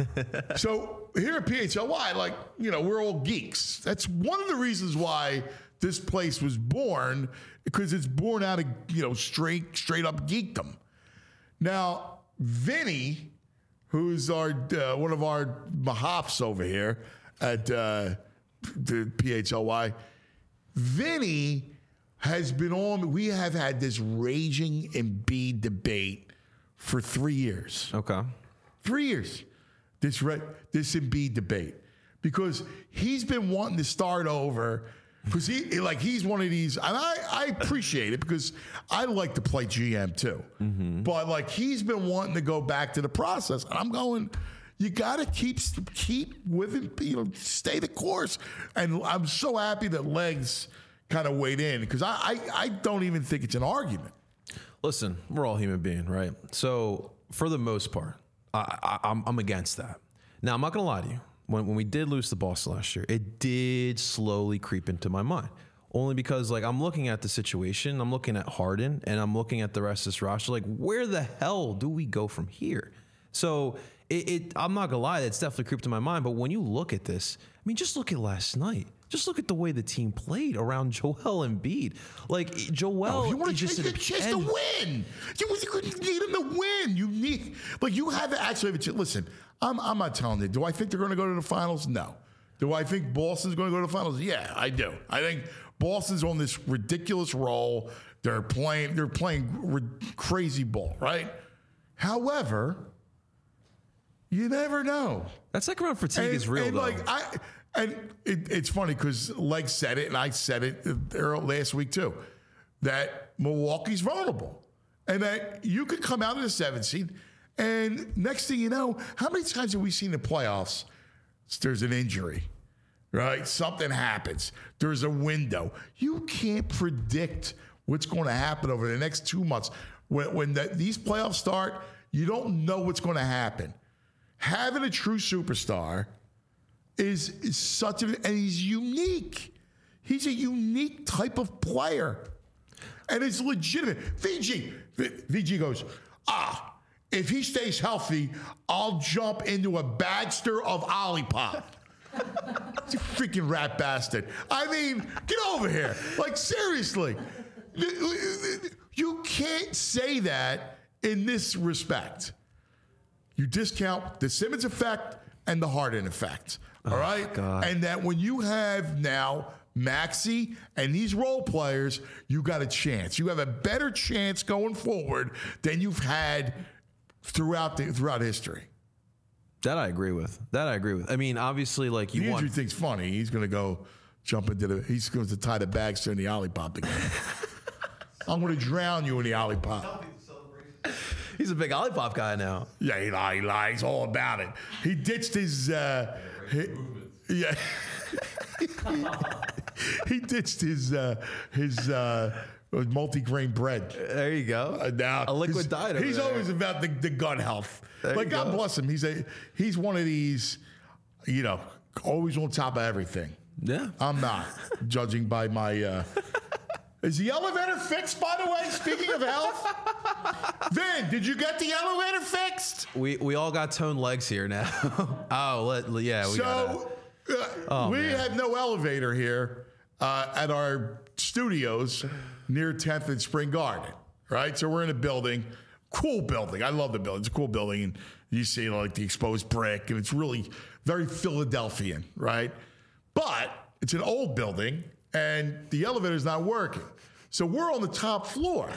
So here at P H L Y, like, you know, we're all geeks. That's one of the reasons why this place was born, because it's born out of, you know, straight, straight up geekdom. Now, Vinny, who's our uh, one of our mahafs over here at uh, the P H L Y, Vinny has been on. We have had this raging Embiid debate for three years. Okay. Three years. This re- this Embiid debate, because he's been wanting to start over. Because he like he's one of these, and I, I appreciate it because I like to play G M too. Mm-hmm. But like he's been wanting to go back to the process, and I'm going. You got to keep keep with it, you know, stay the course. And I'm so happy that Legs kind of weighed in because I, I I don't even think it's an argument. Listen, we're all human beings, right? So for the most part, I, I, I'm, I'm against that. Now, I'm not going to lie to you. When, when we did lose to Boston last year, it did slowly creep into my mind. Only because, like, I'm looking at the situation, I'm looking at Harden, and I'm looking at the rest of this roster. Like, where the hell do we go from here? So, it, it I'm not gonna lie, it's definitely creeped in my mind. But when you look at this, I mean, just look at last night. Just look at the way the team played around Joel Embiid. Like, Joel Oh, you want is to just chase, at a chase to end. win. You, you need him to win. You need, like, you have to actually have a ch- listen. I'm, I'm not telling you. Do I think they're going to go to the finals? No. Do I think Boston's going to go to the finals? Yeah, I do. I think Boston's on this ridiculous roll. They're playing. They're playing re- crazy ball, right? However, you never know. That second round fatigue And, is real, and though. like I, and it, it's funny because Legs said it, and I said it earlier last week too, that Milwaukee's vulnerable, and that you could come out of the seventh seed, and next thing you know, how many times have we seen in the playoffs? There's an injury, right? Something happens. There's a window. You can't predict what's going to happen over the next two months. When, when the, these playoffs start, you don't know what's going to happen. Having a true superstar is, is such a, and he's unique. He's a unique type of player. And it's legitimate. V G, V G goes, ah, if he stays healthy, I'll jump into a bagster of Olipop. You freaking rat bastard. I mean, get over here. Like, seriously. You can't say that in this respect. You discount the Simmons effect and the Harden effect. All right? God. And that when you have now Maxey and these role players, you got a chance. You have a better chance going forward than you've had throughout the, throughout history. That I agree with. That I agree with. I mean, obviously, like you The want. injury thing's funny. He's going to go jump into the. He's going to tie the bags in the Olipop again. I'm going to drown you in the Olipop. He's a big Olipop guy now. Yeah, he lies. He lies all about it. He ditched his. Uh, hi- yeah. He ditched his uh, his uh, multi-grain bread. There you go. Uh, now a liquid he's, diet. Over He's there. always about the, the gut health. There Like you God go. bless him. He's a he's one of these, you know, always on top of everything. Yeah. I'm not, judging by my. Uh, is the elevator fixed, by the way? Speaking of health, Vin, did you get the elevator fixed? We we all got toned legs here now. oh, let, yeah. We gotta, So uh, Oh, we man. have no elevator here uh, at our studios near tenth and Spring Garden, right? So we're in a building, cool building. I love the building. It's a cool building, and you see like the exposed brick, and it's really very Philadelphian, right? But it's an old building, and the elevator's not working. So we're on the top floor.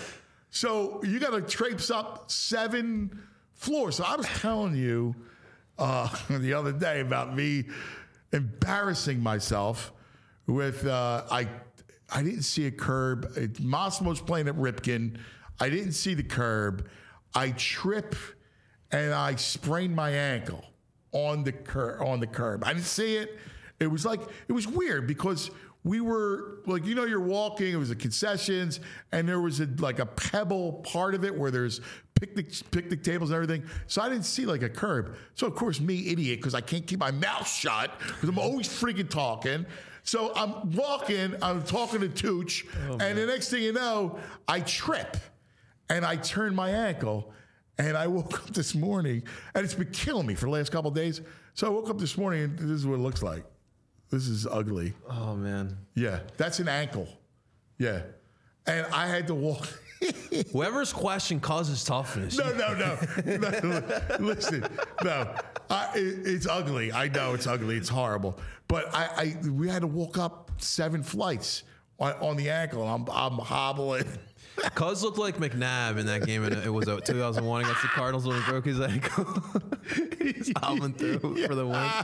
So you got to traipse up seven floors. So I was telling you uh, the other day about me embarrassing myself with uh, I I didn't see a curb. It, Massimo's playing at Ripken. I didn't see the curb. I trip and I sprained my ankle on the cur- on the curb. I didn't see it. It was like it was weird because we were like, you know, you're walking. It was the concessions, and there was a, like a pebble part of it where there's picnic picnic tables and everything. So I didn't see like a curb. So of course, me idiot, because I can't keep my mouth shut because I'm always freaking talking. So I'm walking. I'm talking to Tooch, oh, and the next thing you know, I trip, and I turn my ankle. And I woke up this morning, and it's been killing me for the last couple of days. So I woke up this morning, and this is what it looks like. This is ugly. Oh man. Yeah, that's an ankle. Yeah, and I had to walk. Whoever's question causes toughness. No, no, no, no. Listen, no, I, it, it's ugly. I know it's ugly. It's horrible. But I, I we had to walk up seven flights on, on the ankle. And I'm, I'm hobbling. Cuz looked like McNabb in that game, and it was uh, two thousand one against the Cardinals when he broke his ankle. He's hobbling through Yeah. for the win.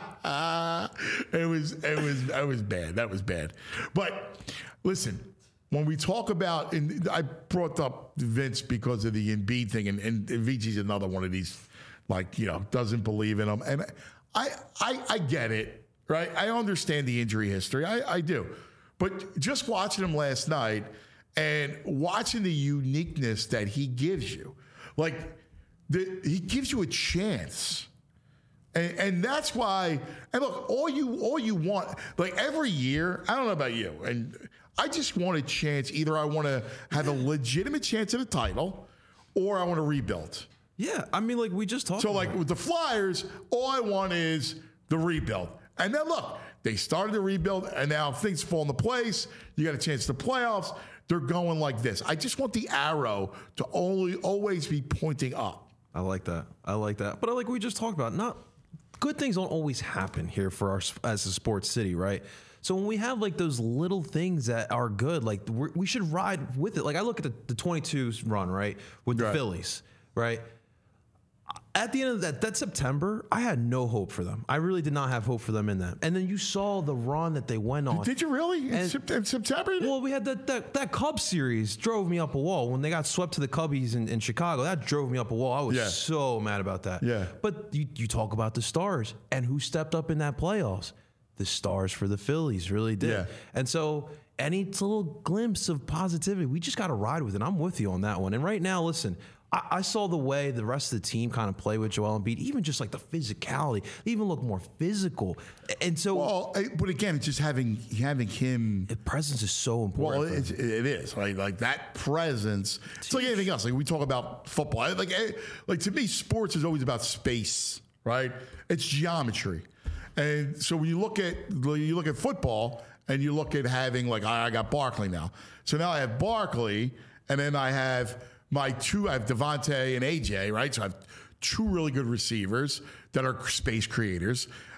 it was, it was, that was bad. That was bad. But listen, when we talk about, and I brought up Vince because of the Embiid thing, and, and V G's another one of these, like, you know, doesn't believe in him. And I, I, I get it, right? I understand the injury history. I, I do. But just watching him last night and watching the uniqueness that he gives you, like, the, he gives you a chance. And, and that's why, and look, all you all you want, like every year, I don't know about you, and I just want a chance. Either I want to have a legitimate chance at a title, or I want to rebuild. Yeah, I mean, like we just talked. So, about like with the Flyers, all I want is the rebuild. And then look, they started the rebuild, and now things fall into place. You got a chance to playoffs. They're going like this. I just want the arrow to only always be pointing up. I like that. I like that. But I like we just talked about, not good things don't always happen here for our as a sports city, right? So when we have like those little things that are good, like we're, we should ride with it. Like I look at the, the twenty-two run, right, with the Right. Phillies, right? At the end of that, that September, I had no hope for them. I really did not have hope for them in that. And then you saw the run that they went on. Did you really? In, And- Sep- in September? Well, we had that, that that Cubs series drove me up a wall. When they got swept to the Cubbies in, in Chicago, that drove me up a wall. I was Yeah. so mad about that. Yeah. But you, you talk about the Stars and who stepped up in that playoffs. The Stars for the Phillies really did. Yeah. And so any little glimpse of positivity, we just got to ride with it. I'm with you on that one. And right now, listen, I, I saw the way the rest of the team kind of play with Joel Embiid, even just like the physicality, they even look more physical. And so Well, eh, but again, it's just having having him. the presence is so important. Well, for it's, it is right. Like that presence. It's like anything else. Like we talk about football. I- Like, eh, like to me, sports is always about space, right? It's geometry, and so when you look at you look at football, and you look at having like I I got Barkley now. So now I have Barkley, and then I have my two. I have Devontae and A J, right? So I have two really good receivers that are space creators.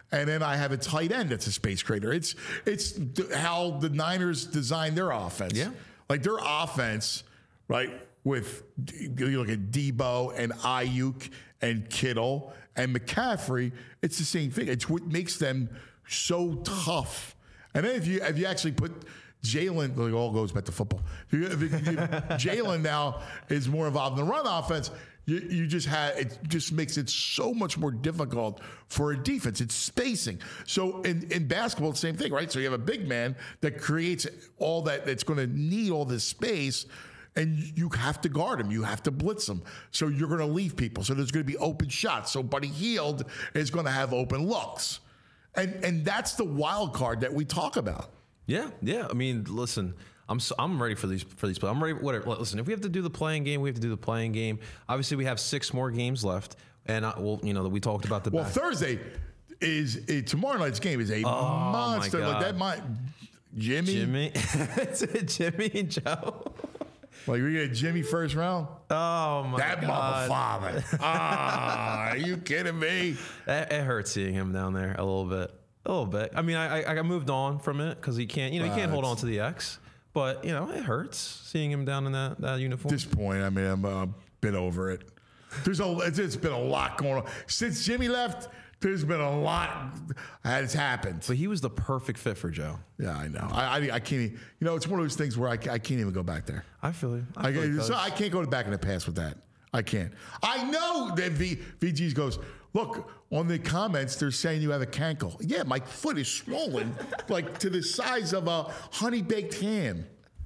and then I have a tight end that's a space creator. It's it's th- how the Niners design their offense. Yeah. Like their offense, right, with you look at Debo and Ayuk and Kittle and McCaffrey, it's the same thing. It's what makes them so tough. And then if you if you actually put Jalen, well, it all goes back to football. If you- if you- Jalen now is more involved in the run offense. You, you just had it just makes it so much more difficult for a defense. It's spacing. So in, in basketball, it's the same thing, right? So you have a big man that creates all that that's going to need all this space, and you have to guard him. You have to blitz him. So you're going to leave people. So there's going to be open shots. So Buddy Hield is going to have open looks, and and that's the wild card that we talk about. Yeah, yeah. I mean, listen, I'm so, I'm ready for these for these plays. I'm ready. Whatever. Listen, if we have to do the playing game, we have to do the playing game. Obviously, we have six more games left, and I, well, you know, we talked about the. Well, back. Thursday is a, tomorrow night's game is a Oh, my monster. Like God. that might Jimmy. Jimmy, It's Jimmy and Joe. Like we get Jimmy first round. Oh my That God. mother father. Ah, are you kidding me? It, it hurts seeing him down there a little bit, a little bit. I mean, I I, I moved on from it because he can't, you know, he can't hold on to the X. But you know, it hurts seeing him down in that, that uniform. At this point, I mean, I'm a bit over it. There's a, it's, it's been a lot going on since Jimmy left. There's been a lot has happened. But he was the perfect fit for Joe. Yeah, I know. I, I, I can't. Even, you know, it's one of those things where I, I can't even go back there. I feel you. I, I, feel you, so Coach. I can't go back in the past with that. I can't. I know that v, VG's goes, look, on the comments, they're saying you have a cankle. Yeah, my foot is swollen, like to the size of a honey baked ham.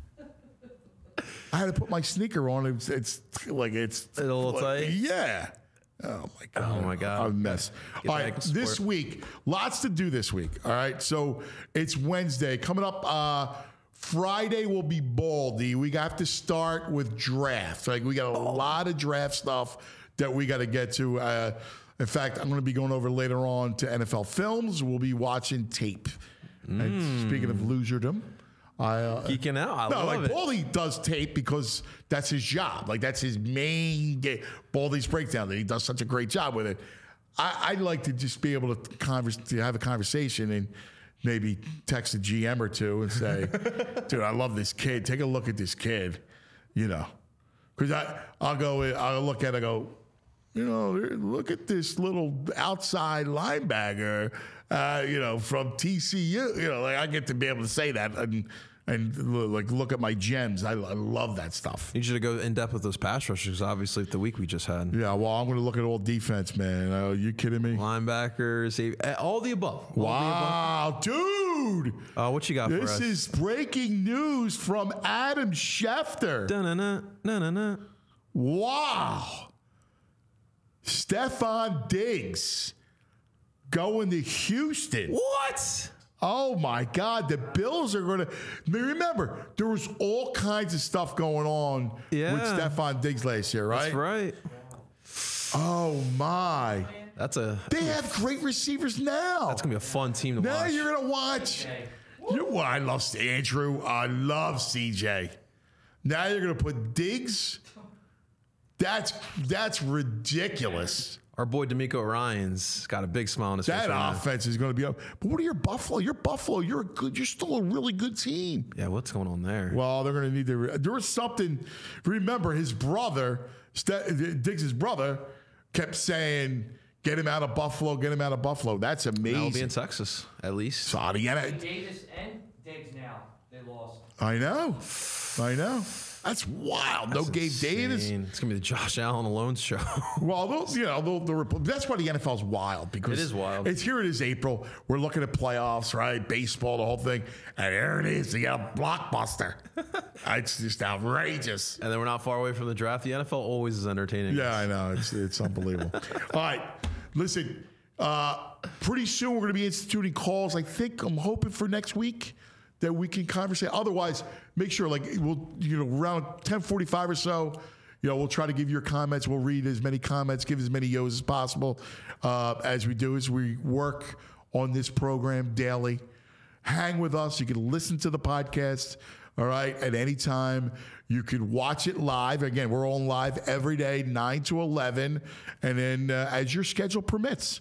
I had to put my sneaker on. It's, it's like it's It's a little like, tight? Yeah. Oh my god. Oh, my God. I'm a mess. Get All back right, in sport. this week, lots to do this week. All right, so it's Wednesday coming up. Uh, Friday will be Baldy. We have to start with draft. Like we got a lot of draft stuff that we got to get to. Uh, in fact, I'm going to be going over later on to N F L Films. We'll be watching tape. And speaking of loserdom, I uh, Geeking out. I no, love like it. Baldy does tape because that's his job. Like that's his main game. Baldy's breakdown. That he does such a great job with it. I, I'd like to just be able to converse, to have a conversation and maybe text a G M or two and say, "Dude, I love this kid. Take a look at this kid." You know, because I I'll go I'll look at it. I go, you know, look at this little outside linebacker. Uh, you know, from T C U. You know, like I get to be able to say that and and like look at my gems. I, I love that stuff. You should go in depth with those pass rushers, obviously, the week we just had. Yeah, well, I'm going to look at all defense, man. Are you kidding me? Linebackers, save- eh, all the above. All Wow, dude. The above. Uh, what you got for This us? is breaking news from Adam Schefter. Da-na-na, na-na-na. Wow. Stephon Diggs going to Houston. What? Oh my God, the Bills are going to. Remember, there was all kinds of stuff going on Yeah. with Stephon Diggs last year, right? That's right. Oh my. That's a They have great receivers now. that's gonna be a fun team to Now watch. you're going to watch. You, well, I love Andrew. I love C J. Now you're going to put Diggs. That's that's ridiculous. Our boy D'Amico Ryans got a big smile on his face. That right now. offense is going to be up. But what are your Buffalo? You're Buffalo. You're a good. You're still a really good team. Yeah, what's going on there? Well, they're going to need to. There was something. Remember, his brother, Ste- Diggs' brother, kept saying, "Get him out of Buffalo. Get him out of Buffalo." That's That'll be amazing. in Texas, at least. So, yeah, Davis and Diggs now. They lost. I know. I know. That's wild. No Gabe Davis. Insane. It's gonna be the Josh Allen alone show. Well, those, you know, the, the, that's why the N F L is wild because It is wild. It's here. It is April. We're looking at playoffs, right? Baseball, the whole thing, and there it is. You got a blockbuster. It's just outrageous. And then we're not far away from the draft. The N F L always is entertaining. Yeah, I know. It's it's unbelievable. All right, listen. Uh, pretty soon we're going to be instituting calls. I think I'm hoping for next week that we can conversate. Otherwise, make sure like we'll you know around ten forty-five or so. You know, we'll try to give your comments. We'll read as many comments, give as many yos as possible uh, as we do as we work on this program daily. Hang with us. You can listen to the podcast. All right, at any time. You can watch it live. Again, we're on live every day, nine to eleven. And then uh, as your schedule permits,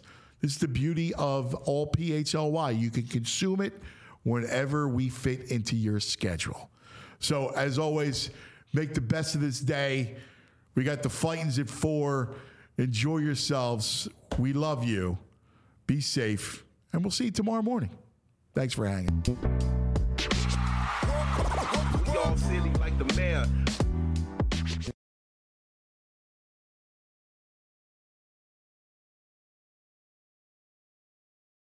It's the beauty of all P H L Y. You can consume it whenever we fit into your schedule. So, as always, make the best of this day. We got the Fightins at four. Enjoy yourselves. We love you. Be safe. And we'll see you tomorrow morning. Thanks for hanging. We all silly like the mayor.